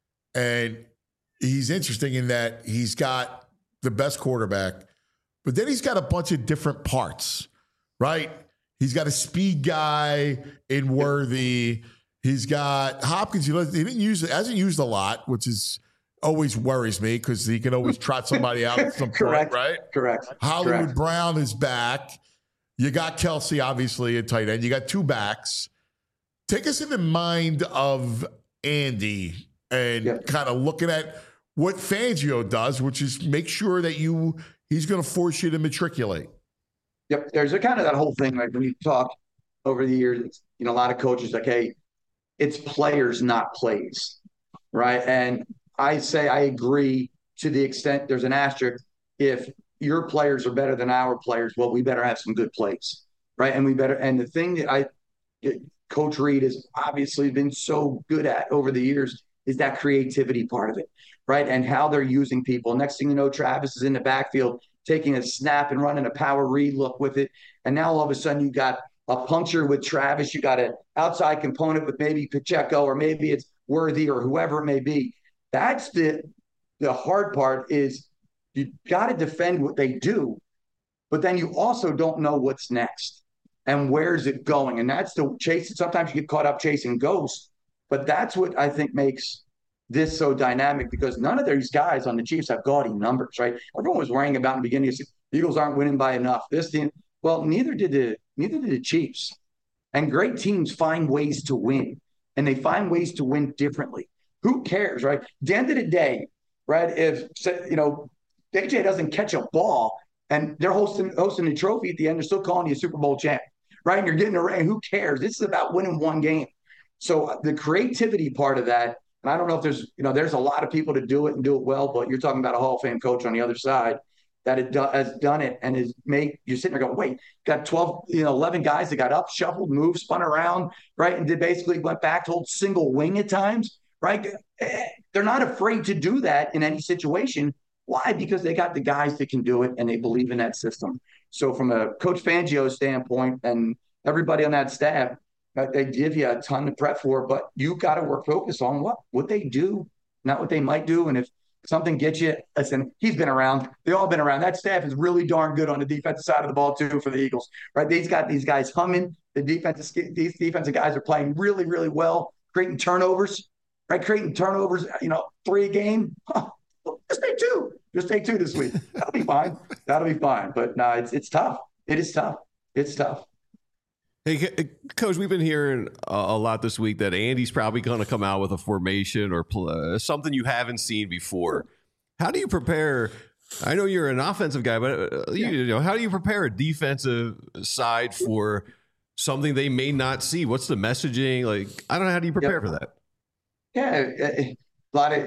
Speaker 2: and he's interesting in that he's got the best quarterback, but then he's got a bunch of different parts. Right, he's got a speed guy in Worthy. He's got Hopkins. He didn't use it, hasn't used a lot, which is always worries me because he can always trot somebody out at some
Speaker 16: Correct.
Speaker 2: point, right?
Speaker 16: Correct.
Speaker 2: Hollywood
Speaker 16: Correct. Brown
Speaker 2: is back. You got Kelsey, obviously, at tight end. You got two backs. Take us in the mind of Andy and yep. kind of looking at what Fangio does, which is make sure that you he's going to force you to matriculate.
Speaker 16: Yep. There's a kind of that whole thing, like when you talk over the years, you know, a lot of coaches like, hey, it's players, not plays, right? And I say I agree to the extent there's an asterisk. If your players are better than our players, well, we better have some good plays, right? And we better. And the thing that I, Coach Reid has obviously been so good at over the years is that creativity part of it, right? And how they're using people. Next thing you know, Travis is in the backfield taking a snap and running a power read look with it, and now all of a sudden you got a puncture with Travis. You got an outside component with maybe Pacheco, or maybe it's Worthy or whoever it may be. That's the the hard part is you got to defend what they do, but then you also don't know what's next and where's it going. And that's the chase. Sometimes you get caught up chasing ghosts, but that's what I think makes this so dynamic because none of these guys on the Chiefs have gaudy numbers, right? Everyone was worrying about in the beginning, the Eagles aren't winning by enough. This team, well, neither did the Neither did the Chiefs. And great teams find ways to win, and they find ways to win differently. Who cares, right? At the end of the day, right, if, you know, A J doesn't catch a ball and they're hosting hosting a trophy at the end, they're still calling you a Super Bowl champ, right? And you're getting a ring. Who cares? This is about winning one game. So the creativity part of that, and I don't know if there's, you know, there's a lot of people to do it and do it well, but you're talking about a Hall of Fame coach on the other side that it do, has done it and is made, you're sitting there going, wait, got twelve, you know, eleven guys that got up, shuffled, moved, spun around, right? And did basically went back to hold single wing at times, right? They're not afraid to do that in any situation. Why? Because they got the guys that can do it and they believe in that system. So from a Coach Fangio standpoint and everybody on that staff, they give you a ton to prep for, but you got to work focus on what, what they do, not what they might do. And if something gets you, listen, he's been around. They all been around. That staff is really darn good on the defensive side of the ball too for the Eagles, right? They've got these guys humming. The defensive, these defensive guys are playing really, really well, creating turnovers, right? Creating turnovers, you know, three a game. Huh. Just take two. Just take two this week. That'll be fine. That'll be fine. But no, it's it's tough. It is tough. It's tough.
Speaker 3: Hey, Coach, we've been hearing a lot this week that Andy's probably going to come out with a formation or uh, something you haven't seen before. How do you prepare? I know you're an offensive guy, but uh, you, you know, how do you prepare a defensive side for something they may not see? What's the messaging? Like, I don't know. How do you prepare yep. for that?
Speaker 16: Yeah, a lot of,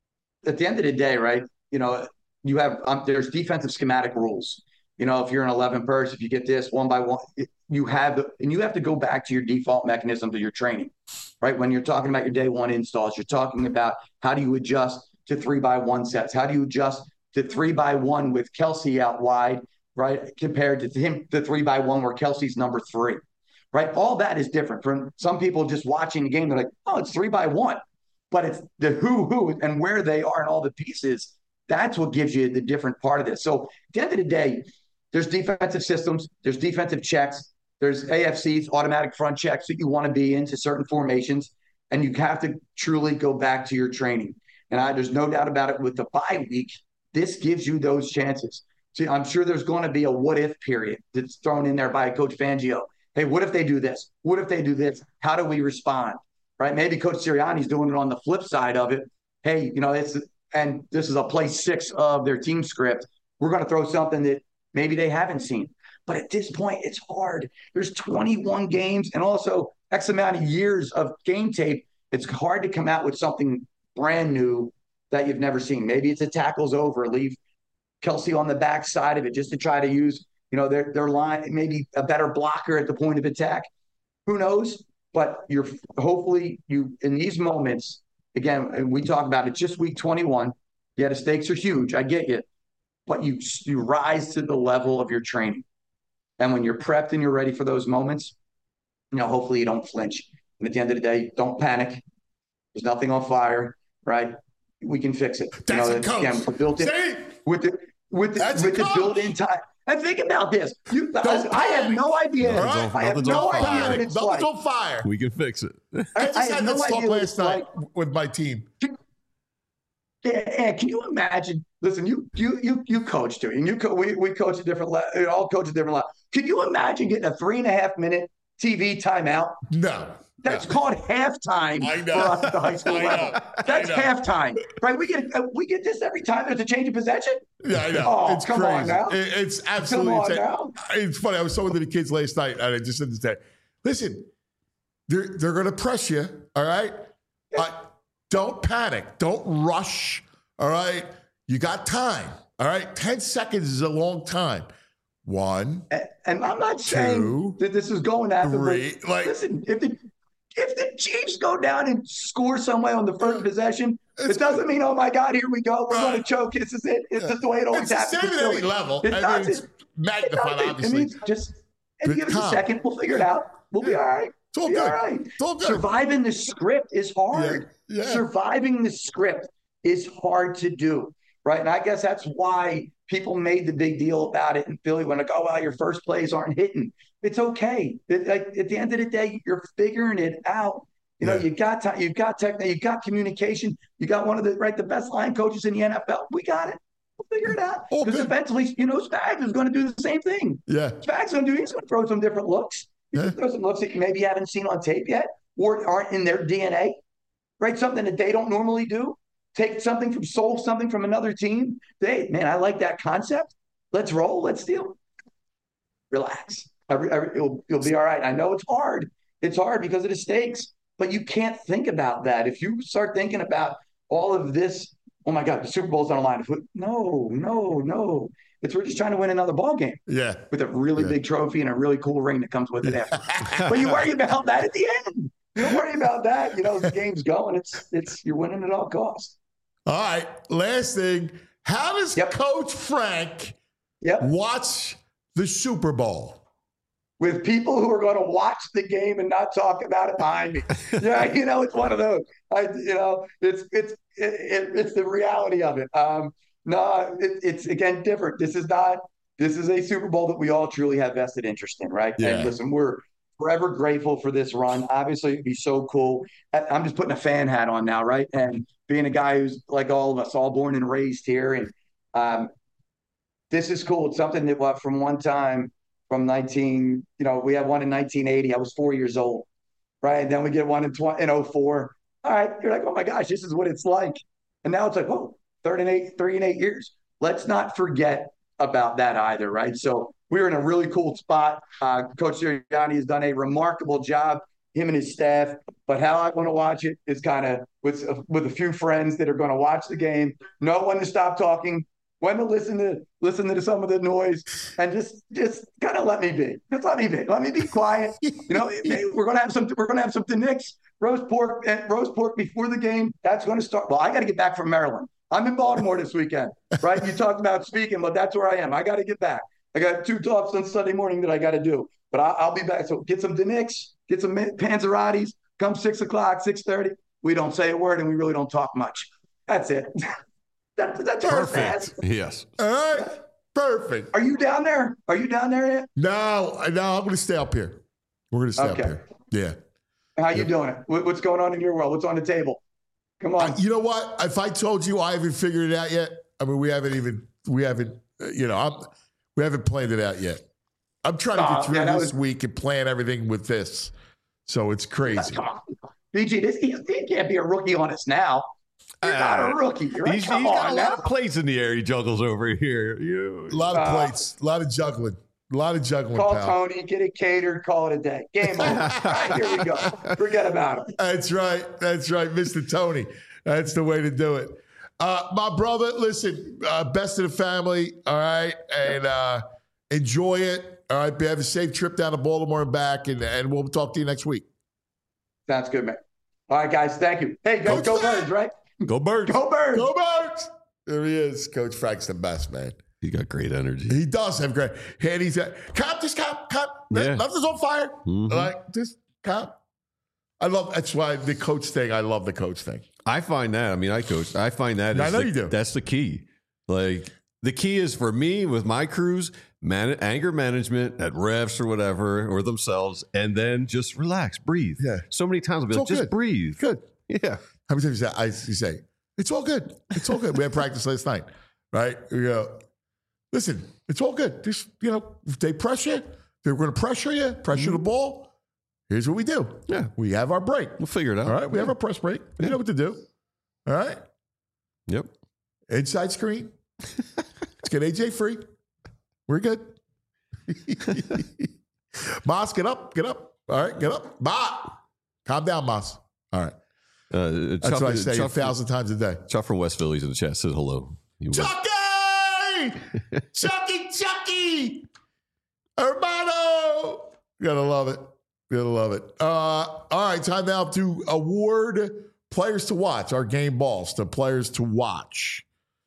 Speaker 16: at the end of the day, right, you know, you have, um, there's defensive schematic rules. You know, if you're an eleven person, if you get this one by one, you have, and you have to go back to your default mechanisms of your training, right? When you're talking about your day one installs, you're talking about how do you adjust to three by one sets? How do you adjust to three by one with Kelsey out wide, right? Compared to him, the three by one where Kelsey's number three, right? All that is different from some people just watching the game. They're like, oh, it's three by one, but it's the who, who, and where they are and all the pieces. That's what gives you the different part of this. So at the end of the day, there's defensive systems, there's defensive checks, there's A F Cs, automatic front checks that you want to be into certain formations, and you have to truly go back to your training. And I, there's no doubt about it with the bye week, this gives you those chances. See, I'm sure there's going to be a what-if period that's thrown in there by Coach Fangio. Hey, what if they do this? What if they do this? How do we respond? Right? Maybe Coach Sirianni's doing it on the flip side of it. Hey, you know, it's and this is a play six of their team script. We're going to throw something that maybe they haven't seen. But at this point, it's hard. There's twenty-one games and also X amount of years of game tape. It's hard to come out with something brand new that you've never seen. Maybe it's a tackles over, leave Kelsey on the back side of it just to try to use, you know, their, their line, maybe a better blocker at the point of attack. Who knows? But you're hopefully you in these moments, again, and we talk about it, just week twenty-one. Yeah, the stakes are huge. I get you. But you you rise to the level of your training. And when you're prepped and you're ready for those moments, you know, hopefully you don't flinch. And at the end of the day, don't panic. There's nothing on fire, right? We can fix it.
Speaker 2: That's
Speaker 16: you know,
Speaker 2: a coach.
Speaker 16: Again, built in, with the with the, with the built-in time. And think about this. You, I, I have no idea.
Speaker 2: Right?
Speaker 16: I have no idea what it's
Speaker 2: Nothing's
Speaker 16: like.
Speaker 2: on fire.
Speaker 3: We can fix it.
Speaker 2: I just
Speaker 16: I
Speaker 2: had
Speaker 16: have no
Speaker 2: this talk
Speaker 16: idea what
Speaker 2: last
Speaker 16: it's
Speaker 2: night
Speaker 16: like.
Speaker 2: with my team.
Speaker 16: Yeah, can you imagine? Listen, you you you you coach too, and you co- we we coach a different level. All coach a different level. Can you imagine getting a three and a half minute T V timeout?
Speaker 2: No,
Speaker 16: that's
Speaker 2: no.
Speaker 16: called halftime
Speaker 2: I know.
Speaker 16: for us at the high school
Speaker 2: I
Speaker 16: level.
Speaker 2: know.
Speaker 16: That's
Speaker 2: I know.
Speaker 16: halftime, right? We get uh, we get this every time there's a change of possession.
Speaker 2: Yeah, I know.
Speaker 16: Oh,
Speaker 2: it's
Speaker 16: come
Speaker 2: crazy.
Speaker 16: on now.
Speaker 2: It- it's absolutely
Speaker 16: Come on
Speaker 2: insane.
Speaker 16: now.
Speaker 2: It's funny. I was talking to the kids last night, and I just said this day. Listen, they're they're going to press you. All right, uh, don't panic. Don't rush. All right, you got time. All right, ten seconds is a long time. One,
Speaker 16: and, and I'm not saying
Speaker 2: two,
Speaker 16: that this is going after.
Speaker 2: three,
Speaker 16: But
Speaker 2: like-
Speaker 16: listen, if the if the Chiefs go down and score some way on the first possession, it doesn't mean, oh my God, here we go, we're going to choke. This is it. It's just the way it always
Speaker 2: It's the
Speaker 16: happens.
Speaker 2: same
Speaker 16: It's
Speaker 2: at any
Speaker 16: silly.
Speaker 2: level.
Speaker 16: It
Speaker 2: I mean,
Speaker 16: doesn't.
Speaker 2: it's magnified,
Speaker 16: It doesn't.
Speaker 2: obviously.
Speaker 16: It means just and
Speaker 2: But
Speaker 16: give us a
Speaker 2: calm.
Speaker 16: second. We'll figure it out. We'll be all right.
Speaker 2: It's all
Speaker 16: Be
Speaker 2: good.
Speaker 16: all right.
Speaker 2: It's all good.
Speaker 16: Surviving the script is hard.
Speaker 2: Yeah, yeah.
Speaker 16: Surviving the script is hard to do, right? And I guess that's why people made the big deal about it in Philly when like, oh, well, your first plays aren't hitting. It's okay. It, like, at the end of the day, you're figuring it out. You know,
Speaker 2: Yeah.
Speaker 16: you got time, you got technique, you got communication, you got one of the right the best line coaches in the N F L. We got it. We'll figure it out.
Speaker 2: All
Speaker 16: Because
Speaker 2: good.
Speaker 16: eventually, you know, Spags is going to do the same thing.
Speaker 2: Yeah.
Speaker 16: Spags going to do. He's going to throw some different looks. He's going to throw some looks that you maybe haven't seen on tape yet, or aren't in their D N A. Right, something that they don't normally do. Take something from soul, something from another team. They, man, I like that concept. Let's roll. Let's deal. Relax. Every, every, it'll, it'll be all right. I know it's hard. It's hard because of the stakes, but you can't think about that. If you start thinking about all of this, oh my God, the Super Bowl's on the line. No, no, no. It's we're just trying to win another ball game
Speaker 2: Yeah.
Speaker 16: with a really
Speaker 2: Yeah.
Speaker 16: big trophy and a really cool ring that comes with it after. But you worry about that at the end. You don't worry about that. You know, the game's going. It's it's you're winning at all costs.
Speaker 2: All right. Last thing. How does Coach Frank
Speaker 16: Yep.
Speaker 2: watch the Super Bowl?
Speaker 16: With people who are going to watch the game and not talk about it behind me. Yeah, you know, it's one of those. I, you know, it's it's it, it, it's the reality of it. Um, no, it, it's again different. This is not. This is a Super Bowl that we all truly have vested interest in, right?
Speaker 2: Yeah.
Speaker 16: And listen, we're forever grateful for this run. Obviously, it'd be so cool. I- I'm just putting a fan hat on now, right? And being a guy who's like all of us, all born and raised here, and um, this is cool. It's something that, well, from one time. from nineteen, you know, we had one in nineteen eighty. I was four years old, right? And then we get one in, twenty, in oh four. All right, you're like, oh my gosh, this is what it's like. And now it's like, oh, third and eight, three and eight years. Let's not forget about that either, right? So we're in a really cool spot. Uh, Coach Sirianni has done a remarkable job, him and his staff. But how I want to watch it is kind of with with a few friends that are going to watch the game, know when to stop talking, when to listen to listen to some of the noise, and just just kind of let me be. Just let me be. Let me be quiet. You know, we're gonna have some. We're gonna have something Knicks roast pork and roast pork before the game. That's going to start. Well, I got to get back from Maryland. I'm in Baltimore this weekend, right? You talked about speaking, but that's where I am. I got to get back. I got two talks on Sunday morning that I got to do, but I, I'll be back. So get some Knicks, get some Panzerottis. Come six o'clock, six thirty. We don't say a word and we really don't talk much. That's it. that, that's
Speaker 3: perfect. Yes.
Speaker 2: All right. Perfect.
Speaker 16: Are you down there? Are you down there yet?
Speaker 2: No, no. I'm going to stay up here. We're going to stay
Speaker 16: okay.
Speaker 2: up here. Yeah.
Speaker 16: How you doing? What's going on in your world? What's on the table? Come on.
Speaker 2: Uh, you know what? If I told you I haven't figured it out yet, I mean, we haven't even, we haven't, uh, you know, I'm, we haven't planned it out yet. I'm trying to get uh, through yeah, this was... week and plan everything with this. So it's crazy.
Speaker 16: B G, this, he, he can't be a rookie on us now. You're uh, not a rookie. You're
Speaker 3: he's,
Speaker 16: like,
Speaker 3: he's got a lot of plates in the air he juggles over here. You,
Speaker 2: a lot of uh, plates, a lot of juggling. A lot of juggling.
Speaker 16: Call
Speaker 2: pal.
Speaker 16: Tony, get it catered, call it a day. Game over. Right, here we go. Forget about him.
Speaker 2: That's right. That's right, Mister Tony. That's the way to do it. Uh, my brother, listen, uh, best of the family, all right? And uh, enjoy it. All right, have a safe trip down to Baltimore and back, and, and we'll talk to you next week.
Speaker 16: Sounds good, man. All right, guys, thank you. Hey, go, go Birds, right?
Speaker 3: Go Birds.
Speaker 16: Go Birds.
Speaker 2: Go Birds. There he is. Coach Frank's the best, man.
Speaker 3: He got great energy.
Speaker 2: He does have great. And he's uh, cop, just cop, cop. Yeah. Love is on fire. Mm-hmm. Like, just cop. I love, that's why the coach thing, I love the coach thing.
Speaker 3: I find that, I mean, I coach, I find that.
Speaker 2: I
Speaker 3: is
Speaker 2: know
Speaker 3: the,
Speaker 2: you do.
Speaker 3: That's the key. Like, the key is for me with my crews, man, anger management at refs or whatever, or themselves, and then just relax, breathe.
Speaker 2: Yeah.
Speaker 3: So many times I'll be
Speaker 2: it's
Speaker 3: like, just
Speaker 2: good.
Speaker 3: breathe.
Speaker 2: Good.
Speaker 3: Yeah.
Speaker 2: How many times I you say, it's all good. It's all good. We had practice last night, right? We go, listen, it's all good. Just, you know, if they pressure, they're going to pressure you, pressure mm-hmm. the ball. Here's what we do.
Speaker 3: Yeah.
Speaker 2: We have our break.
Speaker 3: We'll figure it out.
Speaker 2: All right. We
Speaker 3: yeah.
Speaker 2: have our press break. We yeah. know what to do. All right.
Speaker 3: Yep.
Speaker 2: Inside screen. Let's get A J free. We're good. Moss, get up. Get up. All right. Get up. Ma. Calm down, Moss. All right.
Speaker 3: Uh,
Speaker 2: That's
Speaker 3: Chuck,
Speaker 2: what I say
Speaker 3: Chuck,
Speaker 2: a thousand times a day.
Speaker 3: Chuck from West Philly's in the chat says hello. You
Speaker 2: Chucky! Chucky, Chucky! Hermano! Gotta love it. Gotta love it. Uh, all right, time now to award players to watch, our game balls, the players to watch.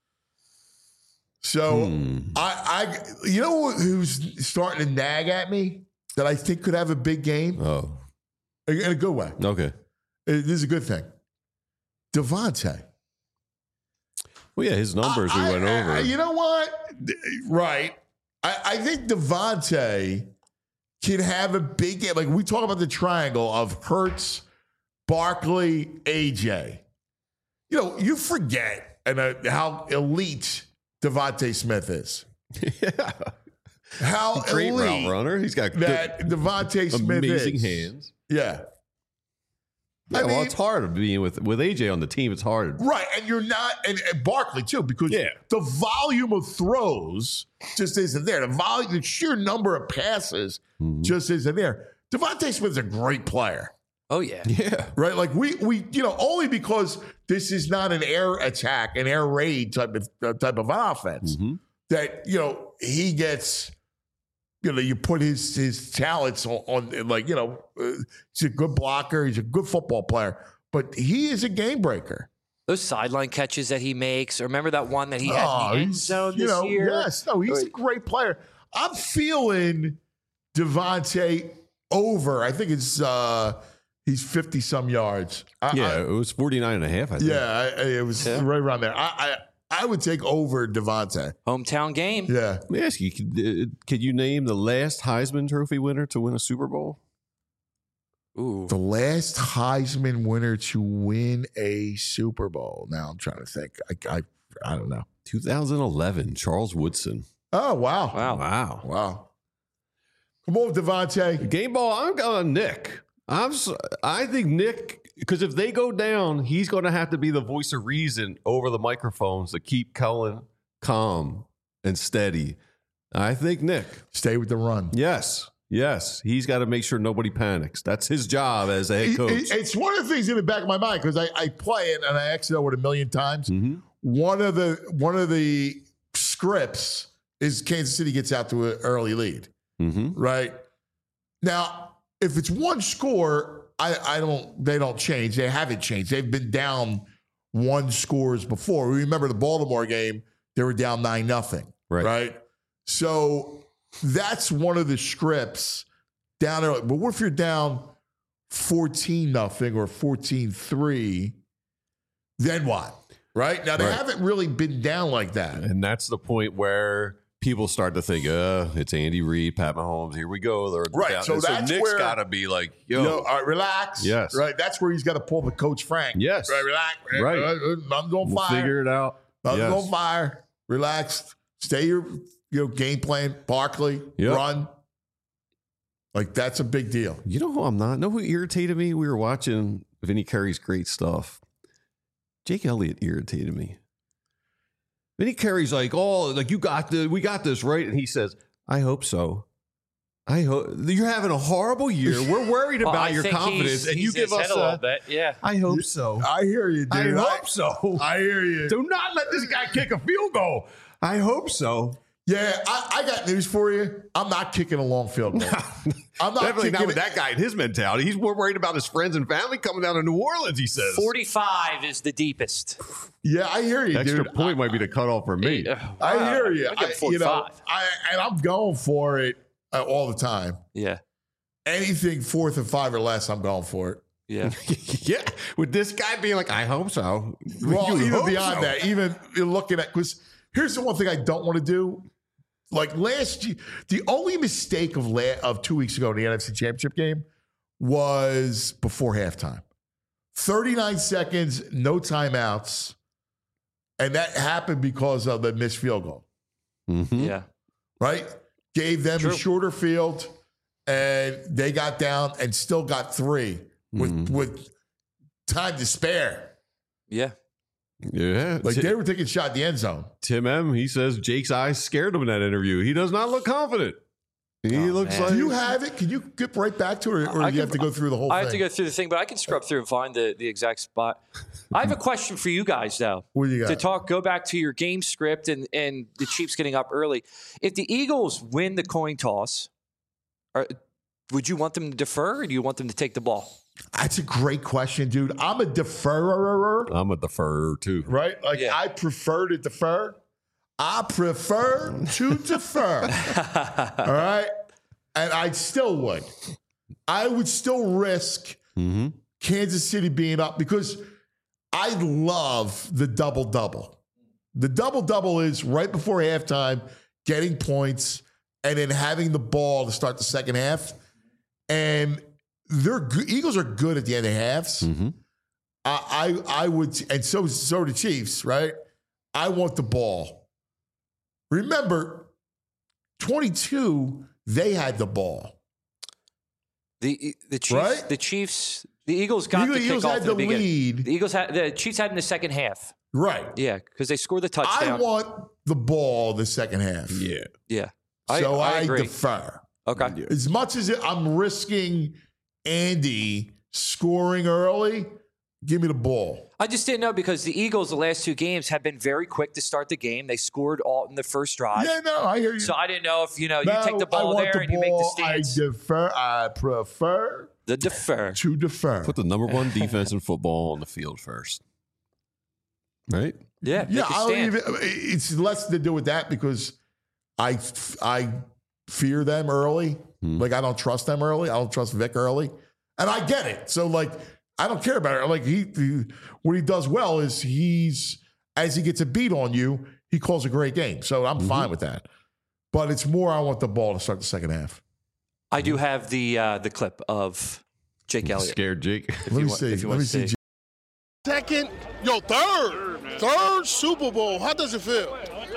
Speaker 2: So, hmm. I, I, you know who's starting to nag at me that I think could have a big game?
Speaker 3: Oh.
Speaker 2: In a good way.
Speaker 3: Okay.
Speaker 2: This is a good thing. Devontae.
Speaker 3: Well, yeah, his numbers
Speaker 2: I,
Speaker 3: we went
Speaker 2: I,
Speaker 3: over.
Speaker 2: I, you know what? Right. I, I think Devontae can have a big game. Like, we talk about the triangle of Hurts, Barkley, A J. You know, you forget and uh, how elite Devontae Smith is.
Speaker 3: Yeah.
Speaker 2: How
Speaker 3: great
Speaker 2: elite
Speaker 3: route runner. He's got
Speaker 2: that
Speaker 3: good,
Speaker 2: Devontae Smith
Speaker 3: amazing
Speaker 2: is.
Speaker 3: hands.
Speaker 2: Yeah.
Speaker 3: Yeah, I well, mean, it's hard being with with A J on the team. It's hard,
Speaker 2: right? And you're not, and, and Barkley too, because yeah. the volume of throws just isn't there. The volume, the sheer number of passes mm-hmm. just isn't there. Devontae Smith's a great player.
Speaker 8: Oh yeah,
Speaker 3: yeah,
Speaker 2: right. Like we we you know only because this is not an air attack, an air raid type of uh, type of offense
Speaker 3: mm-hmm.
Speaker 2: that you know he gets. You know, you put his his talents on, on like, you know, uh, he's a good blocker. He's a good football player. But he is a game breaker.
Speaker 8: Those sideline catches that he makes. Remember that one that he had
Speaker 2: oh,
Speaker 8: in the end zone this
Speaker 2: you know,
Speaker 8: year?
Speaker 2: Yes. No, he's a great player. I'm feeling Devontae over. I think it's uh, he's fifty-some yards. I,
Speaker 3: yeah,
Speaker 2: I,
Speaker 3: it was forty-nine and a half, I think.
Speaker 2: Yeah, I, it was yeah. right around there. I, I I would take over Devontae.
Speaker 8: Hometown game.
Speaker 2: Yeah.
Speaker 3: Let me ask you, could, uh, could you name the last Heisman Trophy winner to win a Super Bowl?
Speaker 8: Ooh.
Speaker 2: The last Heisman winner to win a Super Bowl. Now I'm trying to think. I I, I don't know.
Speaker 3: twenty eleven, Charles Woodson.
Speaker 2: Oh, wow.
Speaker 8: Wow.
Speaker 3: Wow.
Speaker 2: Wow. Come on, Devontae.
Speaker 3: Game ball, I'm going Nick. I'm. I think Nick, because if they go down, he's going to have to be the voice of reason over the microphones to keep Cullen calm and steady. I think Nick.
Speaker 2: Stay with the run.
Speaker 3: Yes. Yes. He's got to make sure nobody panics. That's his job as a head coach.
Speaker 2: It, it, it's one of the things in the back of my mind because I, I play it and I actually know it a million times.
Speaker 3: Mm-hmm.
Speaker 2: One of the one of the scripts is Kansas City gets out to an early lead.
Speaker 3: Mm-hmm.
Speaker 2: Right? Now, if it's one score, I, I don't they don't change. They haven't changed. They've been down one scores before. We remember the Baltimore game, they were down nine nothing.
Speaker 3: Right.
Speaker 2: Right. So that's one of the scripts down there. But what if you're down fourteen nothing or fourteen three? Then what? Right? Now they
Speaker 3: Right.
Speaker 2: haven't really been down like that.
Speaker 3: And that's the point where people start to think, uh, it's Andy Reid, Pat Mahomes. Here we go. They're
Speaker 2: Right,
Speaker 3: down.
Speaker 2: so
Speaker 3: And
Speaker 2: that's
Speaker 3: Nick's
Speaker 2: where-
Speaker 3: got to be like, yo,
Speaker 2: Yo, all right, relax.
Speaker 3: Yes.
Speaker 2: Right. That's where he's got to pull the Coach Frank.
Speaker 3: Yes.
Speaker 2: Right. Relax.
Speaker 3: Right.
Speaker 2: I'm going to
Speaker 3: we'll
Speaker 2: fire.
Speaker 3: figure it out.
Speaker 2: I'm
Speaker 3: Yes.
Speaker 2: going to fire. Relax. Stay your you know game plan. Barkley.
Speaker 3: Yep.
Speaker 2: Run. Like that's a big deal.
Speaker 3: You know who I'm not? Know who irritated me? We were watching Vinny Curry's great stuff. Jake Elliott irritated me. Vinny Curry's like, oh, like you got the, we got this, right? And he says, I hope so. I hope you're having a horrible year. We're worried about
Speaker 8: Well, I
Speaker 3: your
Speaker 8: think
Speaker 3: confidence,
Speaker 8: he's-
Speaker 3: and you
Speaker 8: he's
Speaker 3: give
Speaker 8: his
Speaker 3: us
Speaker 8: head a little
Speaker 3: a.
Speaker 8: bit. Yeah.
Speaker 3: I hope so.
Speaker 2: I hear you,
Speaker 3: I
Speaker 2: dude.
Speaker 3: hope so.
Speaker 2: I hear you.
Speaker 3: Do not let this guy kick a field goal. I hope so.
Speaker 2: Yeah, I, I got news for you. I'm not kicking a long field goal. I'm not
Speaker 3: Definitely
Speaker 2: kicking
Speaker 3: not with
Speaker 2: it.
Speaker 3: that guy and his mentality. He's more worried about his friends and family coming down to New Orleans, he says.
Speaker 8: forty-five is the deepest.
Speaker 2: Yeah, I hear you,
Speaker 3: Extra
Speaker 2: dude.
Speaker 3: point might be the cutoff for me.
Speaker 2: I hear you.
Speaker 8: I'll give
Speaker 2: I, you know,
Speaker 8: forty-five.
Speaker 2: I, and I'm going for it uh, all the time.
Speaker 8: Yeah.
Speaker 2: Anything fourth and five or less, I'm going for it.
Speaker 8: Yeah.
Speaker 3: Yeah. With this guy being like, I hope so.
Speaker 2: Well,
Speaker 3: You
Speaker 2: even
Speaker 3: hope
Speaker 2: beyond
Speaker 3: so.
Speaker 2: that, even looking at, because here's the one thing I don't want to do. Like last year, the only mistake of la- of two weeks ago in the N F C Championship game was before halftime. thirty-nine seconds, no timeouts. And that happened because of the missed field goal.
Speaker 3: Mm-hmm.
Speaker 8: Yeah.
Speaker 2: Right? Gave them
Speaker 8: True.
Speaker 2: a shorter field, and they got down and still got three with
Speaker 3: Mhm.
Speaker 2: with time to spare.
Speaker 8: Yeah.
Speaker 3: Yeah.
Speaker 2: Like
Speaker 3: Ti-
Speaker 2: they were taking a shot at the end zone.
Speaker 3: Tim M, he says Jake's eyes scared him in that interview. He does not look confident. He
Speaker 8: Oh,
Speaker 3: looks
Speaker 8: man.
Speaker 3: like.
Speaker 2: Do you have it? Can you get right back to it, or, or
Speaker 8: I
Speaker 2: do you
Speaker 8: can-
Speaker 2: have to go through the whole
Speaker 8: I
Speaker 2: thing?
Speaker 8: have to go through the thing, but I can scrub through and find the, the exact spot. I have a question for you guys, though.
Speaker 2: What do you got?
Speaker 8: To talk, go back to your game script and, and the Chiefs getting up early. If the Eagles win the coin toss, are, would you want them to defer or do you want them to take the ball?
Speaker 2: That's a great question, dude. I'm a deferrer,
Speaker 3: I'm a defer too.
Speaker 2: right? Like
Speaker 8: Yeah.
Speaker 2: I prefer to defer. I prefer to defer. All right. And I still would. I would still risk
Speaker 3: Mm-hmm.
Speaker 2: Kansas City being up because I love the double double. The double double is right before halftime, getting points, and then having the ball to start the second half. And they're good. Eagles are good at the end of halves.
Speaker 3: Mm-hmm.
Speaker 2: I, I I would, and so so are the Chiefs, right? I want the ball. Remember, twenty-two, they had the ball.
Speaker 8: The the Chiefs,
Speaker 2: Right?
Speaker 8: the Chiefs, the Eagles got
Speaker 2: Eagles-
Speaker 8: the
Speaker 2: Eagles
Speaker 8: kickoff
Speaker 2: had
Speaker 8: in the
Speaker 2: the
Speaker 8: beginning.
Speaker 2: lead.
Speaker 8: The Eagles had the Chiefs had in the second half.
Speaker 2: Right.
Speaker 8: Yeah, because they scored the
Speaker 2: I
Speaker 8: touchdown.
Speaker 2: want the ball the second half.
Speaker 3: Yeah.
Speaker 8: yeah,
Speaker 2: So I,
Speaker 8: I agree.
Speaker 2: defer.
Speaker 8: Okay.
Speaker 2: As much as it, I'm risking Andy scoring early, give me the ball.
Speaker 8: I just didn't know because the Eagles, the last two games, have been very quick to start the game. They scored all in the first drive.
Speaker 2: Yeah, no, I hear you.
Speaker 8: So I didn't know if you know
Speaker 2: No,
Speaker 8: you take the
Speaker 2: I
Speaker 8: ball
Speaker 2: want
Speaker 8: there
Speaker 2: the
Speaker 8: and you make the
Speaker 2: ball.
Speaker 8: stance.
Speaker 2: I defer. I prefer
Speaker 8: The defer.
Speaker 2: to defer.
Speaker 3: Put the number one defense in football on the field first. Right?
Speaker 8: Yeah,
Speaker 2: Yeah,
Speaker 8: make a
Speaker 2: I don't
Speaker 8: stand.
Speaker 2: even. It's less to do with that because I I fear them early.
Speaker 3: Hmm.
Speaker 2: Like I don't trust them early. I don't trust Vic early, and I get it. So like I don't care about it. Like he, he what he does well is he's as he gets a beat on you, he calls a great game. So I'm
Speaker 3: Mm-hmm.
Speaker 2: fine with that. But it's more I want the ball to start the second half.
Speaker 8: I do have the uh, the clip of Jake Elliott.
Speaker 3: Scared Jake.
Speaker 8: If
Speaker 2: Let
Speaker 8: you
Speaker 2: me
Speaker 8: want-
Speaker 2: see.
Speaker 8: if you
Speaker 2: Let
Speaker 8: want
Speaker 2: me
Speaker 8: to
Speaker 2: see.
Speaker 10: Second, yo, third, third Super Bowl. How does it feel?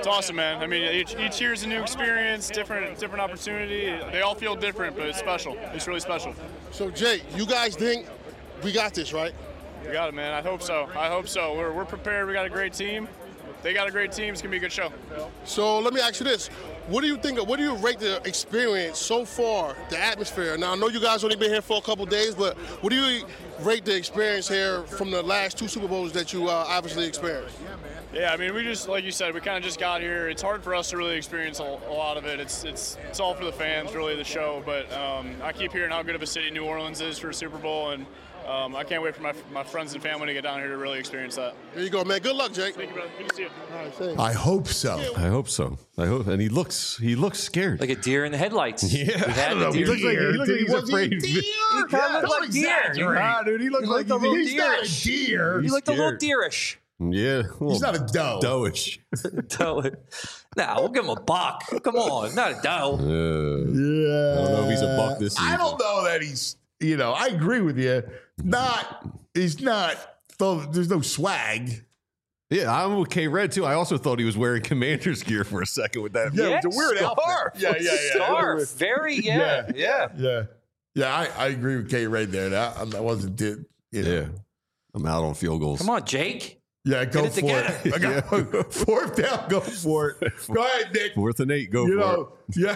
Speaker 11: It's awesome, man. I mean, each, each year is a new experience, different different opportunity. They all feel different, but it's special. It's really special.
Speaker 10: So, Jake, you guys think we got this, right?
Speaker 11: We got it, man. I hope so. I hope so. We're, we're prepared. We got a great team. They got a great team. It's going to be a good show.
Speaker 10: So let me ask you this. What do you think, what do you rate the experience so far, the atmosphere? Now, I know you guys only been here for a couple of days, but what do you rate the experience here from the last two Super Bowls that you uh, obviously experienced?
Speaker 11: Yeah, I mean, we just, like you said, we kind of just got here. It's hard for us to really experience a, a lot of it. It's it's it's all for the fans, really, the show. But um, I keep hearing how good of a city New Orleans is for a Super Bowl, and um, I can't wait for my my friends and family to get down here to really experience that.
Speaker 10: There you go, man. Good luck, Jake.
Speaker 11: Thank you, brother. Good to see you.
Speaker 10: All right, thanks.
Speaker 2: I hope so.
Speaker 3: I hope so. I hope, and he looks he looks scared,
Speaker 8: like a deer in the headlights.
Speaker 3: Yeah,
Speaker 8: We had
Speaker 3: I don't know.
Speaker 8: the
Speaker 3: He
Speaker 8: deer.
Speaker 3: looks like he looks like he's
Speaker 2: Was he
Speaker 3: afraid.
Speaker 2: a deer?
Speaker 8: He kind
Speaker 2: Yeah,
Speaker 8: of looked
Speaker 2: don't
Speaker 8: like deer.
Speaker 2: exaggerate.
Speaker 3: Nah, dude, he looks
Speaker 8: He
Speaker 3: like
Speaker 8: looked a little
Speaker 2: He's not a
Speaker 8: deerish.
Speaker 2: deer.
Speaker 8: He looked a little
Speaker 3: scared.
Speaker 8: deerish.
Speaker 3: Yeah,
Speaker 2: He's not a doe.
Speaker 3: doe-ish.
Speaker 8: Doe. Nah, we'll give him a buck. Come on, not a doe.
Speaker 3: Uh,
Speaker 2: Yeah.
Speaker 3: I don't know if he's a buck this season.
Speaker 2: I don't know that he's, you know, I agree with you. Not, he's not, though there's no swag.
Speaker 3: Yeah, I'm with K Red too. I also thought he was wearing Commander's gear for a second with that.
Speaker 2: Yeah, it was a weird
Speaker 8: scarf.
Speaker 2: outfit. Yeah, yeah, yeah.
Speaker 8: Scarf. Very, yeah, yeah.
Speaker 2: Yeah. Yeah, I, I agree with K Ray there. That, that wasn't, did, you know.
Speaker 3: Yeah, I'm out on field goals.
Speaker 8: Come on, Jake.
Speaker 2: Yeah, go
Speaker 8: Get it
Speaker 2: for
Speaker 8: together.
Speaker 2: it. I got fourth down, go for it. Go ahead, Nick.
Speaker 3: Fourth and eight, go
Speaker 2: You
Speaker 3: for
Speaker 2: know,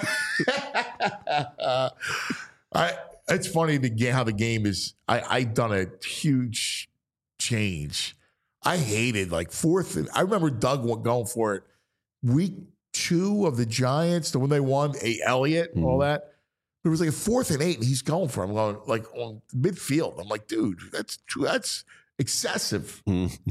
Speaker 2: yeah. I. It's funny the game, how the game is. I I done a huge change. I hated like fourth. And, I remember Doug went going for it week two of the Giants, the when they won, a Elliott, and all that. There was like a fourth and eight, and he's going for it. I'm going like on midfield. I'm like, dude, that's true. That's excessive.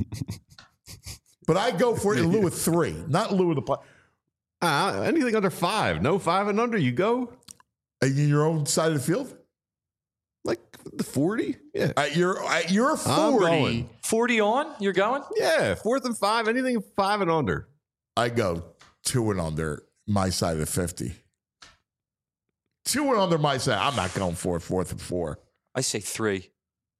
Speaker 2: But I go for it in lieu of three, not in lieu of the play.
Speaker 3: Uh, anything under five, no five and under, you go
Speaker 2: At your own side of the field.
Speaker 3: like the forty. Yeah,
Speaker 2: At your at your
Speaker 3: I'm
Speaker 2: forty,
Speaker 3: going.
Speaker 8: forty on? You're going?
Speaker 3: Yeah, fourth and five, anything five and under.
Speaker 2: I go two and under my side of the fifty. Two and under my side. I'm not going for it, fourth and four.
Speaker 8: I say three.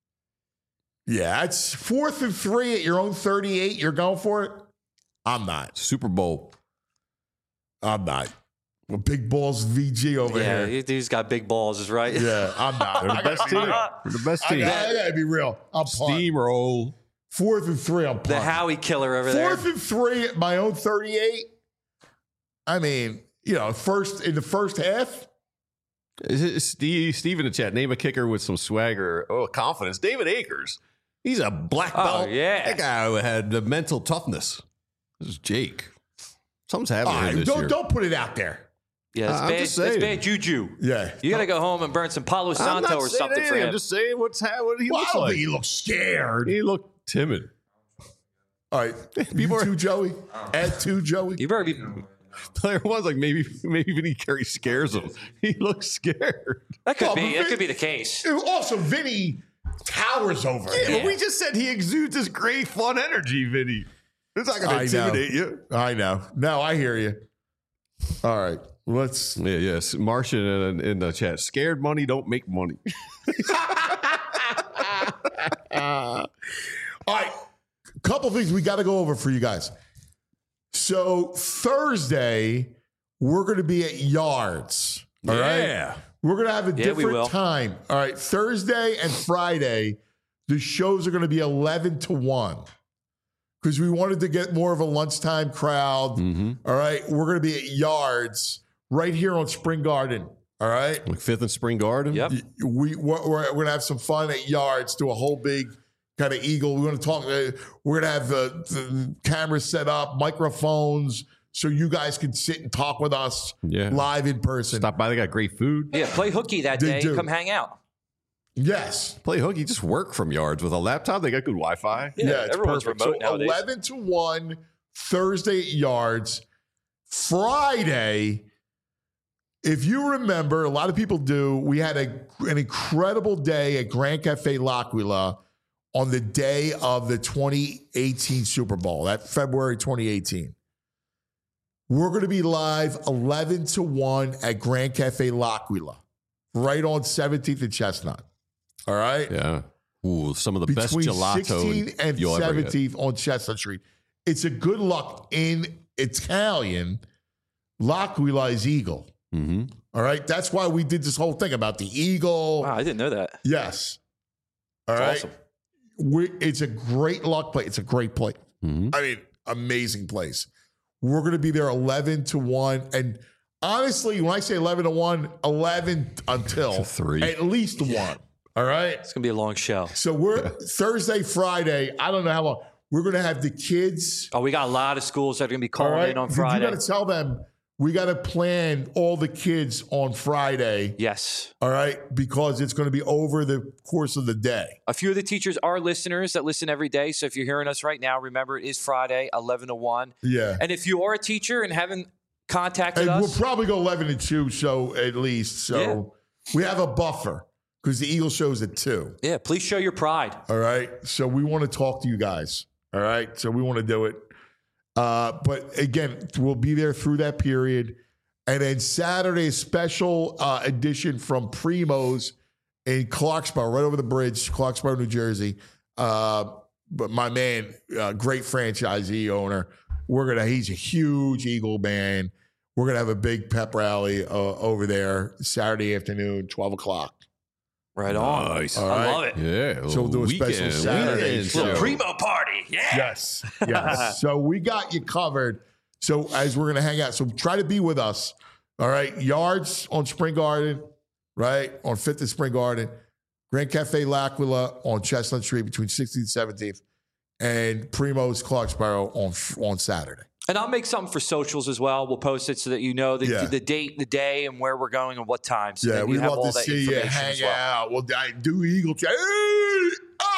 Speaker 2: Yeah, it's fourth and three at your own thirty-eight. You're going for it? I'm not.
Speaker 3: Super Bowl.
Speaker 2: I'm not. Well, big balls V G over
Speaker 8: Yeah,
Speaker 2: here.
Speaker 8: he's got big balls, is right.
Speaker 2: Yeah, I'm not.
Speaker 3: They're the
Speaker 2: I
Speaker 3: best
Speaker 2: gotta be
Speaker 3: team.
Speaker 2: real.
Speaker 3: They're the best
Speaker 2: I
Speaker 3: team.
Speaker 2: gotta, I gotta be real. I'm punt.
Speaker 3: Steamroll.
Speaker 2: Fourth and three. I'm punt.
Speaker 8: The Howie killer over there.
Speaker 2: Fourth and three at my own thirty-eight. I mean, you know, first in the first half.
Speaker 3: Is it Steve, Steve in the chat, name a kicker with some swagger, oh, confidence. David Akers. He's a black
Speaker 8: Oh,
Speaker 3: belt.
Speaker 8: yeah.
Speaker 3: That guy who had the mental toughness. This is Jake. Something's happening
Speaker 2: All
Speaker 3: here
Speaker 2: right,
Speaker 3: this
Speaker 2: don't
Speaker 3: year.
Speaker 2: don't put it out there.
Speaker 8: Yeah, that's
Speaker 3: I'm
Speaker 8: bad.
Speaker 3: just
Speaker 8: That's
Speaker 3: saying.
Speaker 8: bad juju.
Speaker 2: Yeah,
Speaker 8: You got to go home and burn some Palo
Speaker 3: I'm
Speaker 8: Santo
Speaker 3: not
Speaker 8: or
Speaker 3: saying
Speaker 8: something for
Speaker 3: anything.
Speaker 8: him.
Speaker 3: I'm just saying what's ha- what he
Speaker 2: Well, I
Speaker 3: looks
Speaker 2: don't
Speaker 3: like.
Speaker 2: think he looks scared.
Speaker 3: He looked timid.
Speaker 2: All right,
Speaker 3: People
Speaker 2: you
Speaker 3: are-
Speaker 2: two, Joey. Add two, Joey.
Speaker 8: You better be.
Speaker 3: Player one's like maybe maybe Vinny Curry scares him. He looks scared.
Speaker 8: That could
Speaker 2: Oh,
Speaker 8: be.
Speaker 2: but
Speaker 8: That
Speaker 2: Vin-
Speaker 8: could be the case.
Speaker 2: Also, Vinny towers over
Speaker 3: Yeah,
Speaker 2: him.
Speaker 3: but we just said he exudes this great fun energy, Vinny. It's not going to
Speaker 2: I
Speaker 3: intimidate
Speaker 2: know.
Speaker 3: you.
Speaker 2: I know. No, I hear you. All right, let's.
Speaker 3: Yeah, yes. Martian in, in the chat. Scared money don't make money.
Speaker 2: All right, couple things we got to go over for you guys. So Thursday, we're going to be at Yards. All right,
Speaker 3: Yeah.
Speaker 2: we're going to have a
Speaker 8: Yeah, we will.
Speaker 2: different time. All right, Thursday and Friday, the shows are going to be eleven to one because we wanted to get more of a lunchtime crowd.
Speaker 3: Mm-hmm.
Speaker 2: All right, we're going to be at Yards right here on Spring Garden. All right.
Speaker 3: Like Fifth and Spring Garden.
Speaker 8: Yep.
Speaker 2: We we're, we're going to have some fun at Yards. Do a whole big kind of eagle. We're going to talk. Uh, we're going to have the, the cameras set up, microphones, so you guys can sit and talk with us
Speaker 3: Yeah.
Speaker 2: live in person.
Speaker 3: Stop by. They got great food.
Speaker 8: Yeah, play hooky that
Speaker 2: They
Speaker 8: day.
Speaker 2: do.
Speaker 8: Come hang out.
Speaker 2: Yes.
Speaker 3: Play hooky. Just work from Yards with a laptop. They got good Wi-Fi.
Speaker 8: Yeah,
Speaker 2: it's
Speaker 8: everyone's
Speaker 2: perfect.
Speaker 8: remote
Speaker 2: so
Speaker 8: nowadays.
Speaker 2: eleven to one Thursday at Yards. Friday, if you remember, a lot of people do. We had a, an incredible day at Grand Cafe L'Aquila on the day of the twenty eighteen Super Bowl, that February twenty eighteen. We're going to be live eleven to one at Grand Cafe L'Aquila, right on seventeenth and Chestnut. All right?
Speaker 3: Yeah. Ooh, some of the best
Speaker 2: Between
Speaker 3: gelato
Speaker 2: sixteenth and
Speaker 3: you'll ever get.
Speaker 2: seventeenth on Chestnut Street. It's a good luck in Italian, L'Aquila is eagle.
Speaker 3: Mm-hmm.
Speaker 2: All right. That's why we did this whole thing about the eagle.
Speaker 8: Wow, I didn't know that.
Speaker 2: Yes. All
Speaker 8: That's
Speaker 2: right.
Speaker 8: awesome.
Speaker 2: We, it's a great luck place. It's a great place.
Speaker 3: Mm-hmm.
Speaker 2: I mean, amazing place. We're going to be there eleven to one. And honestly, when I say eleven to one, eleven until
Speaker 3: three.
Speaker 2: At least one. All right.
Speaker 8: It's going to be a long show.
Speaker 2: So we're Thursday, Friday. I don't know how long. We're going to have the kids.
Speaker 8: Oh, we got a lot of schools that are going to be calling
Speaker 2: All right?
Speaker 8: in on
Speaker 2: You
Speaker 8: Friday.
Speaker 2: got to tell them we got to plan all the kids on Friday.
Speaker 8: Yes.
Speaker 2: All right. Because it's going to be over the course of the day.
Speaker 8: A few of the teachers are listeners that listen every day. So if you're hearing us right now, remember it is Friday, eleven to one.
Speaker 2: Yeah.
Speaker 8: And if you are a teacher and haven't contacted
Speaker 2: And
Speaker 8: us.
Speaker 2: we'll probably go eleven to two, so at least. So
Speaker 8: Yeah.
Speaker 2: we have a buffer because the Eagle show's at two.
Speaker 8: Yeah, please show your pride.
Speaker 2: All right. So we want to talk to you guys. All right. So we want to do it. Uh, but again, we'll be there through that period. And then Saturday, special uh, edition from Primo's in Clarksboro, right over the bridge, Clarksboro, New Jersey. Uh, but my man, uh, great franchisee owner. We're gonna. He's a huge Eagle man. We're gonna have a big pep rally uh, over there Saturday afternoon, twelve o'clock.
Speaker 8: Right on.
Speaker 3: Nice.
Speaker 2: All
Speaker 8: I
Speaker 2: right.
Speaker 8: love it.
Speaker 3: Yeah.
Speaker 2: So we'll do a special
Speaker 3: weekend,
Speaker 2: Saturday
Speaker 3: weekend
Speaker 2: show.
Speaker 3: show.
Speaker 8: Primo party. Yeah.
Speaker 2: Yes. Yes. So we got you covered. So as we're gonna hang out, so try to be with us. All right. Yards on Spring Garden, right? On Fifth and Spring Garden. Grand Cafe L'Aquila on Chestnut Street between sixteenth and seventeenth. And Primo's Clarksboro on on Saturday.
Speaker 8: And I'll make something for socials as well. We'll post it so that you know the,
Speaker 2: Yeah.
Speaker 8: the date, the day, and where we're going and what time. So
Speaker 2: Yeah,
Speaker 8: that
Speaker 2: we'd
Speaker 8: you have
Speaker 2: love
Speaker 8: all
Speaker 2: to
Speaker 8: that
Speaker 2: see you
Speaker 8: information
Speaker 2: hang
Speaker 8: as well.
Speaker 2: out. We'll I do Eagle chat. Hey,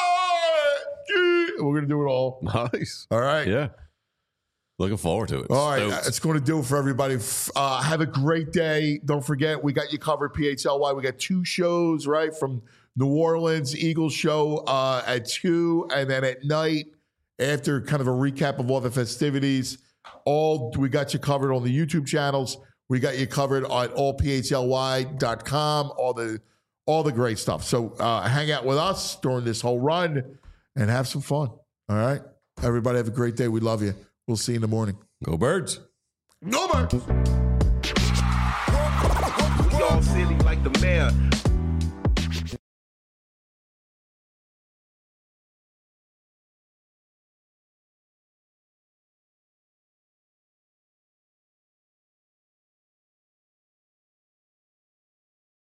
Speaker 2: ah, gee. We're gonna do it all.
Speaker 3: Nice.
Speaker 2: All right.
Speaker 3: Yeah. Looking forward to it.
Speaker 2: All right,
Speaker 3: Stoked.
Speaker 2: that's going to do it for everybody. Uh, have a great day. Don't forget, we got you covered, P H L Y. We got two shows, right, from New Orleans, Eagles show uh, at two, and then at night, after kind of a recap of all the festivities, all we got you covered on the YouTube channels. We got you covered on all P H L Y dot com, all the all the great stuff. So uh, hang out with us during this whole run and have some fun. All right? Everybody have a great day. We love you. We'll see you in the morning.
Speaker 3: Go Birds.
Speaker 2: Go Birds.
Speaker 17: We all silly like the mayor.